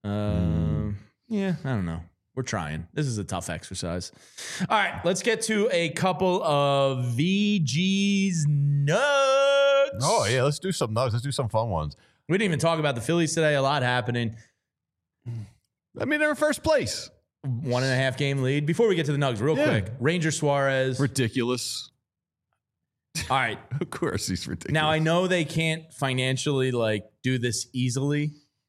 Yeah, I don't know. We're trying. This is a tough exercise. All right, let's get to a couple of VG's nugs. Oh, yeah, let's do some nugs. Let's do some fun ones. We didn't even talk about the Phillies today. A lot happening. I mean, they're in first place. 1.5 game lead. Before we get to the nugs, real quick. Ranger Suarez. Ridiculous. All right. Of course, he's ridiculous. Now, I know they can't financially, do this easily.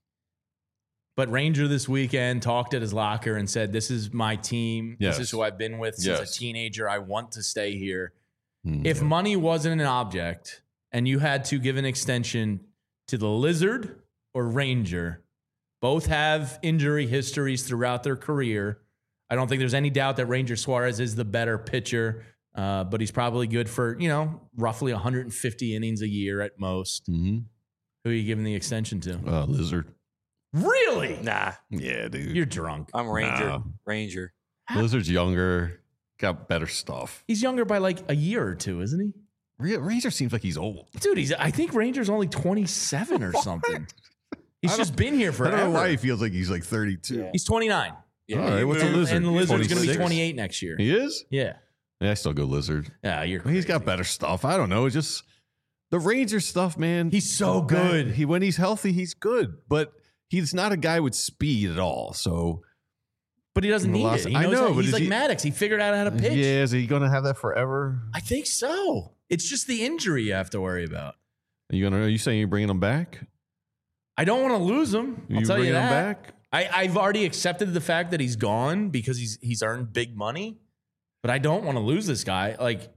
But Ranger this weekend talked at his locker and said, this is my team. Yes. This is who I've been with since Yes. a teenager. I want to stay here. If money wasn't an object and you had to give an extension to the Lizard or Ranger, both have injury histories throughout their career. I don't think there's any doubt that Ranger Suarez is the better pitcher, but he's probably good for, roughly 150 innings a year at most. Mm-hmm. Who are you giving the extension to? Lizard. Really? Nah. Yeah, dude. You're drunk. I'm Ranger. Nah. Ranger. Lizard's younger, got better stuff. He's younger by a year or two, isn't he? Ranger seems like he's old. Dude, I think Ranger's only 27 or something. He's just been here forever. I don't know why he feels like he's 32. Yeah. He's 29. Yeah. All right, what's a Lizard? And the Lizard's going to be 26? 28 next year. He is? Yeah. Yeah, I still go Lizard. Yeah, you're He's got crazy. better stuff. I don't know. It's just the Ranger stuff, man. He's so good. When he's healthy, he's good. But he's not a guy with speed at all. So, But he doesn't need it. He I knows know, how, but he's is like he- Maddox. He figured out how to pitch. yeah, is he going to have that forever? I think so. It's just the injury you have to worry about. Are you saying you're bringing him back? I don't want to lose him. I'll tell you bringing him that. back? I've already accepted the fact that he's gone because he's earned big money, but I don't want to lose this guy.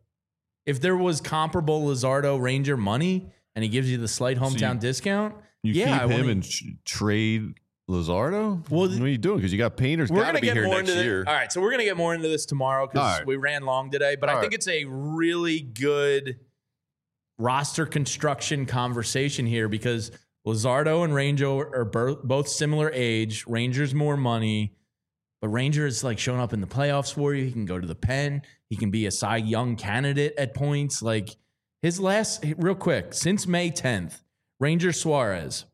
If there was comparable Luzardo Ranger money and he gives you the slight hometown discount, You I keep him wanna- and trade Luzardo? Well, what are you doing? Because you got Painter's we're got gonna to be get here more next into year. All right, so we're gonna get more into this tomorrow because All right. we ran long today. But I All think right. it's a really good roster construction conversation here because Luzardo and Ranger are both similar age. Ranger's more money, but Ranger is showing up in the playoffs for you. He can go to the pen. He can be a Cy Young candidate at points. His last, real quick, since May 10th, Ranger Suarez,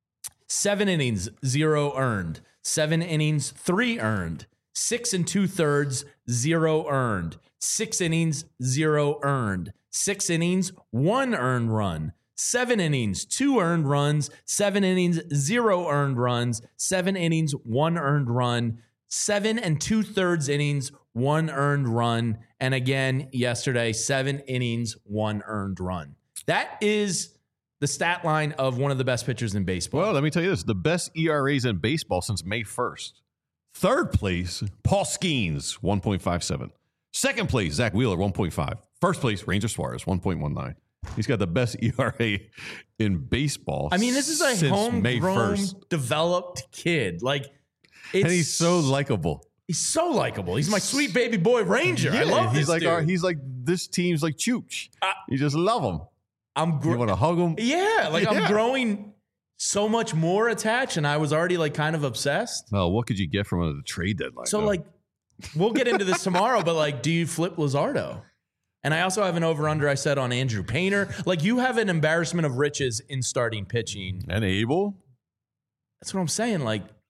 7 innings, 0 earned. 7 innings, 3 earned. 6 2/3, 0 earned. 6 innings, 0 earned. 6 innings, 1 earned run. 7 innings, 2 earned runs. 7 innings, 0 earned runs. 7 innings, 1 earned run. 7 2/3 innings, 1 earned run. And again, yesterday, 7 innings, 1 earned run. That is the stat line of one of the best pitchers in baseball. Well, let me tell you this. The best ERAs in baseball since May 1st. Third place, Paul Skeens, 1.57. Second place, Zach Wheeler, 1.5. First place, Ranger Suarez, 1.19. He's got the best ERA in baseball. I mean, this is a since May homegrown, 1st. developed kid. And he's so likable. He's so likable. He's my sweet baby boy Ranger. I love he's this dude. he's like this team's like Chooch. You just love him. I'm You want to hug him? Yeah, I'm growing so much more attached, and I was already kind of obsessed. Oh, what could you get from the trade deadline? So though? we'll get into this tomorrow, but do you flip Luzardo? And I also have an over-under I said on Andrew Painter. You have an embarrassment of riches in starting pitching. And Abel? That's what I'm saying.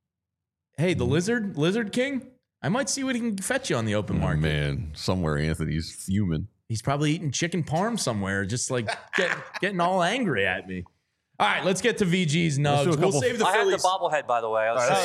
Hey, the Lizard King, I might see what he can fetch you on the open market. Man, somewhere Anthony's fuming. He's probably eating chicken parm somewhere, just getting all angry at me. All right, let's get to VG's nugs. We'll save the I have the Phillies. bobblehead, by the way.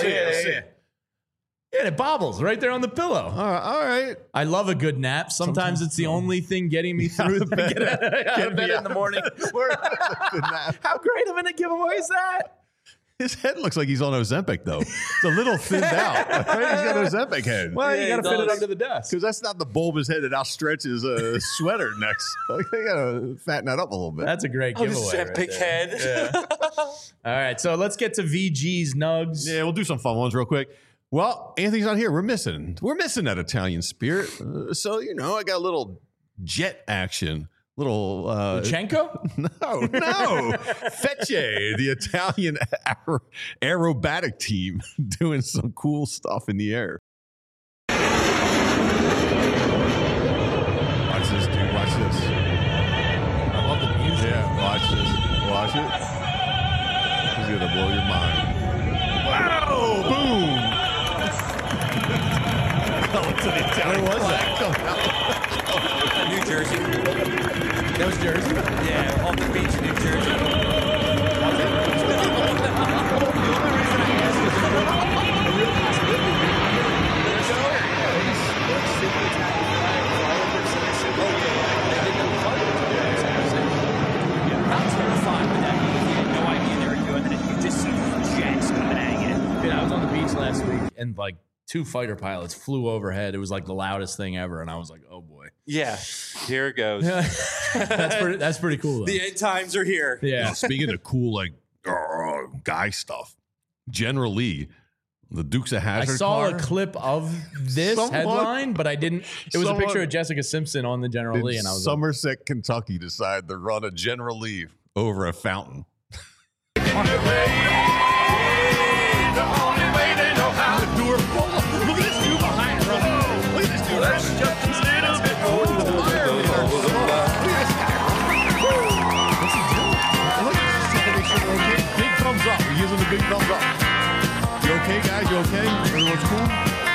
Yeah, it bobbles right there on the pillow. All right. I love a good nap. Sometimes it's the only thing getting me through the out of bed in the morning. How great of a giveaway is that? His head looks like he's on Ozempic, though. It's a little thinned out. Right? He's got Ozempic head. Well, you got to fit it does. under the desk. Because that's not the bulbous head that outstretches a sweater next. They got to fatten that up a little bit. That's a great giveaway. Ozempic head. Yeah. All right, so let's get to VG's nugs. Yeah, we'll do some fun ones real quick. Well, Anthony's not here. We're missing that Italian spirit. So, I got a little jet action. Little Luchenko? No. Fecce, the Italian aerobatic team, doing some cool stuff in the air. Watch Where was that? New Jersey. That was Jersey? Yeah, Halton Beach, New Jersey. Not terrified with that. You had no idea they were doing it. You just see jets coming at you. Yeah, I was on the beach last week, and like 2 fighter pilots flew overhead. It was like the loudest thing ever, and I was like, "Oh boy." Yeah, here it goes. That's pretty cool. Though. The end times are here. Yeah. Speaking of cool, like guy stuff, General Lee, the Dukes of I Hazzard. saw car. a clip of this headline, but I didn't. It was a picture of Jessica Simpson on the General Lee, and I was Somerset, Kentucky, decided to run a General Lee over a fountain. Look at this dude behind her. Look at this dude. Let's just a little bit over to the fire. Look at this guy. What's he doing? Look, he's just checking to make sure they're okay. Big thumbs up. He gives him the big thumbs up. You okay, guys? You okay? Everyone's cool?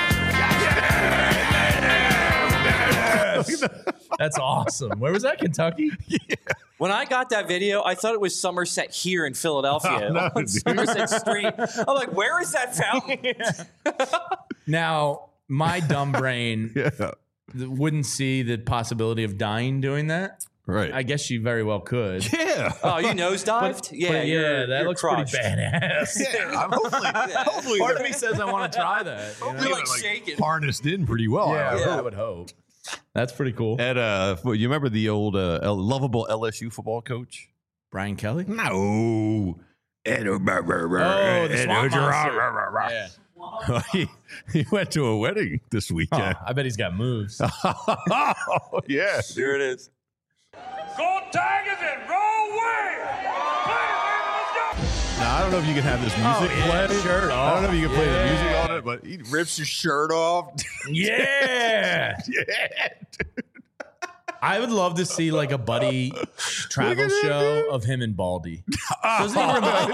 That's awesome. Where was that? Kentucky? Yeah. When I got that video, I thought it was Somerset here in Philadelphia No, on dude. Somerset Street. I'm like, where is that fountain? Now, my dumb brain Yeah. wouldn't see the possibility of dying doing that. Right. I guess you very well could. Yeah. Oh, you nosedived? But yeah, that looks crushed. pretty badass. Hopefully Part of me says I want to try that. You know? You're like shaking. harnessed in pretty well. I would hope. That's pretty cool. At you remember the old lovable LSU football coach? Brian Kelly? No. Oh, the swamp monster. Yeah. he went to a wedding this weekend. I bet he's got moves. Oh, yeah. Here it is. Go Tigers and roll away. Now, I don't know if you can have this music play. Shirt I don't know if you can play the music Yeah. on it, but he rips his shirt off. Yeah. Yeah. I would love to see like a buddy travel show of him and Baldy. Doesn't he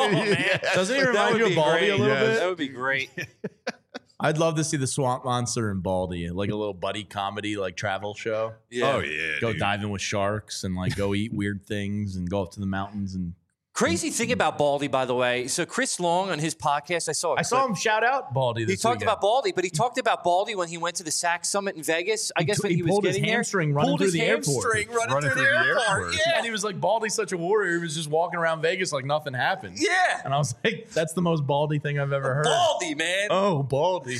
remind you of Baldy a little bit? That would be great. I'd love to see the Swamp Monster and Baldy, like a little buddy comedy, like travel show. Yeah. Oh, yeah. Go dude. diving with sharks and like go eat weird things and go up to the mountains and. Crazy thing about Baldy, by the way. So Chris Long on his podcast, I saw him shout out Baldy. He talked about Baldy, but he talked about Baldy when he went to the SAC Summit in Vegas. I guess when he was pulled his getting there, hamstring running through the airport. running through the airport. Yeah, and he was like, Baldy's such a warrior. He was just walking around Vegas like nothing happened. Yeah. And I was like, that's the most Baldy thing I've ever heard. Baldy, man. Oh, Baldy.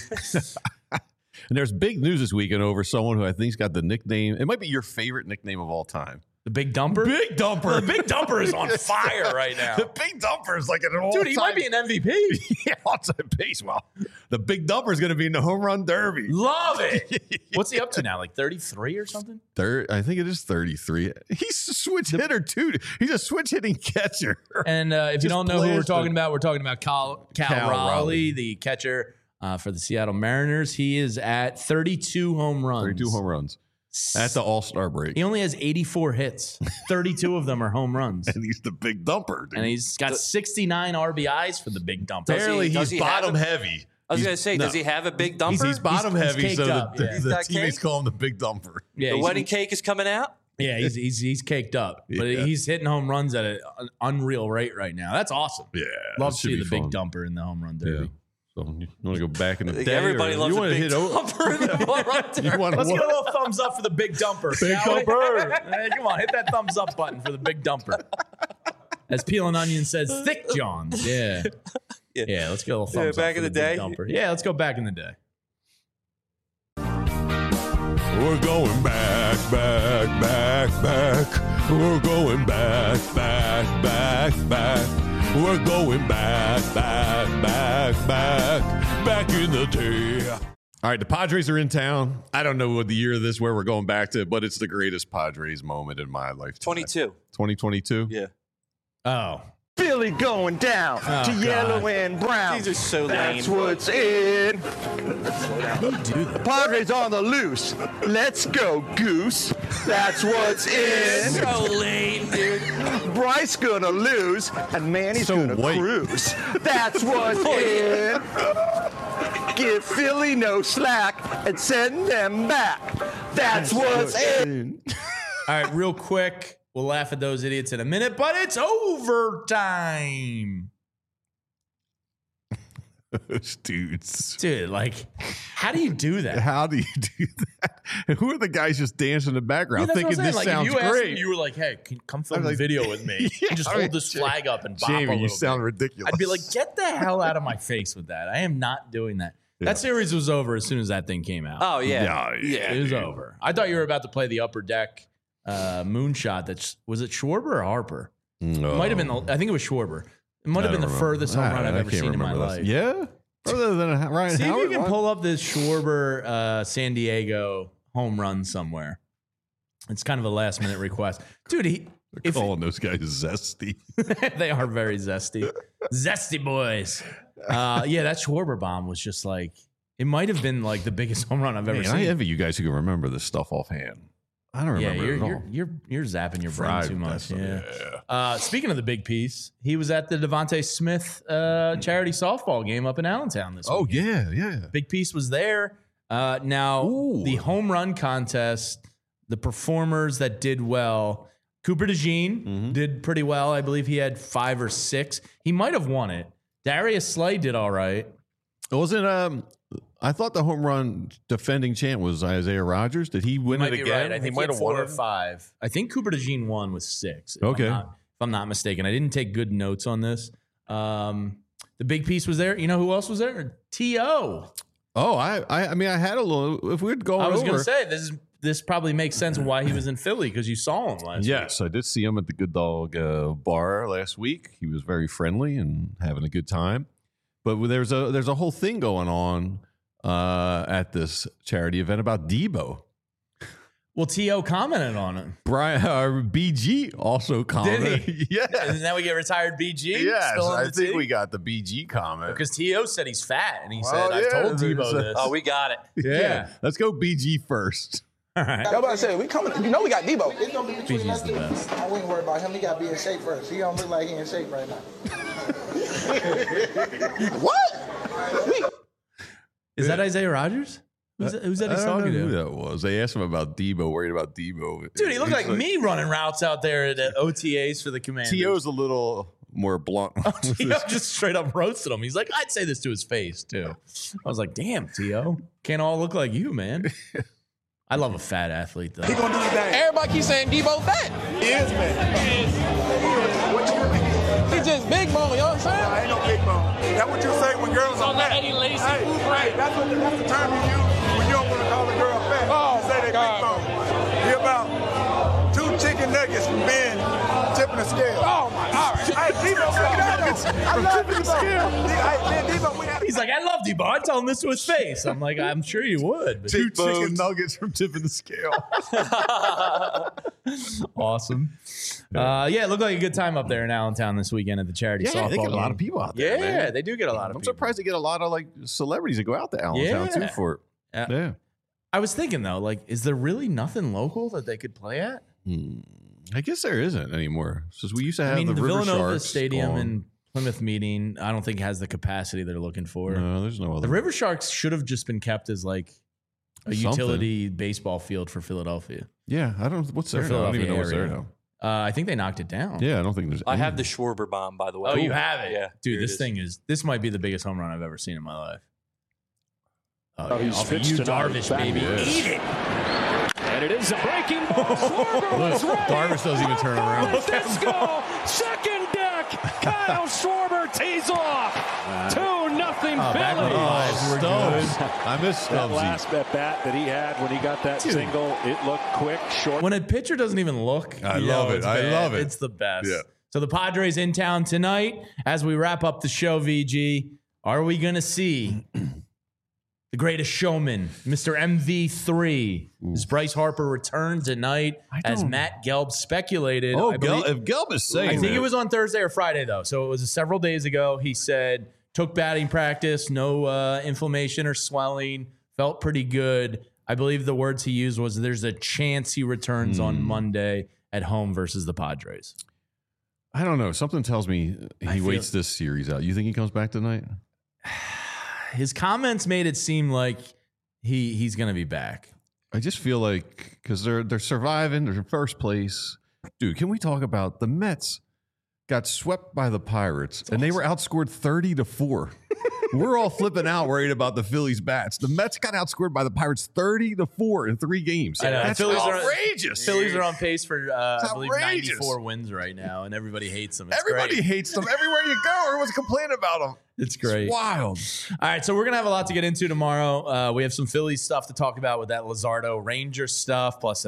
And there's big news this weekend over someone who I think's got the nickname. It might be your favorite nickname of all time. The Big Dumper? Big Dumper. The Big Dumper is on fire right now. The Big Dumper is like an all-time. Dude, he might be an MVP. Yeah, all-time pace. Well, the Big Dumper is going to be in the home run derby. Love it. What's he up to now? Like 33 or something? I think it is 33. He's a switch hitter, too. He's a switch hitting catcher. And if you don't know who we're blasted. talking about, we're talking about Cal Raleigh, the catcher for the Seattle Mariners. He is at 32 home runs. 32 home runs. At the All-Star break. He only has 84 hits. 32 of them are home runs. And he's the Big Dumper, dude. And he's got 69 RBIs for the Big Dumper. Barely, does he's he have bottom a- heavy. I was going to say, does he have a big dumper? He's bottom He's heavy, caked so up, yeah. the got teammates cake? call him the Big Dumper. Yeah, the he's- wedding cake is coming out. Yeah, he's caked up, but Yeah. he's hitting home runs at an unreal rate right now. That's awesome. Yeah. Love that to should see be the fun. Big Dumper in the home run Yeah. derby. So you want to go back in the I think day? everybody or loves you a wanna big hit over? dumper in the home run derby. You want Let's get a little thumbs up for the Big Dumper. Big shall we? Dumper. Hey, come on, hit that thumbs up button for the Big Dumper. As Peel and Onion says, Thick Johns. Yeah. Yeah, let's get a little thumbs up back for in the Big day. Dumper. Yeah, let's go back in the day. We're going back. We're going back. We're going back in the day. All right, the Padres are in town. I don't know what the year of this, where we're going back to, but it's the greatest Padres moment in my life. 22. 2022? Yeah. Oh. Billy going down to God. yellow and brown. These are so lame. That's what's in. Padres on the loose. Let's go, Goose. That's what's in. So lame, dude. Bryce gonna lose, and Manny's So gonna white. cruise. That's what's in. Give Philly no slack and send them back. That's what's in. All right, real quick. We'll laugh at those idiots in a minute, but it's overtime. Dudes. Dude, like, how do you do that? How do you do that? And who are the guys just dancing in the background thinking this sounds great? You were like, hey, come film a video with me. And just hold this flag up and bop Jamie, a little you sound bit. ridiculous. I'd be like, get the hell out of my face with that. I am not doing that. Yeah. That series was over as soon as that thing came out. Oh, yeah. It was over. I thought you were about to play the Upper Deck moonshot. Was it Schwarber or Harper? No. It might have been, I think it was Schwarber. It might have been the furthest home run I've ever seen in my life. Yeah? Further than Ryan See Howard? if you can pull up this Schwarber San Diego home run somewhere. It's kind of a last minute request. Dude, They're calling those guys zesty. they are very zesty. Zesty boys. Yeah, that Schwarber bomb was just like, it might have been like the biggest home run I've ever seen. I envy you guys who can remember this stuff offhand. I don't remember it at all. You're zapping your brain too much. Yeah. Speaking of the big piece, he was at the Devontae Smith charity softball game up in Allentown this week. Oh, yeah. Big piece was there. Now, the home run contest, the performers that did well, Cooper DeJean did pretty well. I believe he had 5 or 6. He might have won it. Darius Slay did all right. It wasn't I thought the home run defending champ was Isaiah Rogers. Did he win it again? Right. I think he had 4 or 5. I think Cooper DeJean won with 6. Okay. If I'm not mistaken. I didn't take good notes on this. The big piece was there. You know who else was there? T.O. Oh, I mean, I had a little. If we'd go, I was going to say this probably makes sense why he was in Philly because you saw him last week. Yes, I did see him at the Good Dog bar last week. He was very friendly and having a good time. But there's a whole thing going on at this charity event about Debo. Well, T.O. commented on it. BG also commented. Did he? Yeah. And now we get retired BG? Yes, I think we got the BG comment. Because T.O. said he's fat, and he said, I told Debo this. Oh, we got it. Yeah. Let's go BG first. All right. Y'all about to say, we coming. You know we got Debo. It's going to be between us. BG's the best. I wouldn't worry about him. He got to be in shape first. He don't look like he in shape right now. What? Is that Isaiah Rogers? Who's that he's talking I don't know to? who that was. They asked him about Debo, worried about Debo. Dude, he looked like me running routes out there at the OTAs for the Commanders. T.O.'s a little more blunt. T.O. just straight up roasted him. He's like, I'd say this to his face, too. I was like, damn, T.O. Can't all look like you, man. I love a fat athlete, though. He gonna do his thing. Everybody keeps saying Debo fat. He is, man. He just big bone, you know what I'm saying? I ain't no big bone. That's what you say when girls are fat. Eddie Lacy. Hey, that's the term you use when you don't want to call a girl fat. Oh, you say they big bone. He about 2 chicken nuggets from being tipping the scale. Oh, my God. Hey, Debo, I love Debo. He's like, I love Debo. I'd tell him this to his face. I'm like, I'm sure you would. But 2 chicken nuggets from tipping the scale. Awesome. Yeah, it looked like a good time up there in Allentown this weekend at the charity softball they get a lot game. of people out there. Yeah, man. they do get a lot of I'm people. surprised they get a lot of like celebrities that go out to Allentown too for it. Yeah. I was thinking though, like, is there really nothing local that they could play at? I guess there isn't anymore. Because we used to have the River Villanova Sharks Stadium gone. and Plymouth Meeting, I don't think has the capacity they're looking for. No, there's no other. The River Sharks should have just been kept as like a Something. utility baseball field for Philadelphia. Yeah, I don't. What's there? Now? I don't even know what's there now. I think they knocked it down. Yeah, I don't think there's. I have the Schwarber bomb, by the way. Oh, you have it? Yeah. Dude, here this it is. thing this might be the biggest home run I've ever seen in my life. Oh, he's off of pitched you, tonight. Darvish, Back baby. it is. Eat it. And it is a breaking ball. Schwarber was ready. Darvish doesn't even turn around. Disco, second deck. Kyle Schwarber tees off. 2-0 Phillies. Stubbs. I miss That Stubbsy. last at bat that he had when he got that single, it looked quick, short. When a pitcher doesn't even look, I love it. it's I bad. love it. It's the best. Yeah. So the Padres in town tonight. As we wrap up the show, VG, are we going to see the greatest showman, Mr. MV3? Does Bryce Harper return tonight, as Matt Gelb speculated? Oh, I believe, if Gelb is saying, I think it was on Thursday or Friday, though. So it was several days ago. He said, took batting practice, no inflammation or swelling, felt pretty good. I believe the words he used was, there's a chance he returns on Monday at home versus the Padres. I don't know. Something tells me he waits this series out. You think he comes back tonight? his comments made it seem like he's going to be back. I just feel like because they're surviving, they're in first place. Dude, can we talk about the Mets got swept by the Pirates and they were outscored 30-4. We're all flipping out worried about the Phillies bats. The Mets got outscored by the Pirates 30-4 in 3 games. That's outrageous. Phillies are on pace for I believe 94 wins right now, and everybody hates them. Everybody hates them. Everywhere you go, everyone's complaining about them. It's great. It's wild. All right, so we're going to have a lot to get into tomorrow. We have some Phillies stuff to talk about with that Luzardo Ranger stuff, plus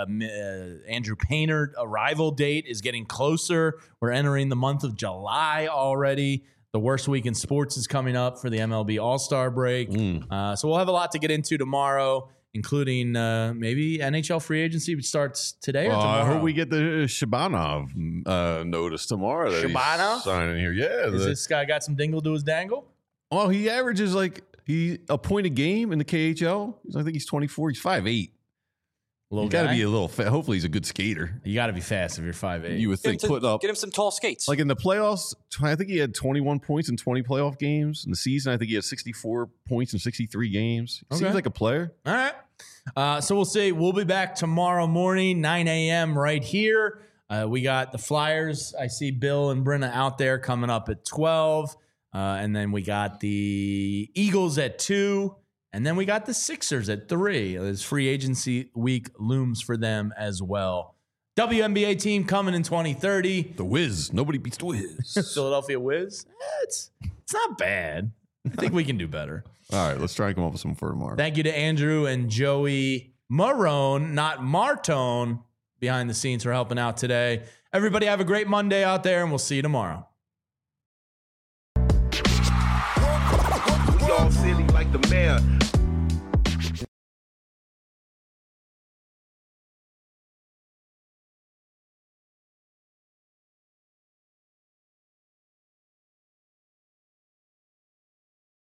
Andrew Painter arrival date is getting closer. We're entering the month of July already. The worst week in sports is coming up for the MLB All-Star break. So we'll have a lot to get into tomorrow, including maybe NHL free agency starts today or tomorrow. I hope we get the Shabanov notice tomorrow. Shabanov? Signing here. Yeah. Is this guy got some dingle to his dangle? Oh, he averages a point a game in the KHL. I think he's 24. He's 5'8". You got to be a little fast. Hopefully, he's a good skater. You got to be fast if you're 5'8". You would think put up. Get him some tall skates. Like in the playoffs, I think he had 21 points in 20 playoff games. In the season, I think he had 64 points in 63 games. He seems like a player. All right. So we'll see. We'll be back tomorrow morning, 9 a.m. right here. We got the Flyers. I see Bill and Brenna out there coming up at 12. And then we got the Eagles at 2. And then we got the Sixers at 3. This free agency week looms for them as well. WNBA team coming in 2030. The Wiz. Nobody beats the Wiz. Philadelphia Wiz. It's not bad. I think we can do better. All right, let's try and come up with some for tomorrow. Thank you to Andrew and Joey Marone, not Martone, behind the scenes for helping out today. Everybody have a great Monday out there, and we'll see you tomorrow. We all silly like the mayor.